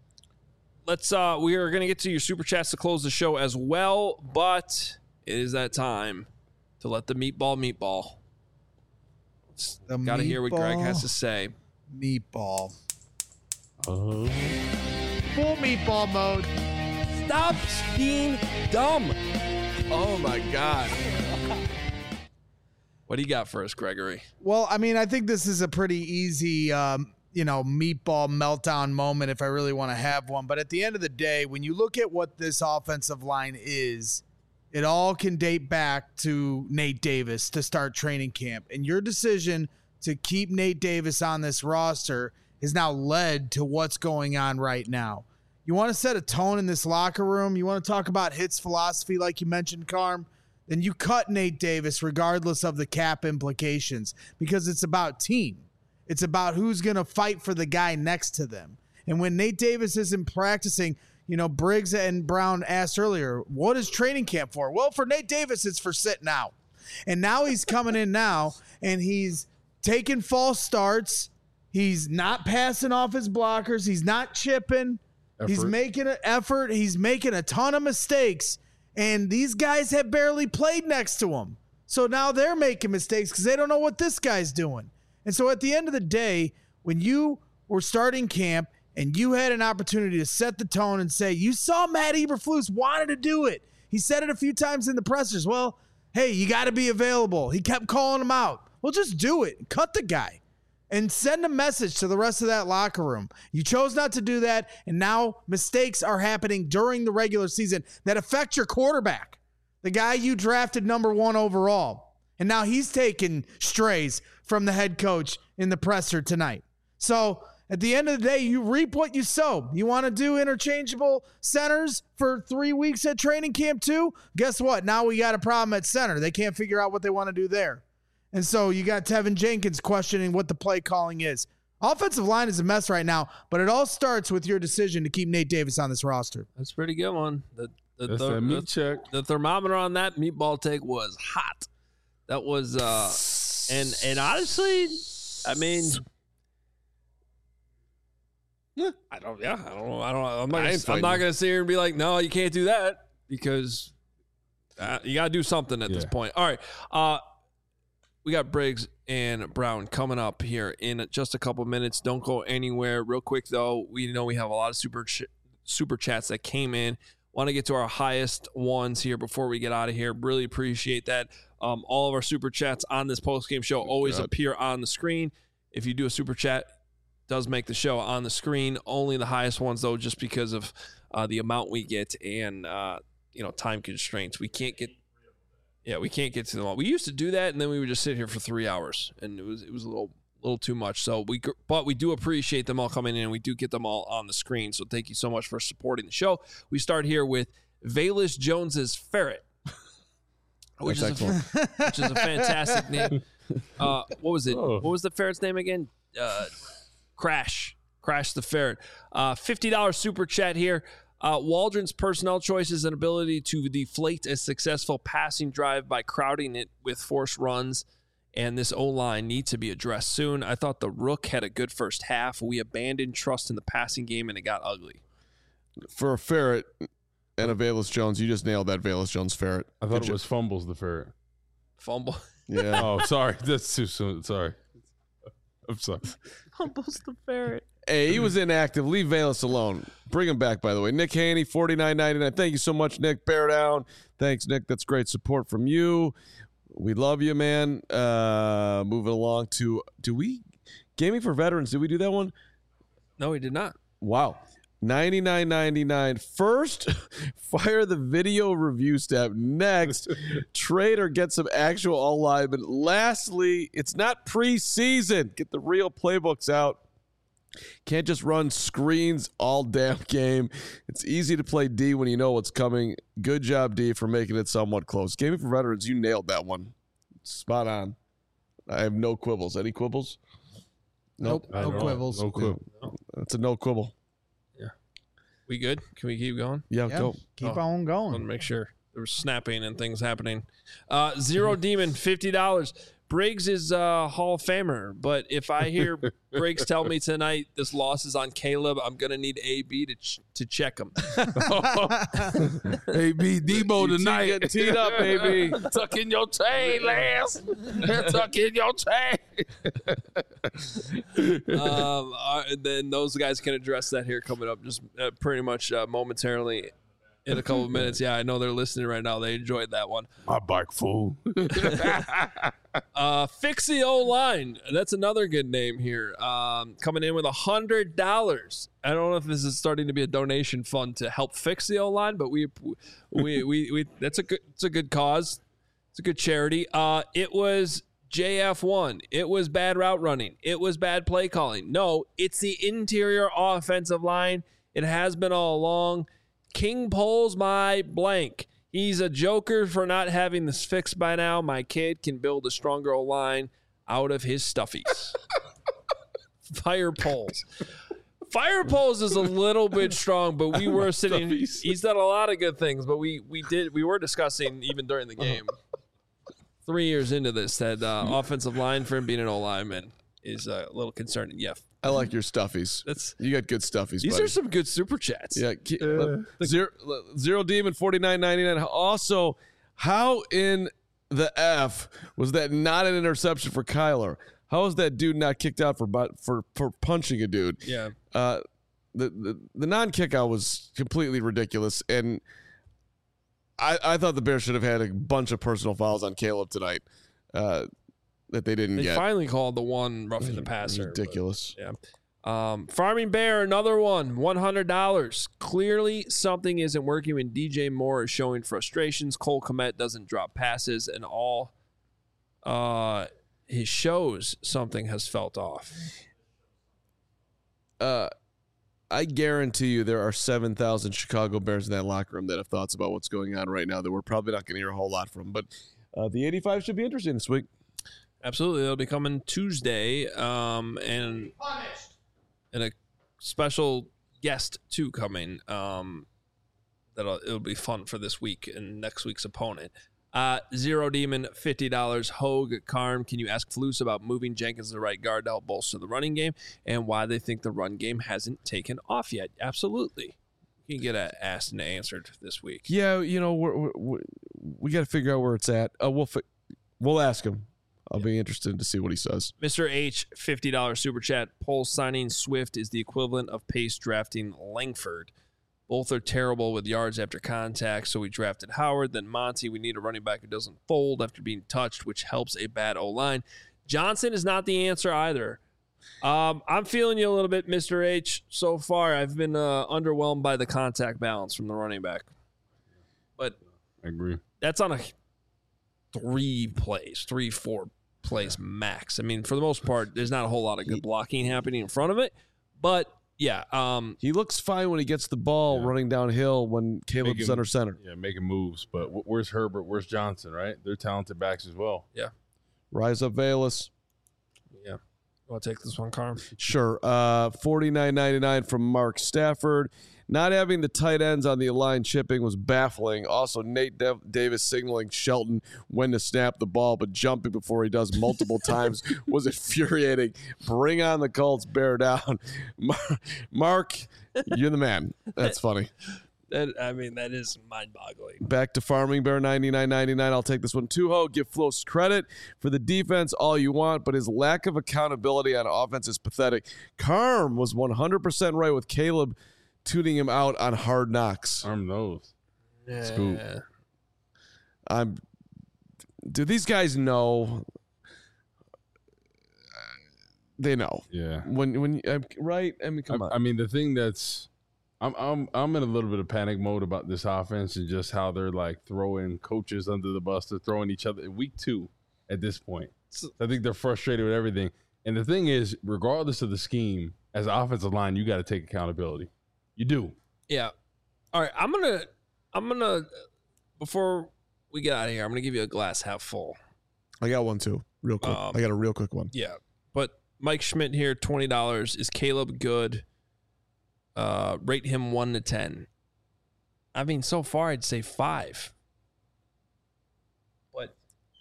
Let's. Uh, we are going to get to your Super Chats to close the show as well, but it is that time to let the meatball meatball. Got to hear what Greg has to say. Meatball. Oh. Full meatball mode. Stop being dumb. Oh, my God. What do you got for us, Gregory? Well, I mean, I think this is a pretty easy, um, you know, meatball meltdown moment if I really want to have one. But at the end of the day, when you look at what this offensive line is, it all can date back to Nate Davis to start training camp. And your decision to keep Nate Davis on this roster has now led to what's going on right now. you want to set a tone in this locker room, you want to talk about hits philosophy like you mentioned, Carm, then you cut Nate Davis regardless of the cap implications because it's about team. It's about who's going to fight for the guy next to them. And when Nate Davis isn't practicing, you know, Briggs and Brown asked earlier, what is training camp for? Well, for Nate Davis, it's for sitting out. And now he's coming in now, and he's taking false starts. He's not passing off his blockers. He's not chipping. Effort. He's making an effort. He's making a ton of mistakes. And these guys have barely played next to him. So now they're making mistakes because they don't know what this guy's doing. And so at the end of the day, when you were starting camp and you had an opportunity to set the tone and say, you saw Matt Eberflus wanted to do it. He said it a few times in the pressers. Well, hey, you got to be available. He kept calling him out. Well, just do it. Cut the guy and send a message to the rest of that locker room. You chose not to do that, and now mistakes are happening during the regular season that affect your quarterback, the guy you drafted number one overall. And now he's taking strays from the head coach in the presser tonight. So at the end of the day, you reap what you sow. You want to do interchangeable centers for three weeks at training camp too? Guess what? Now we got a problem at center. They can't figure out what they want to do there. And so you got Tevin Jenkins questioning what the play calling is. Offensive line is a mess right now, but it all starts with your decision to keep Nate Davis on this roster. That's a pretty good one. The, the, That's the, that meat the, check. The thermometer on that meatball take was hot. That was, uh, and and honestly, I mean, yeah, I don't, yeah, I don't know, I don't, I'm not, gonna, I'm not gonna sit here and be like, no, you can't do that because uh, you gotta do something at yeah. this point. All right, uh, we got Briggs and Brown coming up here in just a couple minutes. Don't go anywhere. Real quick though, we know we have a lot of super ch- super chats that came in. Want to get to our highest ones here before we get out of here. Really appreciate that. Um, all of our super chats on this post-game show always God. appear on the screen. If you do a super chat, it does make the show on the screen. Only the highest ones, though, just because of uh, the amount we get and uh, you know time constraints. We can't get, yeah, we can't get to them all. We used to do that, and then we would just sit here for three hours, and it was it was a little little too much. So we, but we do appreciate them all coming in, and we do get them all on the screen. So thank you so much for supporting the show. We start here with Velus Jones's Ferret. Which is, a, which is a fantastic name. Uh, what was it? Oh. What was the ferret's name again? Uh, Crash. Crash the Ferret. Uh, fifty dollars super chat here. Uh, Waldron's personnel choices and ability to deflate a successful passing drive by crowding it with forced runs and this O-line need to be addressed soon. I thought the Rook had a good first half. We abandoned trust in the passing game, and it got ugly. For a Ferret and a Velus Jones, you just nailed that Velus Jones Ferret. I thought Good it job. was Fumbles the Ferret. Fumble? Yeah. Oh, sorry. That's too soon. Sorry. I'm sorry. Fumbles the Ferret. Hey, he was inactive. Leave Velus alone. Bring him back, by the way. Nick Haney, forty-nine ninety-nine. Thank you so much, Nick. Bear down. Thanks, Nick. That's great support from you. We love you, man. Uh, moving along to, do we, Gaming for Veterans, did we do that one? No, we did not. Wow. ninety-nine ninety-nine. First, fire the video review step. Next, trade or get some actual all linemen. Lastly, it's not preseason. Get the real playbooks out. Can't just run screens all damn game. It's easy to play D when you know what's coming. Good job, D, for making it somewhat close. Gaming for Veterans, you nailed that one. Spot on. I have no quibbles. Any quibbles? Nope. No quibbles. No quibble. That's a no quibble. Yeah. We good? Can we keep going? Yeah, Yeah, go. keep Oh. on I going. want to make sure there was snapping and things happening. Uh, Zero Demon, fifty dollars. Briggs is a Hall of Famer, but if I hear Briggs tell me tonight this loss is on Caleb, I'm going to need A B to ch- to check him. A B Debo tonight. Get teed up, baby. Tuck in your chain, Lance. Tuck in your chain. um, uh, and then those guys can address that here coming up just uh, pretty much uh, momentarily in a couple of minutes. Yeah, I know they're listening right now. They enjoyed that one. My bike fool. uh, Fix the O-line. That's another good name here. Um, coming in with one hundred dollars. I don't know if this is starting to be a donation fund to help fix the O-line, but we, we, we, we, that's a good, it's a good cause. It's a good charity. Uh, it was J F one. It was bad route running. It was bad play calling. No, it's the interior offensive line. It has been all along. King Poles my blank. He's a joker for not having this fixed by now. My kid can build a stronger O-line out of his stuffies. Fire Poles. Fire Poles is a little bit strong, but we were sitting. Stuffies. He's done a lot of good things, but we we did we were discussing even during the game. Three years into this, that uh, offensive line for him being an O-lineman is uh, a little concerning. Yeah, I like your stuffies. That's you got good stuffies. These buddy. are some good super chats. Yeah, uh, zero, zero Demon forty-nine ninety-nine. Also, how in the F was that not an interception for Kyler? How is that dude not kicked out for for for punching a dude? Yeah. Uh, the the, the non kick out was completely ridiculous, and I I thought the Bears should have had a bunch of personal fouls on Caleb tonight. Uh, that they didn't They get. finally called the one roughing the passer. Ridiculous. But, yeah. Um, Farming Bear, another one, one hundred dollars. Clearly something isn't working when D J Moore is showing frustrations. Cole Kmet doesn't drop passes, and all uh, his shows, something has felt off. Uh, I guarantee you there are seven thousand Chicago Bears in that locker room that have thoughts about what's going on right now that we're probably not going to hear a whole lot from. But uh, the eighty-five should be interesting this week. Absolutely. It'll be coming Tuesday, um, and and a special guest, too, coming. Um, that'll It'll be fun for this week and next week's opponent. Uh, Zero Demon, fifty dollars. Hogue, Carm, can you ask Flus about moving Jenkins to the right guard to help bolster the running game and why they think the run game hasn't taken off yet? Absolutely. You can get a asked and answered this week. Yeah, you know, we're, we're, we got to figure out where it's at. Uh, we'll fi- we'll ask him. I'll be interested to see what he says. Mister H, fifty dollars super chat. Poll signing Swift is the equivalent of Pace drafting Langford. Both are terrible with yards after contact, so we drafted Howard. Then Monty, we need a running back who doesn't fold after being touched, which helps a bad O-line. Johnson is not the answer either. Um, I'm feeling you a little bit, Mister H. So far, I've been uh, underwhelmed by the contact balance from the running back. But I agree. That's on a three plays, three, four plays max. I mean, for the most part, there's not a whole lot of good blocking happening in front of it. But, yeah. Um, he looks fine when he gets the ball yeah. running downhill when Caleb's making, under center. Yeah, making moves. But where's Herbert? Where's Johnson, right? They're talented backs as well. Yeah. Rise up, Valus. Yeah. You want to take this one, Carm? Sure. Uh, forty-nine ninety-nine from Mark Stafford. Not having the tight ends on the line chipping was baffling. Also, Nate Dev- Davis signaling Shelton when to snap the ball, but jumping before he does multiple times was infuriating. Bring on the Colts, bear down. Mark, you're the man. That's funny. That, I mean, that is mind-boggling. Back to Farming Bear, ninety-nine ninety-nine. I'll take this one too, Ho. Give Flos credit for the defense all you want, but his lack of accountability on offense is pathetic. Carm was one hundred percent right with Caleb tuning him out on Hard Knocks. Arm those. Yeah. Scoop. I'm. Do these guys know? They know. Yeah. When when uh, right? I mean, come I, on. I mean, the thing that's, I'm I'm I'm in a little bit of panic mode about this offense and just how they're like throwing coaches under the bus. They're throwing each other in week two at this point. So I think they're frustrated with everything. And the thing is, regardless of the scheme, as an offensive line, you got to take accountability. You do. Yeah. All right. I'm gonna. I'm gonna. Before we get out of here, I'm gonna give you a glass half full. I got one too, real quick. Um, I got a real quick one. Yeah, but Mike Schmidt here, twenty dollars. Is Caleb good? Uh, rate him one to ten. I mean, so far I'd say five. But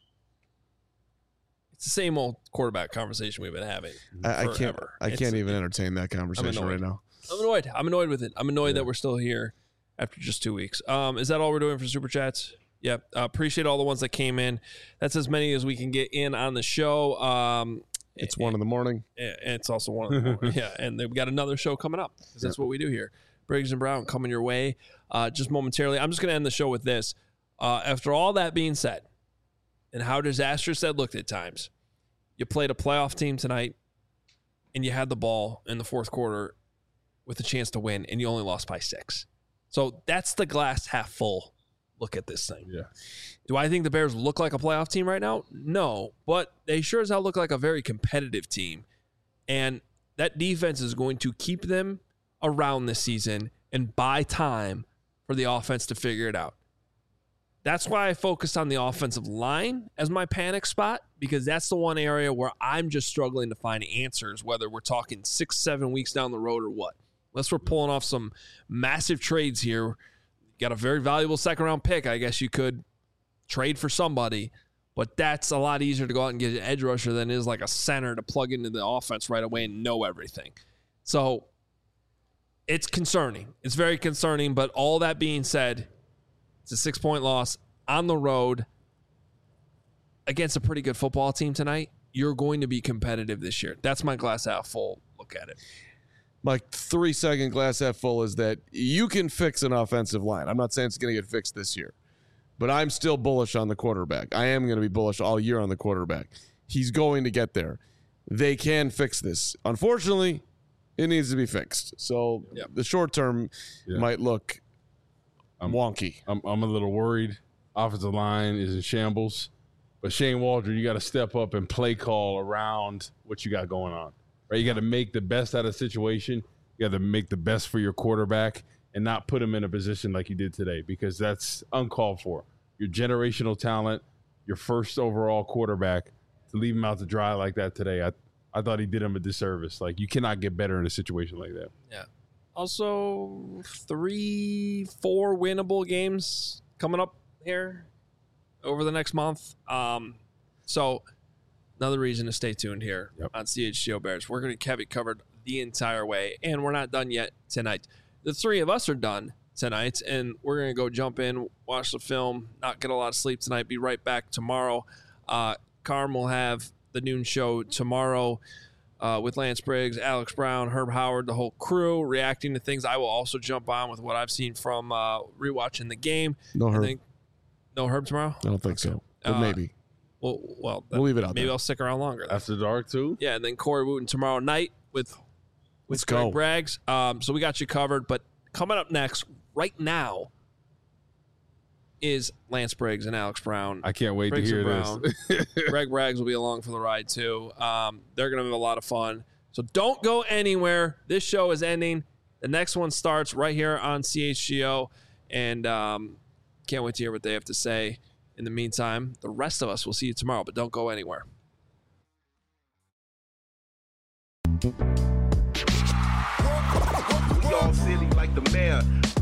it's the same old quarterback conversation we've been having. I, I can't. I It's- can't even entertain that conversation right now. I'm annoyed. I'm annoyed with it. I'm annoyed yeah. that we're still here after just two weeks. Um, is that all we're doing for Super Chats? Yep. Uh, appreciate all the ones that came in. That's as many as we can get in on the show. Um, it's and, one in the morning. And it's also one in the morning. Yeah. And we got another show coming up because that's yep. what we do here. Briggs and Brown coming your way uh, just momentarily. I'm just going to end the show with this. Uh, after all that being said and how disastrous that looked at times, you played a playoff team tonight and you had the ball in the fourth quarter with a chance to win, and you only lost by six. So that's the glass half full look at this thing. Yeah. Do I think the Bears look like a playoff team right now? No, but they sure as hell look like a very competitive team. And that defense is going to keep them around this season and buy time for the offense to figure it out. That's why I focused on the offensive line as my panic spot, because that's the one area where I'm just struggling to find answers, whether we're talking six, seven weeks down the road or what. Unless we're pulling off some massive trades here. Got a very valuable second round pick. I guess you could trade for somebody, but that's a lot easier to go out and get an edge rusher than it is like a center to plug into the offense right away and know everything. So it's concerning. It's very concerning, but all that being said, it's a six-point loss on the road against a pretty good football team tonight. You're going to be competitive this year. That's my glass half full look at it. My three-second glass half full is that you can fix an offensive line. I'm not saying it's going to get fixed this year, but I'm still bullish on the quarterback. I am going to be bullish all year on the quarterback. He's going to get there. They can fix this. Unfortunately, it needs to be fixed. So yep. the short term yeah. might look I'm, wonky. I'm, I'm a little worried. Offensive line is in shambles. But Shane Waldron, you got to step up and play call around what you got going on. Right? You got to make the best out of the situation. You got to make the best for your quarterback and not put him in a position like you did today, because that's uncalled for. Your generational talent, your first overall quarterback, to leave him out to dry like that today, I I thought he did him a disservice. Like, you cannot get better in a situation like that. Yeah. Also, three, four winnable games coming up here over the next month. Um, so another reason to stay tuned here yep. on C H G O Bears. We're going to have it covered the entire way, and we're not done yet tonight. The three of us are done tonight, and we're going to go jump in, watch the film, not get a lot of sleep tonight, be right back tomorrow. Uh, Carm will have the noon show tomorrow uh, with Lance Briggs, Alex Brown, Herb Howard, the whole crew, reacting to things. I will also jump on with what I've seen from uh, rewatching the game. No Herb. Think, no Herb tomorrow? I don't think so, but uh, maybe. Well, well, we'll leave it out Maybe there. I'll stick around longer. Then. After dark, too? Yeah, and then Corey Wooten tomorrow night with, with Let's Greg go. Braggs. Um, so we got you covered. But coming up next, right now, is Lance Briggs and Alex Brown. I can't wait Briggs to hear Brown. this. Greg Braggs will be along for the ride, too. Um, they're going to have a lot of fun. So don't go anywhere. This show is ending. The next one starts right here on C H G O. And um, can't wait to hear what they have to say. In the meantime, the rest of us will see you tomorrow, but don't go anywhere. We all silly like the mayor.